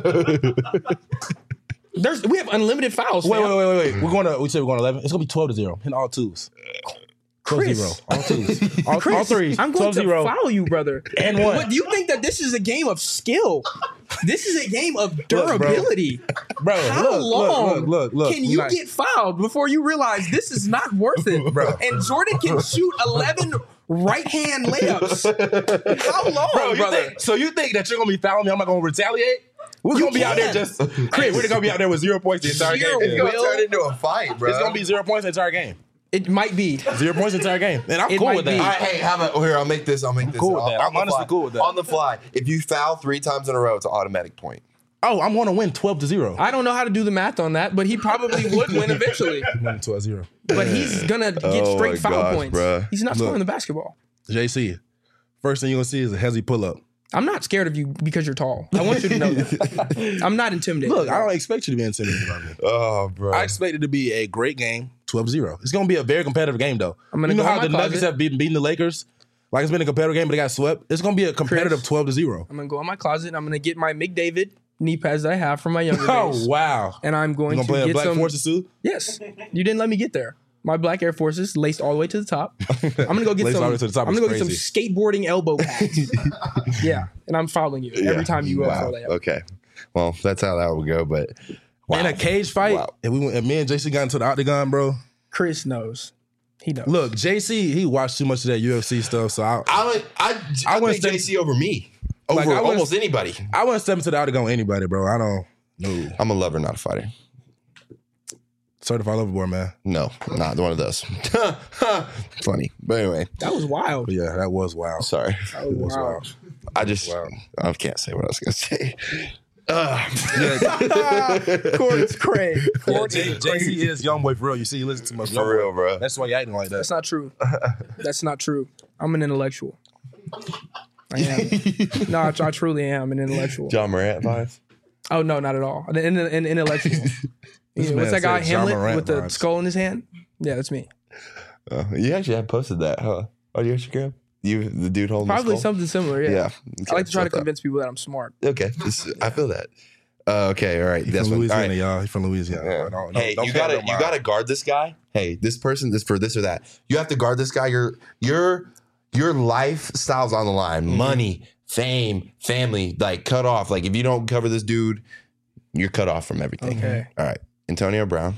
Speaker 3: We have unlimited fouls.
Speaker 2: Wait.
Speaker 3: fam.
Speaker 2: We said we're going 11. It's gonna be 12 to 0. Hitting all twos. 12
Speaker 3: Chris.
Speaker 2: 0. All twos. All
Speaker 3: Chris,
Speaker 2: threes.
Speaker 3: I'm going
Speaker 2: 12
Speaker 3: to
Speaker 2: 0.
Speaker 3: foul you, brother.
Speaker 2: And one.
Speaker 3: But do you think that this is a game of skill? This is a game of durability.
Speaker 2: Bro,
Speaker 3: How long
Speaker 2: look.
Speaker 3: can you get fouled before you realize this is not worth it?
Speaker 2: Bro.
Speaker 3: And Jordan can shoot 11 right-hand layups. How long,
Speaker 2: Bro,
Speaker 3: brother?
Speaker 2: so you think that you're gonna be fouling me? I'm not gonna retaliate? We're gonna be out there just. Chris, we're gonna be out there with 0 points the entire
Speaker 3: Zero
Speaker 2: game.
Speaker 5: It's gonna turn into a fight, bro.
Speaker 2: It's gonna be 0 points the entire game.
Speaker 3: It might be.
Speaker 2: 0 points the entire game. And I'm
Speaker 3: It
Speaker 2: cool
Speaker 3: might
Speaker 2: with
Speaker 3: be.
Speaker 2: that.
Speaker 5: All right, hey, how about here? I'll make this.
Speaker 2: cool with that.
Speaker 5: On
Speaker 2: I'm
Speaker 5: the
Speaker 2: honestly
Speaker 5: fly.
Speaker 2: cool with that.
Speaker 5: On the fly, if you foul 3 times in a row, it's an automatic point.
Speaker 2: Oh, I'm gonna win 12 to 0.
Speaker 3: I don't know how to do the math on that, but he probably would win eventually.
Speaker 2: I'm winning 12 0.
Speaker 3: But he's gonna get
Speaker 5: Oh
Speaker 3: straight
Speaker 5: my
Speaker 3: foul
Speaker 5: gosh,
Speaker 3: points.
Speaker 5: bruh.
Speaker 3: He's not
Speaker 2: Look.
Speaker 3: scoring the basketball.
Speaker 2: JC, first thing you're gonna see is a hezzy pull up.
Speaker 3: I'm not scared of you because you're tall. I want you to know that. I'm not intimidated.
Speaker 2: Look, I don't expect you to be intimidated by me.
Speaker 5: Oh, bro.
Speaker 2: I expect it to be a great game, 12-0. It's gonna be a very competitive game, though.
Speaker 3: I'm gonna
Speaker 2: you know
Speaker 3: go in
Speaker 2: how
Speaker 3: my
Speaker 2: the Nuggets
Speaker 3: closet.
Speaker 2: have beaten the Lakers? Like it's been a competitive game, but they got swept. It's gonna be a competitive 12-0.
Speaker 3: I'm gonna go in my closet. I'm gonna get my McDavid knee pads that I have from my younger days.
Speaker 2: Oh wow!
Speaker 3: And I'm
Speaker 2: You
Speaker 3: going
Speaker 2: gonna
Speaker 3: to
Speaker 2: play a
Speaker 3: get
Speaker 2: Black
Speaker 3: some.
Speaker 2: Forces suit?
Speaker 3: Yes, you didn't let me get there. My black Air Forces laced all the way to the top. I'm gonna go get
Speaker 2: Laced
Speaker 3: some.
Speaker 2: all the way to the top
Speaker 3: I'm
Speaker 2: is
Speaker 3: gonna go get some
Speaker 2: crazy.
Speaker 3: skateboarding elbow pads. Yeah, and I'm following you every time you
Speaker 5: Wow.
Speaker 3: throw that.
Speaker 5: Okay. Well, that's how that would go. But wow.
Speaker 2: In a cage fight,
Speaker 5: Wow.
Speaker 2: if me and JC got into the octagon, bro.
Speaker 3: Chris knows. He knows.
Speaker 2: Look, JC, he watched too much of that UFC stuff, so
Speaker 5: I
Speaker 2: wouldn't
Speaker 5: pick
Speaker 2: say-
Speaker 5: JC over me. Over
Speaker 2: Like, I wouldn't-
Speaker 5: almost anybody.
Speaker 2: I wouldn't step into the octagon with anybody, bro. I don't know.
Speaker 5: I'm a lover, not a fighter.
Speaker 2: Certified lover boy, man.
Speaker 5: No, not one of those. Funny. But anyway,
Speaker 3: That was wild.
Speaker 2: But yeah, that was wild.
Speaker 5: sorry.
Speaker 3: That was
Speaker 2: was
Speaker 3: wild.
Speaker 5: I just
Speaker 2: Wow.
Speaker 5: I can't say what I was gonna say.
Speaker 3: Corey's Craig.
Speaker 2: JC is young boy for real. You see, he listens to much
Speaker 5: For real, bro.
Speaker 2: That's why you acting like that.
Speaker 3: That's not true. That's not true. I'm an intellectual. I am. No, I truly am an intellectual.
Speaker 5: John Morant vibes.
Speaker 3: Oh no, not at all. An intellectual.
Speaker 2: This
Speaker 3: What's
Speaker 2: man
Speaker 3: that guy
Speaker 2: said John
Speaker 3: Hamlet
Speaker 2: Morant
Speaker 3: with the
Speaker 2: vibes.
Speaker 3: skull in his hand? Yeah, that's me.
Speaker 5: You actually have posted that, huh? On your Instagram? You, the dude holding
Speaker 3: Probably
Speaker 5: the skull?
Speaker 3: something similar. Yeah.
Speaker 5: Yeah.
Speaker 3: I like to try to
Speaker 5: Shut up.
Speaker 3: convince people that I'm smart.
Speaker 5: Okay, I feel that. Okay, all right.
Speaker 2: He's
Speaker 5: That's
Speaker 2: from
Speaker 5: one. All
Speaker 2: Louisiana,
Speaker 5: right.
Speaker 2: y'all. He's from Louisiana.
Speaker 5: Yeah.
Speaker 2: Don't
Speaker 5: Hey,
Speaker 2: don't
Speaker 5: you
Speaker 2: pay
Speaker 5: gotta
Speaker 2: no mind.
Speaker 5: guard this guy. Hey, this person, this for this or that. You have to guard this guy. Your lifestyle's on the line.
Speaker 2: Mm-hmm.
Speaker 5: Money, fame, family, like cut off. Like if you don't cover this dude, you're cut off from everything.
Speaker 3: Okay.
Speaker 5: All right, Antonio Brown.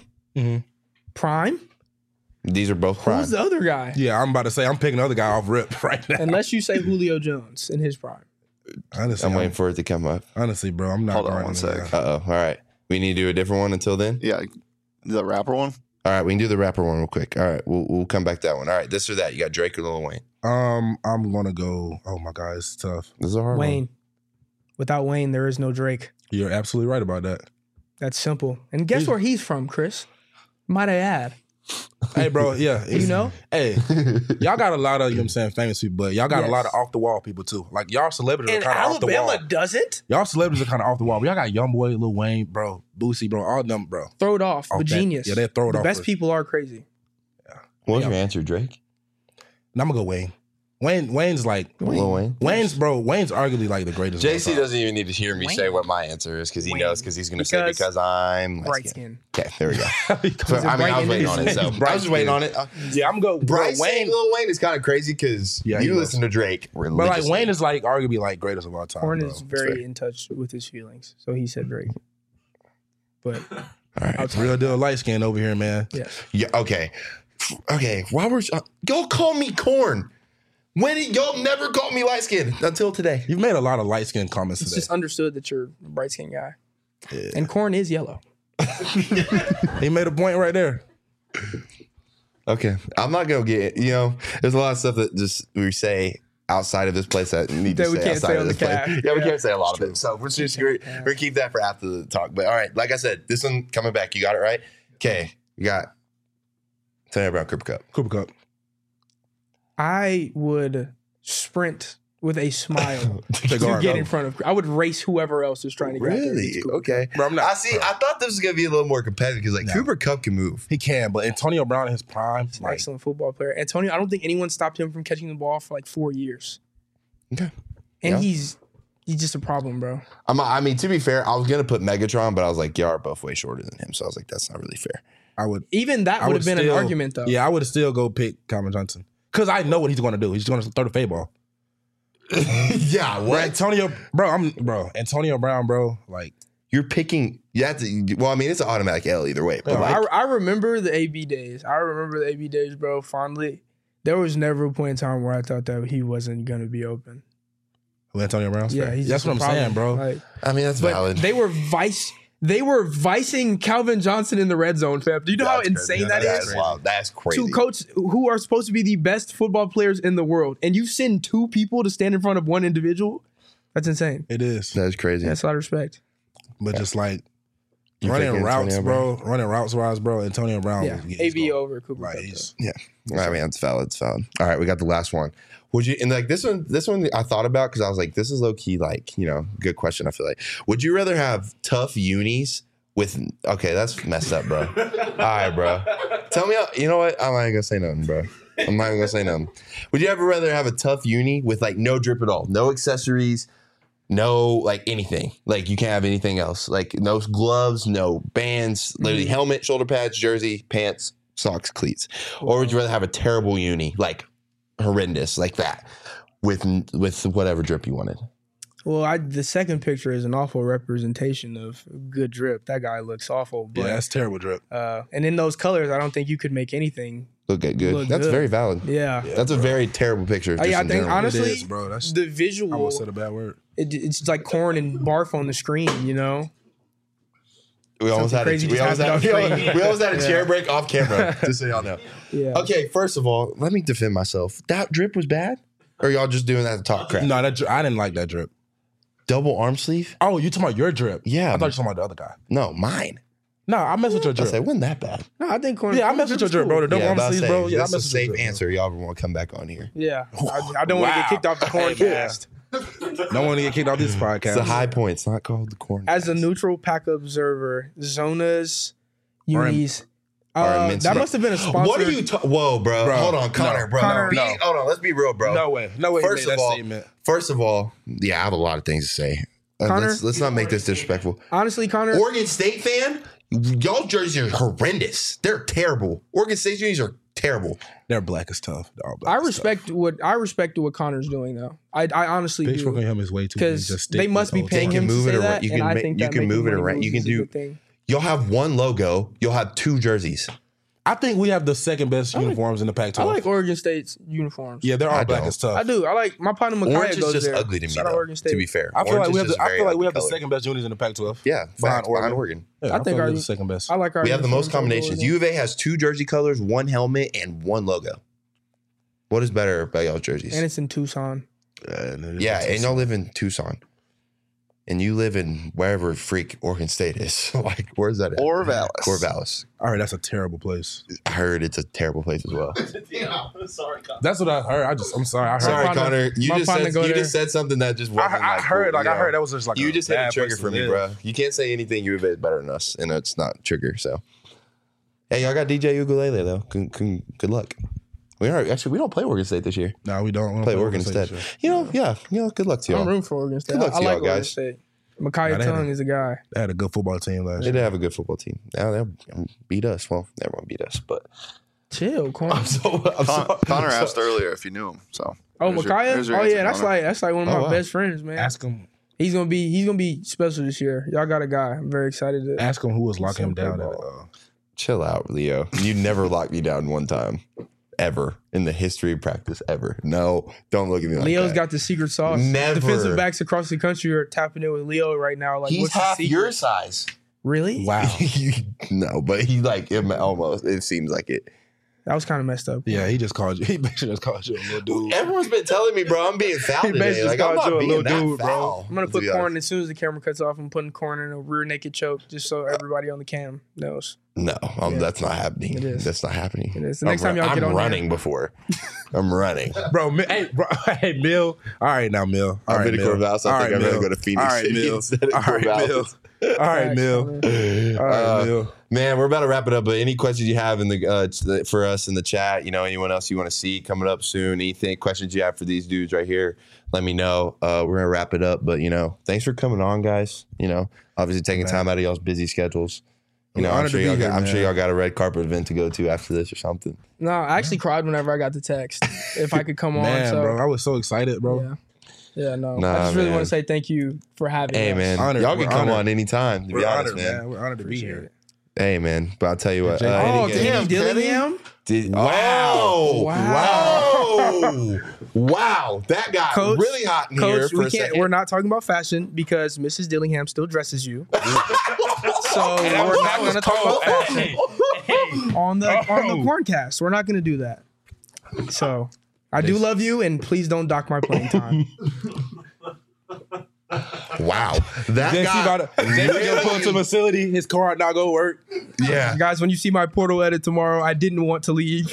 Speaker 3: Prime?
Speaker 5: These are both prime.
Speaker 3: Who's the other guy?
Speaker 2: Yeah, I'm about to say I'm picking the other guy off rip right now.
Speaker 3: Unless you say Julio Jones in his prime.
Speaker 2: Honestly,
Speaker 5: I'm waiting for it to come up.
Speaker 2: honestly, bro, I'm not.
Speaker 4: Hold on
Speaker 2: guarding
Speaker 4: one
Speaker 2: him,
Speaker 4: sec.
Speaker 2: man.
Speaker 5: All right. We need to do a different one until then.
Speaker 4: Yeah, the rapper one.
Speaker 5: All right, we can do the rapper one real quick. All right, we'll come back to that one. All right, this or that. You got Drake or Lil Wayne.
Speaker 2: I'm gonna go. Oh my God, it's tough.
Speaker 5: This is a hard one.
Speaker 3: Wayne. Without Wayne, there is no Drake.
Speaker 2: You're absolutely right about that.
Speaker 3: That's simple. And guess where he's from, Chris? Might I add?
Speaker 2: Hey, bro, yeah,
Speaker 3: You know?
Speaker 2: Hey, y'all got a lot of, you know what I'm saying, famous people, but y'all got a lot of off the wall people too. Like y'all celebrities
Speaker 3: And
Speaker 2: are kind of off the wall.
Speaker 3: Alabama doesn't?
Speaker 2: Y'all celebrities are kind of off the wall. But y'all got YoungBoy, Lil Wayne, bro, Boosie, bro, all of them, bro.
Speaker 3: Throw it off.
Speaker 2: Off
Speaker 3: The
Speaker 2: that-
Speaker 3: genius.
Speaker 2: yeah, they throw it
Speaker 3: the
Speaker 2: off
Speaker 3: best
Speaker 2: first.
Speaker 3: people are crazy.
Speaker 5: What was your answer, Drake?
Speaker 2: And I'm gonna go Wayne. Wayne's like
Speaker 5: Lil Wayne.
Speaker 2: Wayne's arguably like the greatest. of all
Speaker 5: JC
Speaker 2: time.
Speaker 5: doesn't even need to hear me say what my answer is because he knows because he's going to say because I'm
Speaker 3: Bright
Speaker 5: light-skinned.
Speaker 3: skin.
Speaker 5: Okay, there we go.
Speaker 3: Because
Speaker 5: I
Speaker 3: bright
Speaker 5: was
Speaker 3: in
Speaker 5: waiting
Speaker 3: his
Speaker 5: on it.
Speaker 3: name.
Speaker 5: So I was just waiting on it.
Speaker 2: Yeah, I'm gonna go.
Speaker 5: Bryce
Speaker 2: Bro,
Speaker 5: saying
Speaker 2: Wayne,
Speaker 5: Lil Wayne is kind of crazy because
Speaker 2: Yeah, he
Speaker 5: you
Speaker 2: was.
Speaker 5: listen to Drake.
Speaker 2: but like Wayne is like arguably like greatest of all time.
Speaker 3: Horn
Speaker 2: bro.
Speaker 3: is very in touch with his feelings. So he said Drake. But
Speaker 5: All right.
Speaker 2: real deal light skin over here, man.
Speaker 3: yes.
Speaker 5: Yeah. Okay. Okay. Why were y'all call me corn? Y'all never called me light skinned until today.
Speaker 2: You've made a lot of light skin comments
Speaker 3: It's
Speaker 2: today.
Speaker 3: just understood that you're a bright skinned guy. And corn is yellow.
Speaker 2: He made a point right there.
Speaker 5: Okay. I'm not gonna get there's a lot of stuff that just we say outside of this place that need to
Speaker 3: That we
Speaker 5: say
Speaker 3: can't
Speaker 5: outside
Speaker 3: say
Speaker 5: of
Speaker 3: on
Speaker 5: this
Speaker 3: the
Speaker 5: place.
Speaker 3: cast.
Speaker 5: Yeah, we
Speaker 3: Yeah.
Speaker 5: can't say a lot of it. So we're gonna keep that for after the talk. But all right, like I said, this one coming back, you got it right. Okay, you got Antonio Brown, Cooper Cup.
Speaker 2: Cooper Cup.
Speaker 3: I would sprint with a smile to
Speaker 2: guard,
Speaker 3: get
Speaker 2: bro.
Speaker 3: in front of. I would race whoever else is trying to get out there.
Speaker 5: Really?
Speaker 3: It's cool.
Speaker 5: Okay.
Speaker 2: Bro, I'm not-
Speaker 5: I see. I thought this was gonna be a little more competitive because
Speaker 2: No.
Speaker 5: Cooper Cup can move.
Speaker 2: He can, but Antonio Brown in his prime,
Speaker 3: He's an
Speaker 2: like,
Speaker 3: excellent football player. Antonio, I don't think anyone stopped him from catching the ball for like 4 years.
Speaker 5: Okay.
Speaker 3: And
Speaker 5: Yeah.
Speaker 3: he's just a problem, bro.
Speaker 5: I mean, to be fair, I was gonna put Megatron, but I was like, y'all are both way shorter than him, so I was like, that's not really fair.
Speaker 2: I would.
Speaker 3: Even that
Speaker 2: I
Speaker 3: would
Speaker 2: would
Speaker 3: have been
Speaker 2: still-
Speaker 3: an argument, though.
Speaker 2: Yeah, I would still go pick Calvin Johnson because I know what he's going to do. He's going to throw the fade ball.
Speaker 5: Yeah.
Speaker 2: Bro, Antonio Brown, bro. Like,
Speaker 5: You're picking. You have to. Well, I mean, it's an automatic L either way. But
Speaker 2: Yeah,
Speaker 5: like,
Speaker 3: I remember the AB days. Bro, fondly. There was never a point in time where I thought that he wasn't going to be open.
Speaker 2: who Antonio Brown's
Speaker 3: Yeah,
Speaker 2: fair.
Speaker 3: he's
Speaker 2: That's
Speaker 3: just
Speaker 2: what I'm
Speaker 3: a problem.
Speaker 2: saying, bro.
Speaker 3: Like,
Speaker 5: I mean, that's
Speaker 3: but
Speaker 5: valid.
Speaker 3: they were vicing Calvin Johnson in the red zone, fam. Do you know how
Speaker 5: That's crazy.
Speaker 3: insane that
Speaker 5: That's
Speaker 3: is?
Speaker 5: wild. That's crazy.
Speaker 3: To coach who are supposed to be the best football players in the world, and you send two people to stand in front of one individual. That's insane.
Speaker 2: It is,
Speaker 5: That is crazy.
Speaker 3: That's a lot of respect.
Speaker 2: but just like
Speaker 5: You
Speaker 2: running
Speaker 5: picking
Speaker 2: routes,
Speaker 5: Antonio
Speaker 2: bro. Running routes wise, bro. Antonio Brown.
Speaker 3: Yeah,
Speaker 2: he's
Speaker 3: AB
Speaker 2: going.
Speaker 3: over Cooper
Speaker 2: Like,
Speaker 3: Kupp,
Speaker 2: he's
Speaker 5: Yeah. I mean, it's valid. It's valid. All right, we got the last one. Would you, and like this one I thought about because I was like, this is low key, like, good question. I feel like, would you rather have tough unis with, okay, that's messed up, bro. All right, bro. Tell me, you know what? I'm not even gonna say nothing, bro. I'm not even gonna say nothing. Would you ever rather have a tough uni with like no drip at all, no accessories, no like anything, like you can't have anything else, like no gloves, no bands, literally helmet, shoulder pads, jersey, pants, socks, cleats, or would you rather have a terrible uni, like horrendous, like that, with whatever drip you wanted?
Speaker 3: Well, the second picture is an awful representation of good drip. That guy looks awful. But,
Speaker 2: Yeah, that's terrible drip.
Speaker 3: and in those colors, I don't think you could make anything
Speaker 5: Look good.
Speaker 3: look
Speaker 5: That's
Speaker 3: good.
Speaker 5: very valid.
Speaker 3: Yeah.
Speaker 5: That's a very terrible picture. Just
Speaker 3: I
Speaker 5: in
Speaker 3: think
Speaker 5: general.
Speaker 3: honestly,
Speaker 2: It is, bro. That's,
Speaker 3: the
Speaker 2: I
Speaker 3: visual,
Speaker 2: almost said a bad word.
Speaker 3: it's like corn and barf on the screen, you know?
Speaker 5: we almost had
Speaker 3: crazy
Speaker 5: we
Speaker 3: just
Speaker 5: almost
Speaker 3: happened
Speaker 5: had,
Speaker 3: off screen.
Speaker 5: we almost had a chair break off camera. Just so y'all know.
Speaker 3: Yeah.
Speaker 5: Okay, first of all, let me defend myself. That drip was bad, or y'all just doing that to talk crap?
Speaker 2: No, I didn't like that drip.
Speaker 5: Double arm sleeve?
Speaker 2: Oh, you talking about your drip?
Speaker 5: Yeah.
Speaker 2: I thought you were talking about the other guy.
Speaker 5: No, mine.
Speaker 2: No, I mess with your
Speaker 5: I
Speaker 2: drip.
Speaker 5: said, it wasn't that bad.
Speaker 3: No, I think corn.
Speaker 2: Yeah, I mess with your drip, bro. The double
Speaker 5: Yeah,
Speaker 2: arm
Speaker 5: I'm about to
Speaker 2: sleeves,
Speaker 5: say,
Speaker 2: bro. Yeah, I
Speaker 5: that's
Speaker 2: mess
Speaker 5: a
Speaker 2: with your
Speaker 5: safe
Speaker 2: drip,
Speaker 5: answer. Y'all ever want to come back on here?
Speaker 3: Yeah. I don't want to get kicked off the corn cast.
Speaker 2: bro. No one to get kicked off this podcast.
Speaker 5: It's a high point. It's not called the corn.
Speaker 3: As a neutral pack observer, Zona's unis.
Speaker 5: Are immense.
Speaker 3: That must have been a sponsor.
Speaker 5: What are you? Whoa, bro.
Speaker 2: Bro,
Speaker 5: Hold on, Connor,
Speaker 2: no.
Speaker 5: bro.
Speaker 3: Connor,
Speaker 5: No. Hold on. Let's be real, bro.
Speaker 2: No way. No way.
Speaker 5: First
Speaker 2: he made
Speaker 5: of
Speaker 2: that
Speaker 5: all,
Speaker 2: statement.
Speaker 5: yeah, I have a lot of things to say.
Speaker 3: Connor?
Speaker 5: Let's not make this disrespectful.
Speaker 3: Honestly, Connor,
Speaker 5: Oregon State fan, y'all jerseys are horrendous. They're terrible. Oregon State jerseys are terrible.
Speaker 2: They're black as tough. They're all black
Speaker 3: I
Speaker 2: as
Speaker 3: respect what Connor's doing though. I honestly
Speaker 2: tough.
Speaker 3: do.
Speaker 2: Pitchfork on him is way too big.
Speaker 3: Because
Speaker 2: Just
Speaker 3: they
Speaker 2: stick
Speaker 3: must be
Speaker 2: with
Speaker 3: paying
Speaker 5: They
Speaker 3: him
Speaker 5: can
Speaker 3: to
Speaker 5: move it
Speaker 3: say
Speaker 5: around.
Speaker 3: that,
Speaker 5: You
Speaker 3: and
Speaker 5: can
Speaker 3: I
Speaker 5: make-
Speaker 3: think
Speaker 5: you
Speaker 3: that
Speaker 5: can
Speaker 3: making
Speaker 5: move it
Speaker 3: money
Speaker 5: around.
Speaker 3: moves
Speaker 5: You can
Speaker 3: is a
Speaker 5: do-
Speaker 3: good thing.
Speaker 5: You'll have one logo. You'll have two jerseys.
Speaker 2: I think we have the second best uniforms in the Pac-12.
Speaker 3: I like Oregon State's uniforms.
Speaker 2: Yeah, they're all
Speaker 5: I
Speaker 2: black
Speaker 5: don't.
Speaker 2: as tough.
Speaker 3: I do. I like my partner Micaiah
Speaker 5: Orange is
Speaker 3: goes
Speaker 5: just
Speaker 3: there.
Speaker 5: ugly to me,
Speaker 3: Shout out
Speaker 5: though,
Speaker 3: Oregon State.
Speaker 5: to be fair.
Speaker 2: I feel like
Speaker 5: Orange
Speaker 2: we
Speaker 5: is
Speaker 2: have
Speaker 5: just very ugly
Speaker 2: the
Speaker 5: color.
Speaker 2: second best unis in the Pac-12.
Speaker 5: Yeah,
Speaker 2: behind
Speaker 5: behind
Speaker 2: Oregon.
Speaker 5: Oregon.
Speaker 2: Yeah,
Speaker 3: I think
Speaker 2: feel
Speaker 3: our-
Speaker 2: we're the second best.
Speaker 3: I like our.
Speaker 5: We have the most
Speaker 3: uniforms over
Speaker 5: combinations.
Speaker 3: there.
Speaker 5: U of A has two jersey colors, one helmet, and one logo. What is better about y'all's jerseys?
Speaker 3: And it's in Tucson.
Speaker 5: Yeah, and y'all live in Tucson. And you live in wherever freak Oregon State is. Like, where's that at?
Speaker 4: Corvallis.
Speaker 5: Corvallis.
Speaker 2: All right, that's a terrible place.
Speaker 5: I heard it's a terrible place as well.
Speaker 2: That's what I heard. I'm sorry. I heard.
Speaker 5: Sorry,
Speaker 3: partner-
Speaker 5: Connor. You
Speaker 3: my
Speaker 5: just
Speaker 3: partner
Speaker 5: said
Speaker 3: go
Speaker 5: you
Speaker 3: there.
Speaker 5: just said something that just wasn't
Speaker 2: I heard.
Speaker 5: cool,
Speaker 2: Like
Speaker 5: you
Speaker 2: I
Speaker 5: know?
Speaker 2: heard that was just like
Speaker 5: You
Speaker 2: a
Speaker 5: just hit a
Speaker 2: bad
Speaker 5: trigger
Speaker 2: place
Speaker 5: for
Speaker 2: to
Speaker 5: me,
Speaker 2: live.
Speaker 5: bro. You can't say anything U of A is better than us, and it's not trigger. So, hey, y'all got DJ Ukulele though. Good luck. We don't play Oregon State this year.
Speaker 2: No, we don't.
Speaker 5: Play Oregon instead.
Speaker 2: State.
Speaker 5: Good luck to y'all.
Speaker 3: I'm rooting for Oregon State.
Speaker 5: Good luck to
Speaker 3: I like
Speaker 5: y'all,
Speaker 3: Oregon
Speaker 5: guys.
Speaker 3: State. Micaiah
Speaker 2: Nah, they had
Speaker 3: Tongue
Speaker 2: a-
Speaker 3: is a guy.
Speaker 2: They had a good football team last
Speaker 5: They
Speaker 2: year.
Speaker 5: did have a good football team. Now they beat us. Well, everyone beat us, but
Speaker 3: Chill, corn.
Speaker 4: Connor asked earlier if you knew him. So
Speaker 3: Oh,
Speaker 4: there's
Speaker 3: Micaiah.
Speaker 4: there's your
Speaker 3: Oh
Speaker 4: answer,
Speaker 3: yeah,
Speaker 4: Connor.
Speaker 3: that's like one of
Speaker 5: Oh,
Speaker 3: my
Speaker 5: wow.
Speaker 3: best friends, man.
Speaker 2: Ask him.
Speaker 3: He's gonna be special this year. Y'all got a guy. I'm very excited to.
Speaker 2: Ask him who was locking him down.
Speaker 3: Football.
Speaker 5: chill out, Leo. You never locked me down one time, ever in the history of practice, ever. No, don't look at me like
Speaker 3: Leo's
Speaker 5: that.
Speaker 3: got the secret sauce.
Speaker 5: Never.
Speaker 3: Defensive backs across the country are tapping in with Leo right now. Like,
Speaker 5: He's
Speaker 3: what's the
Speaker 5: half
Speaker 3: secret?
Speaker 5: your size.
Speaker 3: Really?
Speaker 2: Wow.
Speaker 5: No, but he like almost. It seems like it.
Speaker 3: That was kind of messed up.
Speaker 2: Yeah, he just called you. He basically just called you a little dude.
Speaker 5: Everyone's been telling me, bro, I'm being foul
Speaker 3: He
Speaker 5: today.
Speaker 3: basically
Speaker 5: Like I'm
Speaker 3: called you
Speaker 5: not
Speaker 3: a
Speaker 5: being
Speaker 3: little
Speaker 5: that
Speaker 3: dude, bro.
Speaker 5: foul.
Speaker 3: I'm gonna
Speaker 5: to
Speaker 3: put
Speaker 5: be
Speaker 3: corn
Speaker 5: honest.
Speaker 3: as soon as the camera cuts off. I'm putting corn in a rear naked choke just so everybody on the cam knows.
Speaker 5: No,
Speaker 3: Yeah.
Speaker 5: that's not happening.
Speaker 3: It is.
Speaker 5: That's not happening.
Speaker 3: It is. The next time y'all get
Speaker 5: I'm
Speaker 3: on
Speaker 5: running
Speaker 3: here-
Speaker 5: before. I'm running.
Speaker 2: Bro, hey, Mill. All right, now, Mill. All
Speaker 5: I've
Speaker 2: right,
Speaker 5: been to
Speaker 2: Mill.
Speaker 5: Corvallis. I
Speaker 2: All
Speaker 5: think
Speaker 2: right,
Speaker 5: I'd rather
Speaker 2: Mill.
Speaker 5: go to Phoenix
Speaker 2: All right,
Speaker 5: City
Speaker 2: Mill.
Speaker 5: instead of
Speaker 2: All right, Mill.
Speaker 5: Corvallis.
Speaker 2: All right,
Speaker 3: Facts,
Speaker 2: Mill.
Speaker 3: Connor.
Speaker 2: All right, Mill.
Speaker 5: Man, we're about to wrap it up. But any questions you have in the for us in the chat, anyone else you want to see coming up soon, anything questions you have for these dudes right here, let me know. We're gonna wrap it up. But thanks for coming on, guys. Obviously taking time out of y'all's busy schedules.
Speaker 2: I'm
Speaker 5: I'm
Speaker 2: honored
Speaker 5: sure
Speaker 2: to be
Speaker 5: y'all
Speaker 2: here,
Speaker 5: got, I'm sure
Speaker 2: man.
Speaker 5: y'all got a red carpet event to go to after this or something.
Speaker 3: No, I actually cried whenever I got the text. If I could come on,
Speaker 2: Man,
Speaker 3: so
Speaker 2: bro, I was so excited, bro.
Speaker 3: yeah. Yeah, no.
Speaker 5: Nah,
Speaker 3: I just really
Speaker 5: man.
Speaker 3: want to say thank you for having
Speaker 5: Hey,
Speaker 3: us.
Speaker 5: man,
Speaker 2: Honored.
Speaker 5: y'all can
Speaker 2: We're
Speaker 5: come
Speaker 2: honored.
Speaker 5: on anytime. To
Speaker 2: We're
Speaker 5: be honest,
Speaker 2: honored,
Speaker 5: man.
Speaker 2: man. We're honored to be
Speaker 3: Appreciate
Speaker 2: here.
Speaker 3: it.
Speaker 5: Hey, man, but I'll tell you what.
Speaker 3: Oh,
Speaker 5: any
Speaker 3: Kenny
Speaker 5: game-
Speaker 3: Dillingham?
Speaker 5: Wow.
Speaker 3: Wow.
Speaker 5: Wow. That got
Speaker 3: Coach-
Speaker 5: really hot in here
Speaker 3: Coach,
Speaker 5: for a second.
Speaker 3: we're not talking about fashion because Mrs. Dillingham still dresses you. So we're not going to talk about fashion on the Corncast. We're not going to do that. So I do love you, and please don't dock my playing time.
Speaker 5: Wow. That
Speaker 2: Then
Speaker 5: guy.
Speaker 2: about to go pull to the facility. His car not go work.
Speaker 5: Yeah.
Speaker 3: Guys, when you see my portal edit tomorrow, I didn't want to leave.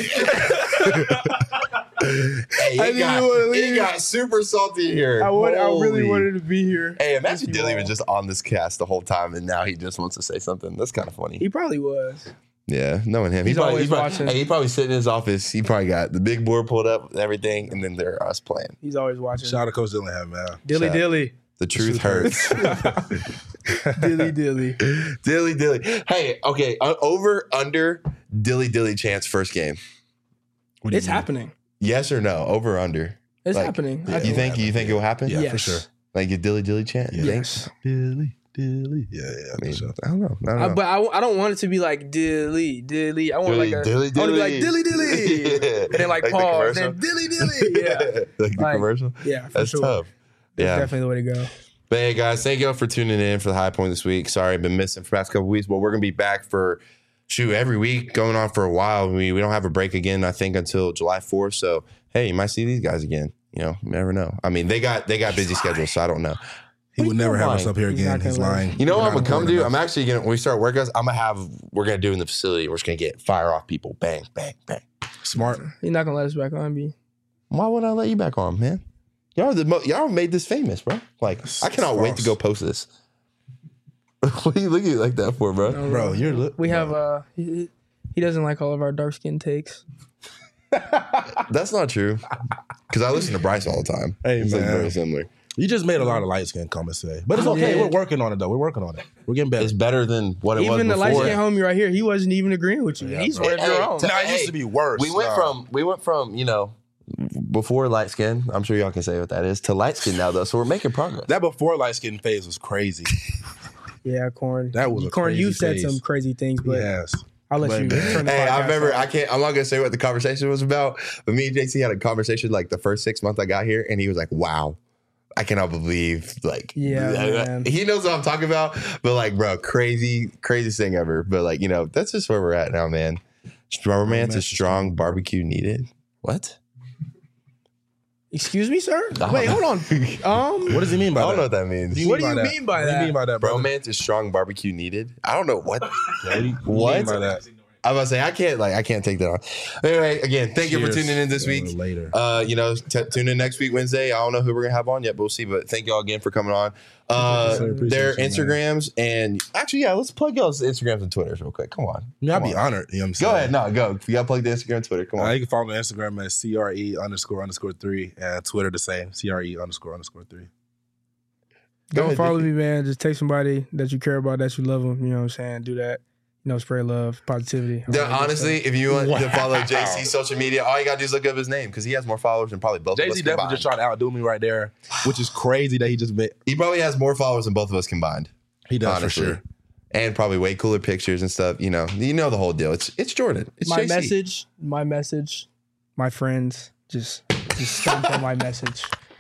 Speaker 5: Hey,
Speaker 3: I didn't wanna
Speaker 5: it
Speaker 3: leave.
Speaker 5: got super salty here.
Speaker 3: I really
Speaker 5: Holy.
Speaker 3: wanted to be here.
Speaker 5: Hey, imagine Dilly was just on this cast the whole time, and now he just wants to say something. That's kind of funny.
Speaker 3: He probably was.
Speaker 5: Yeah, knowing him,
Speaker 3: He's always watching.
Speaker 5: Hey, he probably sitting in his office. He probably got the big board pulled up and everything, and then there are us playing.
Speaker 3: He's always watching.
Speaker 2: Shout out to Coach Dillingham, man.
Speaker 3: Dilly
Speaker 5: Shout-
Speaker 3: Dilly.
Speaker 5: The truth hurts.
Speaker 3: Dilly dilly.
Speaker 5: Dilly. Hey, okay. Over, under, dilly chance first game.
Speaker 2: What do you
Speaker 3: It's
Speaker 2: mean?
Speaker 3: happening.
Speaker 5: Yes or no? Over, under.
Speaker 3: It's
Speaker 5: Like,
Speaker 3: happening.
Speaker 2: yeah,
Speaker 3: I
Speaker 5: You
Speaker 3: think-
Speaker 5: think it will happen?
Speaker 2: Yeah,
Speaker 3: Yes.
Speaker 2: for sure.
Speaker 5: Like a dilly chance? You think?
Speaker 3: Yes.
Speaker 2: Dilly. Yeah,
Speaker 5: I
Speaker 2: for
Speaker 5: mean,
Speaker 2: sure.
Speaker 5: I don't know.
Speaker 3: But I don't want it to be like dilly. I want
Speaker 5: Dilly,
Speaker 3: like a
Speaker 5: dilly,
Speaker 3: I want to be like
Speaker 5: dilly.
Speaker 3: dilly.
Speaker 5: Yeah.
Speaker 3: And then like
Speaker 5: Like the
Speaker 3: pause.
Speaker 5: commercial?
Speaker 3: Then dilly. Yeah.
Speaker 5: Like the
Speaker 3: Like,
Speaker 5: commercial?
Speaker 3: Yeah, for
Speaker 5: That's
Speaker 3: sure.
Speaker 5: tough.
Speaker 3: That's
Speaker 5: Yeah.
Speaker 3: definitely the way to go.
Speaker 5: But hey, guys, thank you all for tuning in for the High Point this week. Sorry, I've been missing for the past couple weeks, but we're going to be back for, every week going on for a while. We don't have a break again, I think, until July 4th. So, hey, you might see these guys again. You never know. I mean, they got busy schedules, so I don't know.
Speaker 2: He would never have us
Speaker 5: lying?
Speaker 2: up here
Speaker 3: He's
Speaker 2: again.
Speaker 3: not gonna
Speaker 2: He's
Speaker 3: lie.
Speaker 2: lying.
Speaker 5: You know
Speaker 2: We're
Speaker 5: what I'm
Speaker 2: not
Speaker 5: gonna come
Speaker 2: important
Speaker 5: do?
Speaker 2: enough.
Speaker 5: I'm actually gonna when we start workouts, we're gonna do in the facility. We're just gonna fire off people, bang, bang, bang.
Speaker 2: Smart.
Speaker 3: He's not gonna let us back on, B.
Speaker 5: Why would I let you back on, man? Y'all made this famous, bro. Like I cannot wait to go post this. What are you looking like that for, bro?
Speaker 3: No,
Speaker 2: Bro, you're
Speaker 3: we have he doesn't like all of our dark skin takes.
Speaker 5: That's not true. Because I listen to Bryce all the time.
Speaker 2: Hey,
Speaker 5: it's like
Speaker 2: man.
Speaker 5: very similar.
Speaker 2: You just made a lot of light skin comments today. But it's okay.
Speaker 3: Yeah.
Speaker 2: We're working on it, though. We're working on it. We're getting better.
Speaker 5: It's better than what it was
Speaker 3: Even the
Speaker 5: before.
Speaker 3: light skin homie right here, he wasn't even agreeing with you.
Speaker 2: Yeah,
Speaker 3: He's
Speaker 2: bro.
Speaker 3: one of your own.
Speaker 2: Nah, it used to be worse.
Speaker 5: We went from before light skin. I'm sure y'all can say what that is to light skin now though. So we're making progress.
Speaker 2: That before light skin phase was crazy.
Speaker 3: Yeah, Corn.
Speaker 2: That was a
Speaker 3: Corn.
Speaker 2: crazy
Speaker 3: You said
Speaker 2: phase.
Speaker 3: some crazy things, but
Speaker 2: Yes.
Speaker 3: I'll let you
Speaker 2: But-
Speaker 3: turn the
Speaker 5: Hey, I
Speaker 3: podcast
Speaker 5: remember.
Speaker 3: off.
Speaker 5: I'm not gonna say what the conversation was about, but me and JC had a conversation like the first 6 months I got here, and he was like, "Wow, I cannot believe like
Speaker 3: Yeah, man.
Speaker 5: he knows what I'm talking about." But like, bro, craziest thing ever. But like, that's just where we're at now, man. Romance is strong. Barbecue needed. What?
Speaker 3: Excuse me, sir.
Speaker 5: I
Speaker 3: Wait,
Speaker 5: don't
Speaker 3: hold on.
Speaker 2: What does he mean by
Speaker 5: I don't
Speaker 2: that?
Speaker 5: know what that means.
Speaker 3: What do you mean by
Speaker 2: What do
Speaker 3: that?
Speaker 2: you mean by that, bro?
Speaker 5: Romance is strong. Barbecue needed. I don't know what.
Speaker 2: What? do you
Speaker 5: What?
Speaker 2: mean by that?
Speaker 5: I'm about to say I can't take that on. Anyway, again, thank you for
Speaker 2: Cheers.
Speaker 5: tuning in this week.
Speaker 2: Later.
Speaker 5: Tune in next week Wednesday. I don't know who we're gonna have on yet, but we'll see. But thank y'all again for coming on.
Speaker 2: Yes, sir. Appreciate
Speaker 5: Their
Speaker 2: you, man.
Speaker 5: Instagrams and actually, yeah, let's plug y'all's Instagrams and Twitters real quick. Come on,
Speaker 2: I mean, I'd
Speaker 5: Come
Speaker 2: be
Speaker 5: on.
Speaker 2: honored. You know what I'm saying?
Speaker 5: Go ahead, no, go. You gotta plug the Instagram, and Twitter. Come on.
Speaker 2: You can follow me on Instagram at CRE__3 and Twitter the same, CRE__3.
Speaker 5: Go
Speaker 3: Don't
Speaker 5: ahead,
Speaker 3: follow
Speaker 5: Dickie.
Speaker 3: me, man. Just take somebody that you care about, that you love them. You know what I'm saying? Do that. Spread love, positivity. all that good
Speaker 5: Honestly,
Speaker 3: stuff.
Speaker 5: if you want to follow JC's social media, all you gotta do is look up his name because he has more followers than probably both of us
Speaker 2: Jay-Z definitely
Speaker 5: combined.
Speaker 2: just tried to outdo me right there, which is crazy that he just made.
Speaker 5: He probably has more followers than both of us combined.
Speaker 2: He does
Speaker 5: Honestly.
Speaker 2: for sure.
Speaker 5: And probably way cooler pictures and stuff. You know the whole deal. It's Jordan. It's
Speaker 3: my
Speaker 5: JC.
Speaker 3: message, my friends, just stamp on my message.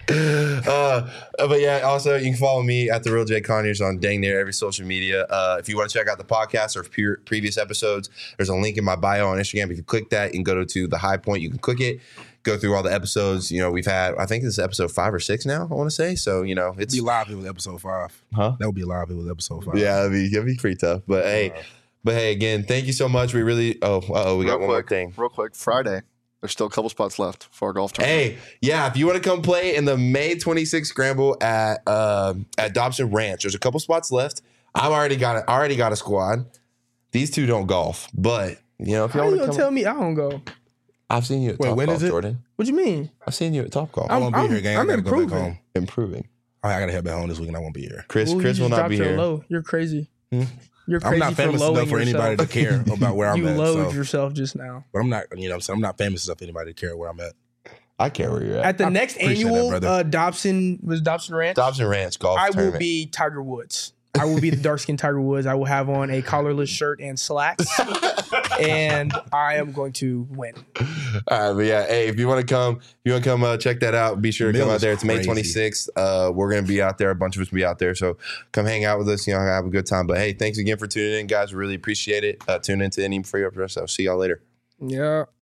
Speaker 5: But yeah, also you can follow me at the Real J Conyers on dang near every social media. If you want to check out the podcast or previous episodes, there's a link in my bio on Instagram. If you click that, you can go to the High Point. You can click it, go through all the episodes. We've had, I think this is episode 5 or 6 now. I want to say so. It's
Speaker 2: Be live. It was episode 5.
Speaker 5: Huh?
Speaker 2: That would be live. It was episode 5.
Speaker 5: yeah, it'd be pretty tough. But hey, again, thank you so much. We really. We got one more thing.
Speaker 4: Real quick, Friday. There's still a couple spots left for our golf tournament.
Speaker 5: Hey, yeah, if you want to come play in the May 26th scramble at Dobson Ranch, there's a couple spots left. I already got a squad. These two don't golf, but if you
Speaker 3: How
Speaker 5: want
Speaker 3: you
Speaker 5: to
Speaker 3: gonna
Speaker 5: come,
Speaker 3: tell me I don't go?
Speaker 5: I've seen you at
Speaker 2: Wait,
Speaker 5: Top
Speaker 2: when
Speaker 5: Golf,
Speaker 2: is it?
Speaker 5: Jordan.
Speaker 3: What you mean?
Speaker 5: I've seen you at Top Golf.
Speaker 2: I won't be here, gang. I
Speaker 3: I'm
Speaker 2: gotta go back
Speaker 3: improving.
Speaker 2: home.
Speaker 5: Improving.
Speaker 2: I gotta head back home this week and I won't be here.
Speaker 5: Chris
Speaker 3: Ooh, you
Speaker 5: will
Speaker 3: just
Speaker 5: not
Speaker 3: dropped
Speaker 5: be
Speaker 3: your
Speaker 5: here.
Speaker 3: Low. You're crazy.
Speaker 2: Hmm?
Speaker 3: You're crazy
Speaker 2: I'm not famous
Speaker 3: for
Speaker 2: enough for
Speaker 3: lowing
Speaker 2: anybody to
Speaker 3: yourself.
Speaker 2: care about where I'm
Speaker 3: You
Speaker 2: at.
Speaker 3: lowered
Speaker 2: So.
Speaker 3: yourself just now.
Speaker 2: But I'm not, I'm not famous enough for anybody to care where I'm at.
Speaker 5: I care where you're at.
Speaker 3: At the next
Speaker 2: appreciate
Speaker 3: annual
Speaker 2: that, brother.
Speaker 3: Dobson Ranch,
Speaker 5: Dobson Ranch Golf
Speaker 3: I will
Speaker 5: Tournament.
Speaker 3: be Tiger Woods. I will be the dark skinned Tiger Woods. I will have on a collarless shirt and slacks, and I am going to win.
Speaker 5: All right, but yeah, hey, if you want to come, check that out. Be sure to come
Speaker 2: Mill
Speaker 5: out
Speaker 2: is
Speaker 5: there. It's May
Speaker 2: crazy.
Speaker 5: 26th. We're gonna be out there. A bunch of us will be out there. So come hang out with us. Have a good time. But hey, thanks again for tuning in, guys. We really appreciate it. Tune in to Any Free Up. So see y'all later.
Speaker 3: Yeah.